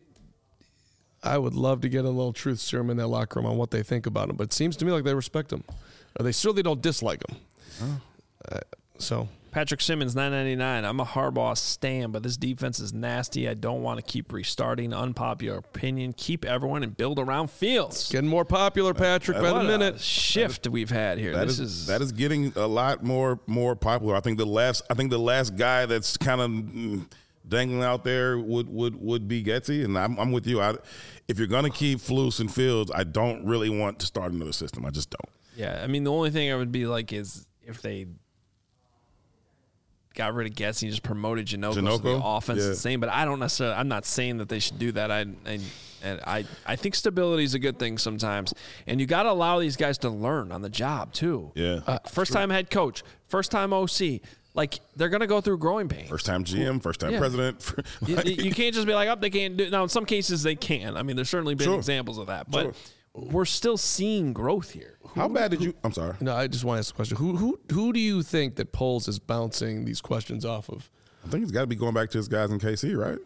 I would love to get a little truth serum in that locker room on what they think about him, but it seems to me like they respect him. Or they certainly don't dislike him. So Patrick Simmons, $9.99. I'm a Harbaugh stan, but this defense is nasty. I don't want to keep restarting. Unpopular opinion. Keep everyone and build around Fields. Getting more popular, Patrick, by the minute. Shift we've had here. That is getting a lot more popular. I think the last guy that's kind of dangling out there would be Getsy, and I'm with you. If you're gonna keep Flus and Fields, I don't really want to start another system. I just don't. Yeah, I mean the only thing I would be like is if they got rid of Getsy and just promoted Janoko. So the offense is the same, but I don't necessarily. I'm not saying that they should do that. I think stability is a good thing sometimes, and you got to allow these guys to learn on the job too. Yeah, first time head coach, first time OC. Like, they're going to go through growing pains. First time GM, first time president. You can't just be like, oh, they can't do it. Now, in some cases, they can. I mean, there's certainly been examples of that. But we're still seeing growth here. How bad did you – I'm sorry. No, I just want to ask a question. Who do you think that Poles is bouncing these questions off of? I think he's got to be going back to his guys in KC, right?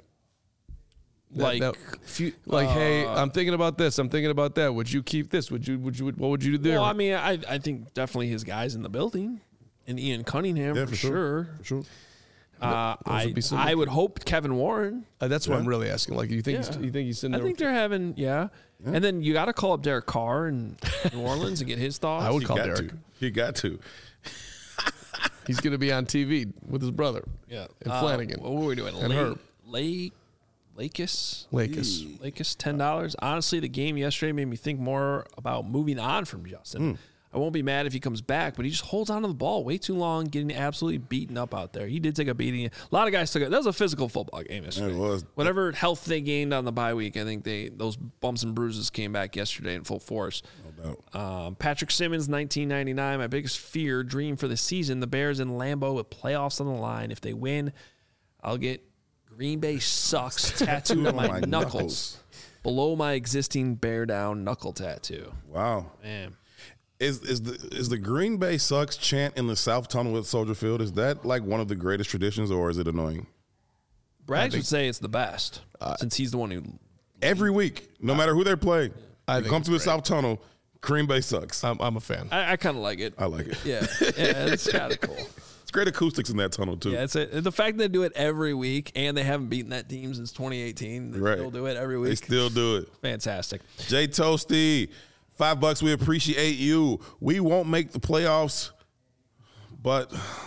Hey, I'm thinking about this. I'm thinking about that. Would you keep this? What would you do there? Well, I mean, I think definitely his guys in the building. And Ian Cunningham, for sure. For sure. I would hope Kevin Warren. That's what I'm really asking. Like, you think he's in there? I think they're having, And then you got to call up Derek Carr in New Orleans and get his thoughts. I would call Derek. You got to. He's going to be on TV with his brother. Yeah. And Flanagan. What were we doing? And Herb. Lakis, $10. Honestly, the game yesterday made me think more about moving on from Justin. I won't be mad if he comes back, but he just holds on to the ball way too long, getting absolutely beaten up out there. He did take a beating. A lot of guys took it. That was a physical football game yesterday. It was. Whatever health they gained on the bye week, I think those bumps and bruises came back yesterday in full force. No doubt. Patrick Simmons, $19.99. My biggest dream for the season, the Bears in Lambeau with playoffs on the line. If they win, I'll get Green Bay sucks tattooed on my knuckles below my existing bear down knuckle tattoo. Wow. Man. Is the Green Bay sucks chant in the South Tunnel at Soldier Field, is that like one of the greatest traditions, or is it annoying? Braggs would say it's the best, since he's the one who... Every week, no matter who they're playing, you come to the South Tunnel, Green Bay sucks. I'm a fan. I kind of like it. I like it. Yeah, it's kind of cool. It's great acoustics in that tunnel, too. Yeah, the fact that they do it every week, and they haven't beaten that team since 2018. They still do it every week. They still do it. Fantastic. Jay Toasty, $5. We appreciate you. We won't make the playoffs, but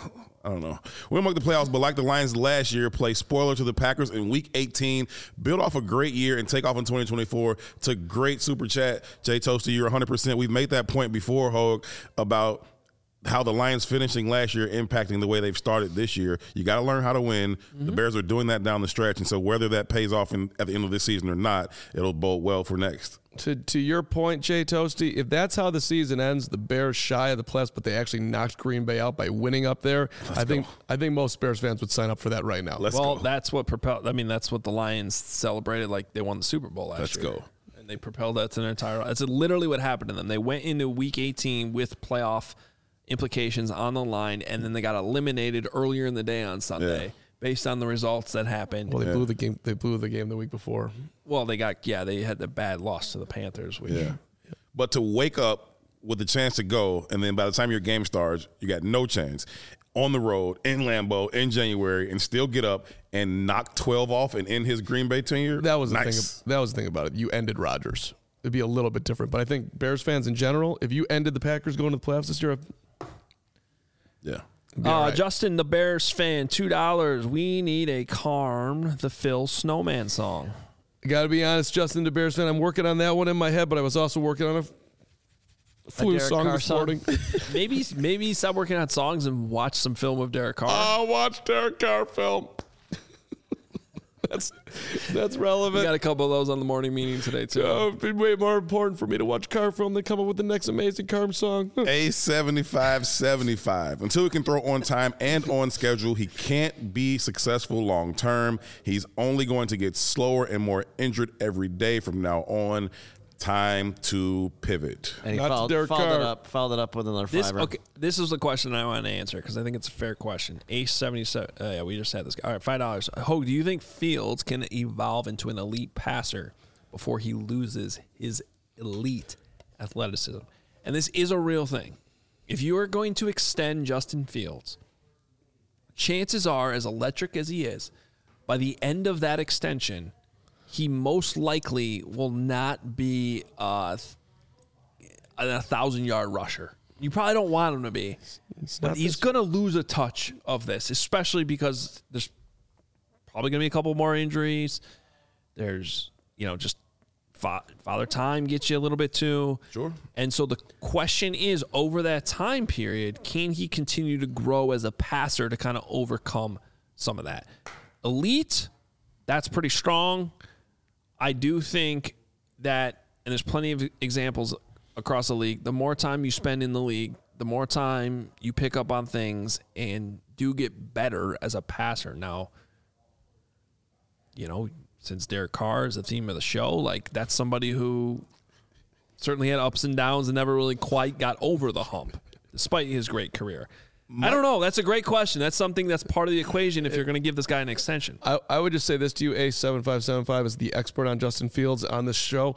I don't know. We don't make the playoffs, but like the Lions last year, play spoiler to the Packers in Week 18, build off a great year, and take off in 2024 to great super chat. Jay Toasty, you're 100%. We've made that point before, Hogue, about how the Lions finishing last year impacting the way they've started this year. You got to learn how to win. The Bears are doing that down the stretch, and so whether that pays off at the end of this season or not, it'll bode well for next. To your point, Jay Toasty, if that's how the season ends, the Bears shy of the playoffs, but they actually knocked Green Bay out by winning up there. I think most Bears fans would sign up for that right now. That's what propelled. I mean, that's what the Lions celebrated, like they won the Super Bowl last year. Let's go. And they propelled that to their entire. That's literally what happened to them. They went into Week 18 with playoff implications on the line, and then they got eliminated earlier in the day on Sunday based on the results that happened. Well, they blew the game. They blew the game the week before. Well, they had the bad loss to the Panthers. But to wake up with the chance to go, and then by the time your game starts, you got no chance on the road in Lambeau in January, and still get up and knock 12 off and end his Green Bay tenure. That was nice. That was the thing about it. You ended Rodgers. It'd be a little bit different, but I think Bears fans in general, if you ended the Packers going to the playoffs this year. Yeah. Right. Justin, the Bears fan, $2. We need a Carm the Phil Snowman song. I got to be honest, Justin, the Bears fan, I'm working on that one in my head, but I was also working on a flu song this morning. maybe stop working on songs and watch some film of Derek Carr. I'll watch Derek Carr film. That's relevant. We got a couple of those on the morning meeting today, too. It'd be way more important for me to watch Carr film than come up with the next amazing Carr song. A75-75. Until he can throw on time and on schedule, he can't be successful long term. He's only going to get slower and more injured every day from now on. Time to pivot. And he followed it up with another fiver. Okay, this is the question I want to answer because I think it's a fair question. A77. Yeah, we just had this guy. All right, $5. Hogue, do you think Fields can evolve into an elite passer before he loses his elite athleticism? And this is a real thing. If you are going to extend Justin Fields, chances are, as electric as he is, by the end of that extension, he most likely will not be a 1,000-yard rusher. You probably don't want him to be. But he's going to lose a touch of this, especially because there's probably going to be a couple more injuries. There's, just father time gets you a little bit too. Sure. And so the question is, over that time period, can he continue to grow as a passer to kind of overcome some of that? Elite, that's pretty strong. I do think that, and there's plenty of examples across the league, the more time you spend in the league, the more time you pick up on things and do get better as a passer. Now, since Derek Carr is the theme of the show, that's somebody who certainly had ups and downs and never really quite got over the hump, despite his great career. I don't know. That's a great question. That's something that's part of the equation if you're going to give this guy an extension. I would just say this to you, A7575 is the expert on Justin Fields on this show.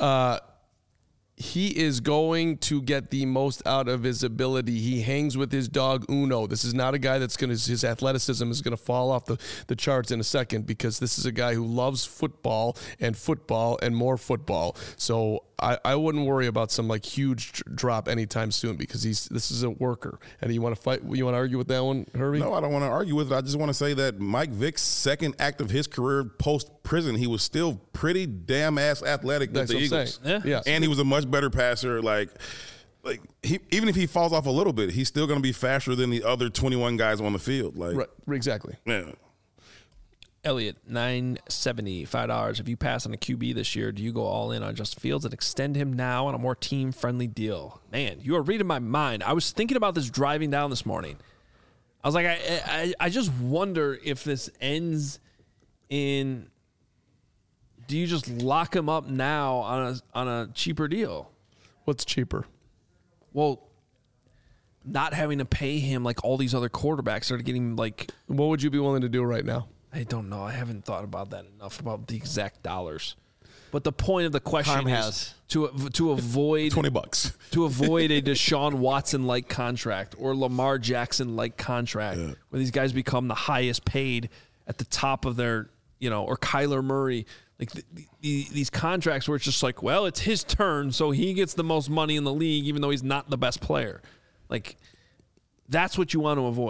He is going to get the most out of his ability. He hangs with his dog Uno. This is not a guy his athleticism is going to fall off the charts in a second, because this is a guy who loves football and more football. So I wouldn't worry about some huge drop anytime soon, because this is a worker. And you want to fight? You want to argue with that one, Herbie? No, I don't want to argue with it. I just want to say that Mike Vick's second act of his career post-prison, he was still pretty damn ass athletic with the Eagles. Yeah. And he was a much better passer. Even if he falls off a little bit, he's still going to be faster than the other 21 guys on the field. Right, exactly. Yeah. Elliot, $9.70, $5. If you pass on a QB this year, do you go all in on Justin Fields and extend him now on a more team-friendly deal? Man, you are reading my mind. I was thinking about this driving down this morning. I was like, I just wonder if this ends in, do you just lock him up now on a cheaper deal? What's cheaper? Well, not having to pay him all these other quarterbacks are getting What would you be willing to do right now? I don't know. I haven't thought about that enough, about the exact dollars. But the point of the question is to avoid $20 to avoid a Deshaun Watson-like contract or Lamar Jackson-like contract, where these guys become the highest paid at the top of their, or Kyler Murray. These contracts where it's just it's his turn, so he gets the most money in the league, even though he's not the best player. That's what you want to avoid.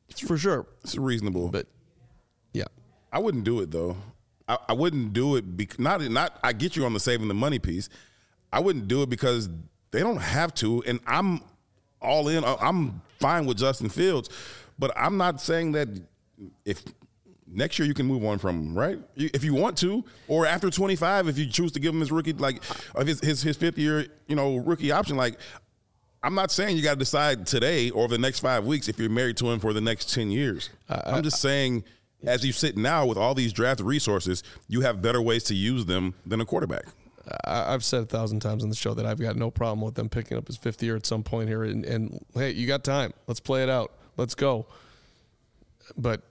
For sure. It's reasonable. But, yeah. I wouldn't do it, though. I wouldn't do it not. I get you on the saving the money piece. I wouldn't do it because they don't have to, and I'm all in. I'm fine with Justin Fields, but I'm not saying that if next year you can move on from him, right? If you want to, or after 25, if you choose to give him his rookie, like his fifth year, rookie option, like. I'm not saying you got to decide today or over the next 5 weeks if you're married to him for the next 10 years. I'm just saying, as you sit now with all these draft resources, you have better ways to use them than a quarterback. I've said 1,000 times on the show that I've got no problem with them picking up his fifth year at some point here. And hey, you got time. Let's play it out. Let's go. But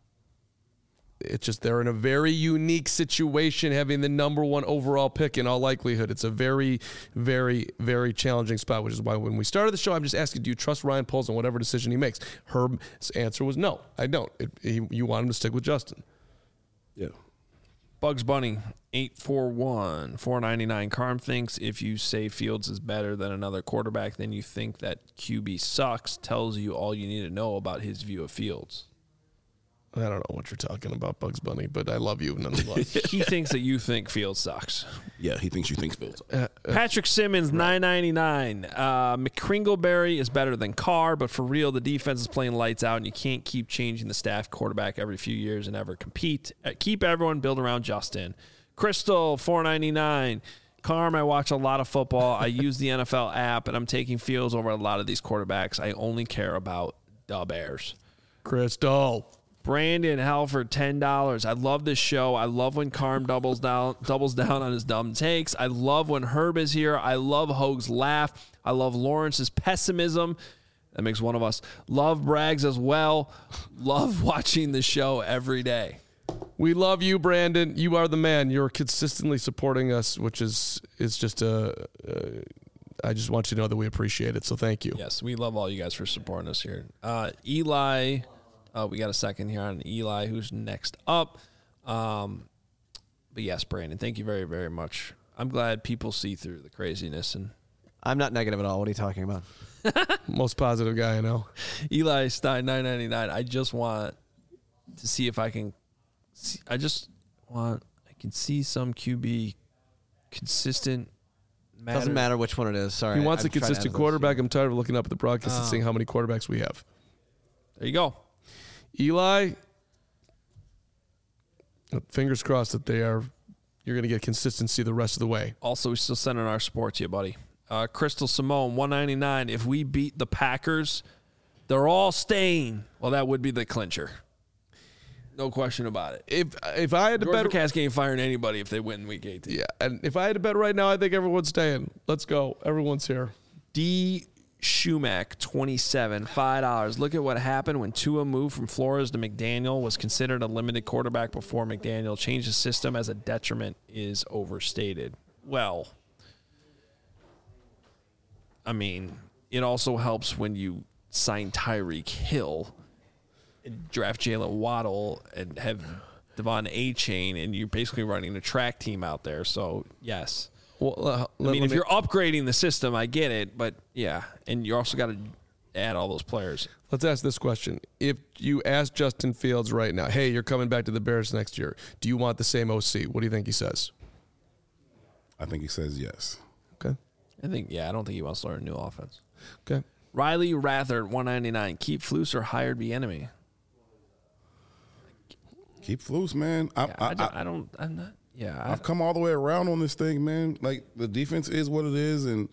it's just they're in a very unique situation having the number one overall pick in all likelihood. It's a very, very, very challenging spot, which is why when we started the show, I'm just asking, do you trust Ryan Poles on whatever decision he makes? Herb's answer was no, I don't. You want him to stick with Justin. Yeah. Bugs Bunny, 841, $4.99. Carm thinks if you say Fields is better than another quarterback, then you think that QB sucks, tells you all you need to know about his view of Fields. I don't know what you're talking about, Bugs Bunny, but I love you nonetheless. He thinks that you think Fields sucks. Yeah, he thinks you think Fields sucks. Patrick Simmons, $9.99. McCringleberry is better than Carr, but for real, the defense is playing lights out, and you can't keep changing the staff quarterback every few years and ever compete. Keep everyone build around Justin. Crystal, $4.99. Carm, I watch a lot of football. I use the NFL app, and I'm taking Fields over a lot of these quarterbacks. I only care about the Bears. Crystal. Brandon Halford, $10. I love this show. I love when Carm doubles down on his dumb takes. I love when Herb is here. I love Hoag's laugh. I love Lawrence's pessimism. That makes one of us. Love Braggs as well. Love watching the show every day. We love you, Brandon. You are the man. You're consistently supporting us, which is just I just want you to know that we appreciate it. So thank you. Yes, we love all you guys for supporting us here. Eli. We got a second here on Eli, who's next up. But yes, Brandon, thank you very, very much. I'm glad people see through the craziness. And I'm not negative at all. What are you talking about? Most positive guy I know. Eli Stein, $9.99. I just want to see if I can see, I can see some QB consistent. Doesn't matter which one it is. Sorry. He wants a consistent quarterback. I'm tired of looking up at the broadcast and seeing how many quarterbacks we have. There you go. Eli, fingers crossed that you're going to get consistency the rest of the way. Also, we still sending our support to you, buddy. Crystal Simone, $1.99. If we beat the Packers, they're all staying. Well, that would be the clincher. No question about it. If I had to bet, Georgia ain't firing anybody if they win Week 18. Yeah, and if I had to bet right now, I think everyone's staying. Let's go. Everyone's here. D. Schumack, $27, $5. Look at what happened when Tua moved from Flores to McDaniel, was considered a limited quarterback before McDaniel changed the system as a detriment is overstated. Well, I mean, it also helps when you sign Tyreek Hill and draft Jalen Waddle and have Devon A-Chain, and you're basically running a track team out there. So, yes. Well, if you're upgrading the system, I get it, but yeah, and you also got to add all those players. Let's ask this question. If you ask Justin Fields right now, hey, you're coming back to the Bears next year, do you want the same OC? What do you think he says? I think he says yes. Okay. I don't think he wants to learn a new offense. Okay. Riley Rathert, $1.99. Keep Flus or hired be enemy. Keep Flus, man. I've come all the way around on this thing, man. Like, the defense is what it is, and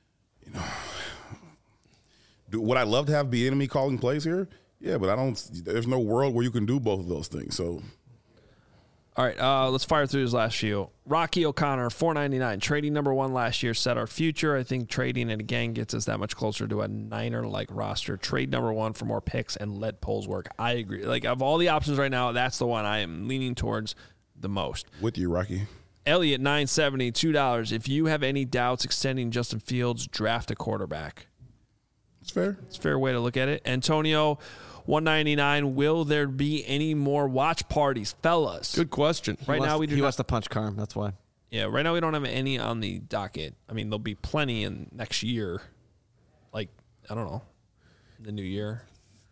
would I love to have the enemy calling plays here? Yeah, but there's no world where you can do both of those things. So, all right, let's fire through his last few. Rocky O'Connor, $4.99. Trading number one last year set our future. I think trading it again gets us that much closer to a Niner-like roster. Trade number one for more picks and let Poles work. I agree. Like, of all the options right now, that's the one I am leaning towards the most. With you, Rocky. Elliot, $9.70, $2. If you have any doubts extending Justin Fields, draft a quarterback. It's fair. It's a fair way to look at it. Antonio, $1.99. Will there be any more watch parties, fellas? Good question. Right now, he wants to punch Carm. That's why. Yeah, right now we don't have any on the docket. I mean, there'll be plenty in next year. Like, I don't know, the new year.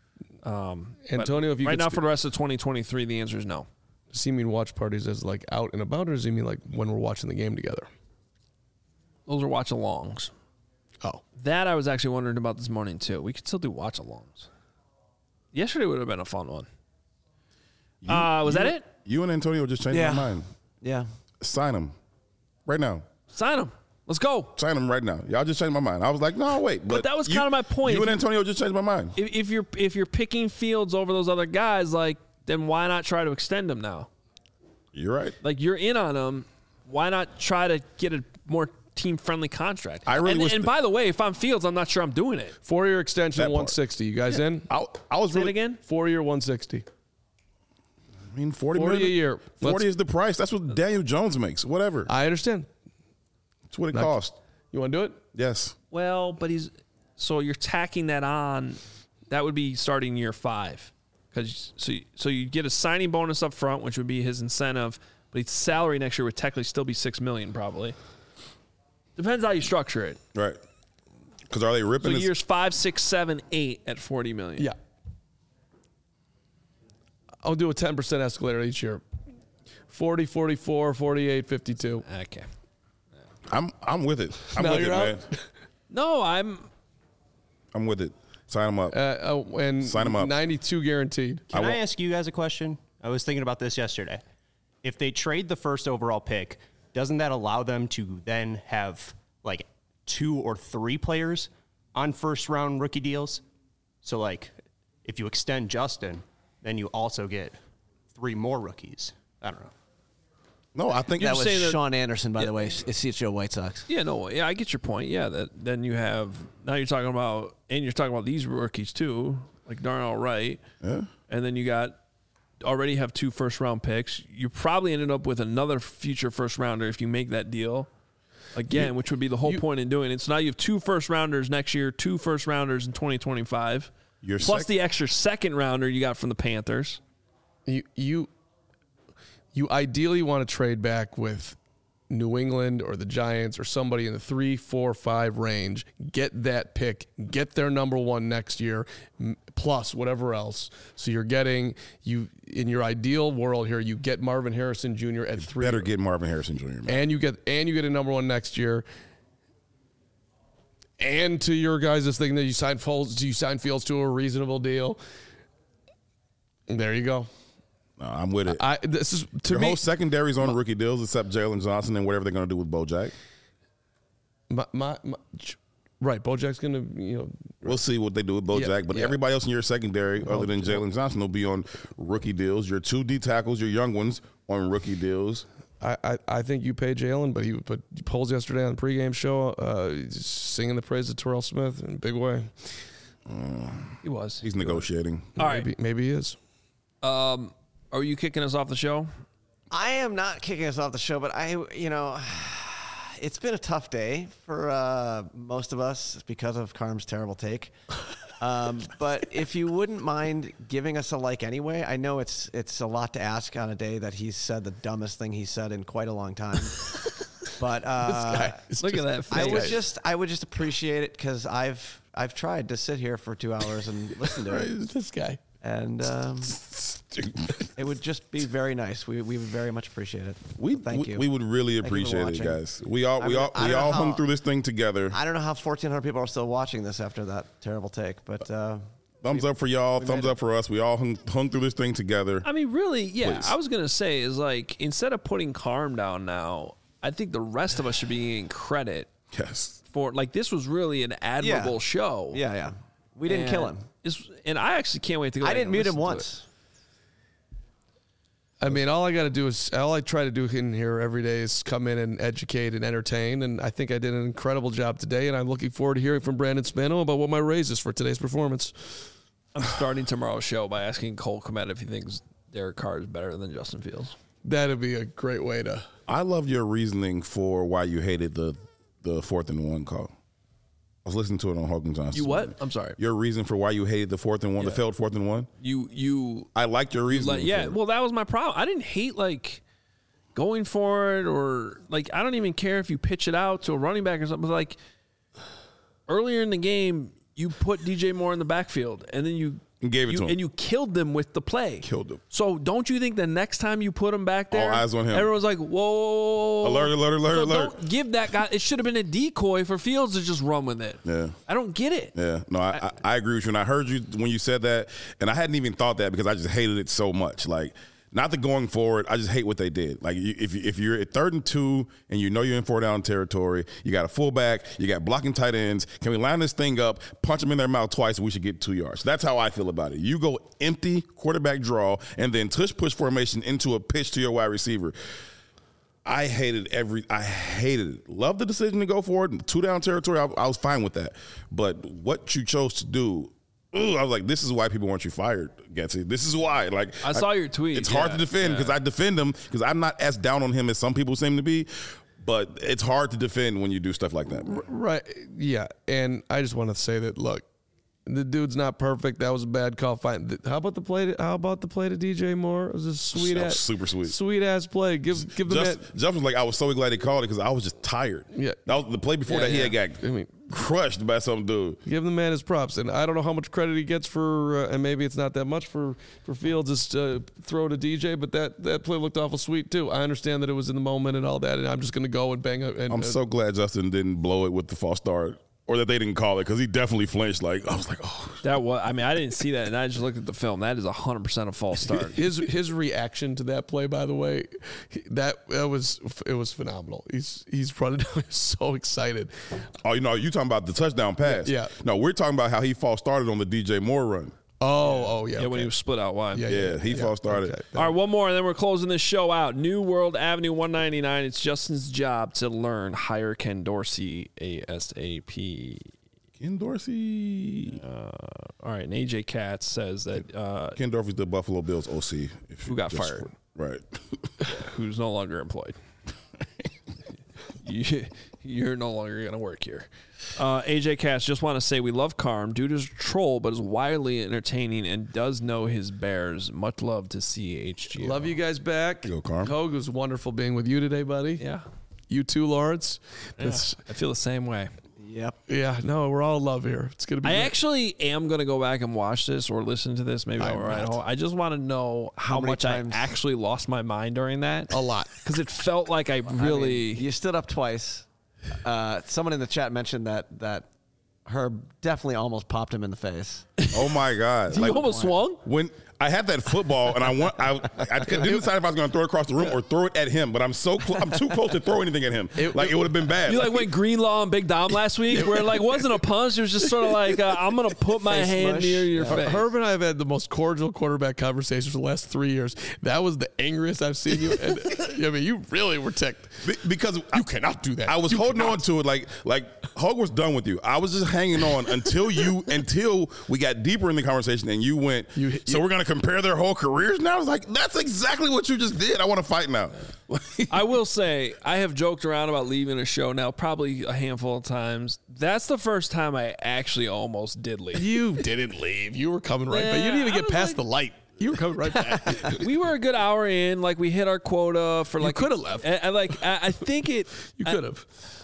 Antonio, if you right could now for the rest of 2023, the answer is no. Does he mean watch parties as like out and about, or does he mean like when we're watching the game together? Those are watch-alongs. Oh. That I was actually wondering about this morning, too. We could still do watch-alongs. Yesterday would have been a fun one. Was that it? You and Antonio just changed my mind. Yeah. Sign him right now. Sign him. Let's go. Sign him right now. Y'all just changed my mind. I was like, no, wait. But that was kind of my point. You and Antonio just changed my mind. If you're picking Fields over those other guys, like, then why not try to extend him now? You're right. Like, you're in on him. Why not try to get a more team-friendly contract? And by the way, if I'm Fields, I'm not sure I'm doing it. 4-year extension, 160. You guys in? I was Say really it again? 4-year, 160. I mean, 40 a million year. 40 is the price. That's what Daniel Jones makes. Whatever. I understand. That's what it costs. You want to do it? Yes. Well, but so you're tacking that on. That would be starting year 5, because so you get a signing bonus up front, which would be his incentive, but his salary next year would technically still be $6 million probably. Depends how you structure it. Right. Because are they ripping? So years 5, 6, 7, 8 at $40 million. Yeah. I'll do a 10% escalator each year. 40, 44, 48, 52. Okay. I'm with it. I'm No, with it, you're man. No, I'm with it. Sign him up. And Sign 'em up. 92 guaranteed. Can I ask you guys a question? I was thinking about this yesterday. If they trade the first overall pick, doesn't that allow them to then have like 2 or 3 players on first round rookie deals? So like if you extend Justin, then you also get 3 more rookies. I don't know. No, I think That You're was saying that- Sean Anderson, by the way. It's CHO White Sox. Yeah, no, yeah, I get your point. Yeah, that then you have now you're talking about these rookies too, like Darnell Wright. Yeah. And then you already have 2 first-round picks. You probably ended up with another future first-rounder if you make that deal again, which would be the whole point in doing it. So now you have 2 first-rounders next year, 2 first-rounders in 2025, plus the extra second-rounder you got from the Panthers. You ideally want to trade back with New England or the Giants or somebody in the 3, 4, 5 range. Get that pick. Get their number 1 next year, plus whatever else. So you're getting in your ideal world here. You get Marvin Harrison Jr. at 3. better get Marvin Harrison Jr. Man. And you get a number 1 next year. And to your guys' thing that you signed Fields to a reasonable deal. And there you go. No, I'm with it. This is to Your me. whole secondary's on rookie deals except Jalen Johnson and whatever they're going to do with Bojack. Right, Bojack's gonna, We'll see what they do with Bojack, but everybody else in your secondary, other than Jalen Johnson, will be on rookie deals. Your 2 D tackles, your young ones, on rookie deals. I think you pay Jalen, but he put polls yesterday on the pregame show, singing the praise of Terrell Smith in a big way. He was. He's negotiating. All right. Maybe he is. Are you kicking us off the show? I am not kicking us off the show, but it's been a tough day for most of us because of Carm's terrible take. But if you wouldn't mind giving us a like anyway, I know it's a lot to ask on a day that he's said the dumbest thing he's said in quite a long time. But Look at that face. I would just appreciate it because I've tried to sit here for 2 hours and listen to it. This guy. And it would just be very nice. We would very much appreciate it. Thank you. We would really appreciate it, guys. We all hung through this thing together. I don't know how 1,400 people are still watching this after that terrible take, but thumbs up for y'all. Thumbs up for us. We all hung through this thing together. I mean, really, yeah. Please. I was gonna say is like instead of putting Carm down now, I think the rest of us should be getting credit. Yes. For like this was really an admirable show. Yeah. We didn't kill him. And I actually can't wait to go. I didn't mute him listen to once. I mean, all I try to do in here every day is come in and educate and entertain, and I think I did an incredible job today, and I'm looking forward to hearing from Brandon Spano about what my raise is for today's performance. I'm starting tomorrow's show by asking Cole Kmet if he thinks Derek Carr is better than Justin Fields. That'd be a great way to. I love your reasoning for why you hated the 4th and 1 call. I was listening to it on Hogan Johnson. You what? I'm sorry. Your reason for why you hated the 4th and 1, the failed 4th and 1? You. I liked your reasoning. Yeah. Well, that was my problem. I didn't hate like going for it or like I don't even care if you pitch it out to a running back or something. Like earlier in the game, you put DJ Moore in the backfield, and then you And gave it to him. And you killed them with the play. Killed them. So don't you think the next time you put him back there, all eyes on him. Everyone's like, whoa. Alert. Don't give that guy. It should have been a decoy for Fields to just run with it. Yeah. I don't get it. Yeah. No, I agree with you. And I heard you when you said that, and I hadn't even thought that because I just hated it so much. Like, not the going forward. I just hate what they did. Like, if you're at 3rd and 2 and you know you're in 4-down territory, you got a fullback, you got blocking tight ends. Can we line this thing up, punch them in their mouth twice, and we should get 2 yards? That's how I feel about it. You go empty quarterback draw and then push formation into a pitch to your wide receiver. I hated it. Love the decision to go for it. 2-down territory, I was fine with that. But what you chose to do, I was like, this is why people want you fired, Getsy. This is why. Like, I saw your tweet. It's hard to defend because I defend him because I'm not as down on him as some people seem to be. But it's hard to defend when you do stuff like that. Right. Yeah. And I just want to say that, look, the dude's not perfect. That was a bad call. Fine. How about the play to DJ Moore? It was a super sweet. Sweet ass play. Give the man. Jeff was like, I was so glad he called it because I was just tired. Yeah. That was the play before that he had got crushed by some dude. Give the man his props. And I don't know how much credit he gets for, and maybe it's not that much for Fields' throw to DJ, but that play looked awful sweet too. I understand that it was in the moment and all that, and I'm just going to go and bang it. I'm so glad Justin didn't blow it with the false start. Or that they didn't call it because he definitely flinched. Like, I was like, oh. That was. I mean, I didn't see that, and I just looked at the film. That is 100% a false start. His reaction to that play, by the way, it was phenomenal. He's running down, he's so excited. Oh, you talking about the touchdown pass? Yeah. No, we're talking about how he false started on the DJ Moore run. Oh, yeah. Yeah, when he was split out wide. He false started. Okay. All right, one more, and then we're closing this show out. New World Avenue 199. It's Justin's job to learn. Hire Ken Dorsey ASAP. Ken Dorsey. All right, and AJ Katz says that Ken Dorsey's the Buffalo Bills OC. Who got fired. Right. Who's no longer employed. You're no longer going to work here. AJ Katz, just want to say we love Carm. Dude is a troll, but is wildly entertaining and does know his Bears. Much love to CHG. Love you guys back. Go, Carm. Hogue, it was wonderful being with you today, buddy. Yeah. You too, Lawrence. I feel the same way. Yep. Yeah, no, we're all in love here. It's going to be great. Actually am going to go back and watch this or listen to this. Maybe I'll ride home. I just want to know how many much times? I actually lost my mind during that. A lot. Because it felt like I really... You stood up twice. Someone in the chat mentioned that Herb definitely almost popped him in the face. Oh, my God. You almost swung? When I had that football, and I didn't decide if I was going to throw it across the room or throw it at him, but I'm too close to throw anything at him. It would have been bad. You went Greenlaw and Big Dom last week, where it wasn't a punch. It was just sort of like, I'm going to put my hand near your face. Herb and I have had the most cordial quarterback conversations for the last 3 years. That was the angriest I've seen you. And, I mean, you really were ticked. Because you cannot do that. I was holding on to it like Hogue was done with you. I was just hanging on until we got deeper in the conversation and you went, so we're going to compare their whole careers now? I was like, that's exactly what you just did. I want to fight now. I will say, I have joked around about leaving a show now probably a handful of times. That's the first time I actually almost did leave. You didn't leave. You were coming right back. You didn't even get past the light. You were coming right back. We were a good hour in. We hit our quota for You could have left. I think it. You could have.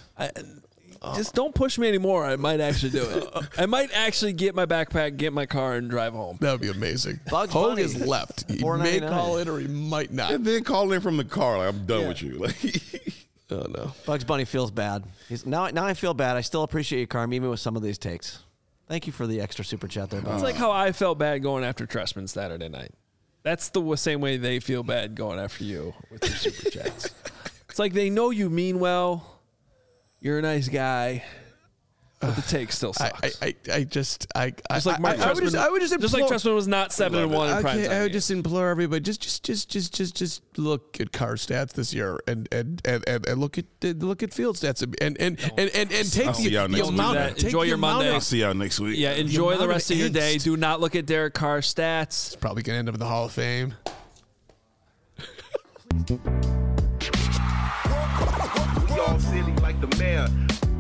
Just don't push me anymore. I might actually do it. I might actually get my backpack, get my car, and drive home. That would be amazing. Bugs Hogue Bunny. is left. He may call in or he might not. And then call in from the car. Like, I'm done with you. Oh, no. Bugs Bunny feels bad. Now I feel bad. I still appreciate you, Carm, even with some of these takes. Thank you for the extra super chat there, Bugs. It's like how I felt bad going after Tressman Saturday night. That's the same way they feel bad going after you with your super chats. It's like they know you mean well. You're a nice guy. But the take still sucks. Just like Mark Trestman, I would just just like Trestman was not 7-1 in prime time. I would just implore everybody, just look at Carr stats this year and look at field stats and take the amount. Enjoy your Monday. I'll see y'all next week. Yeah, enjoy the rest of your day. Do not look at Derek Carr's stats. It's probably gonna end up in the Hall of Fame. We all silly like the mayor.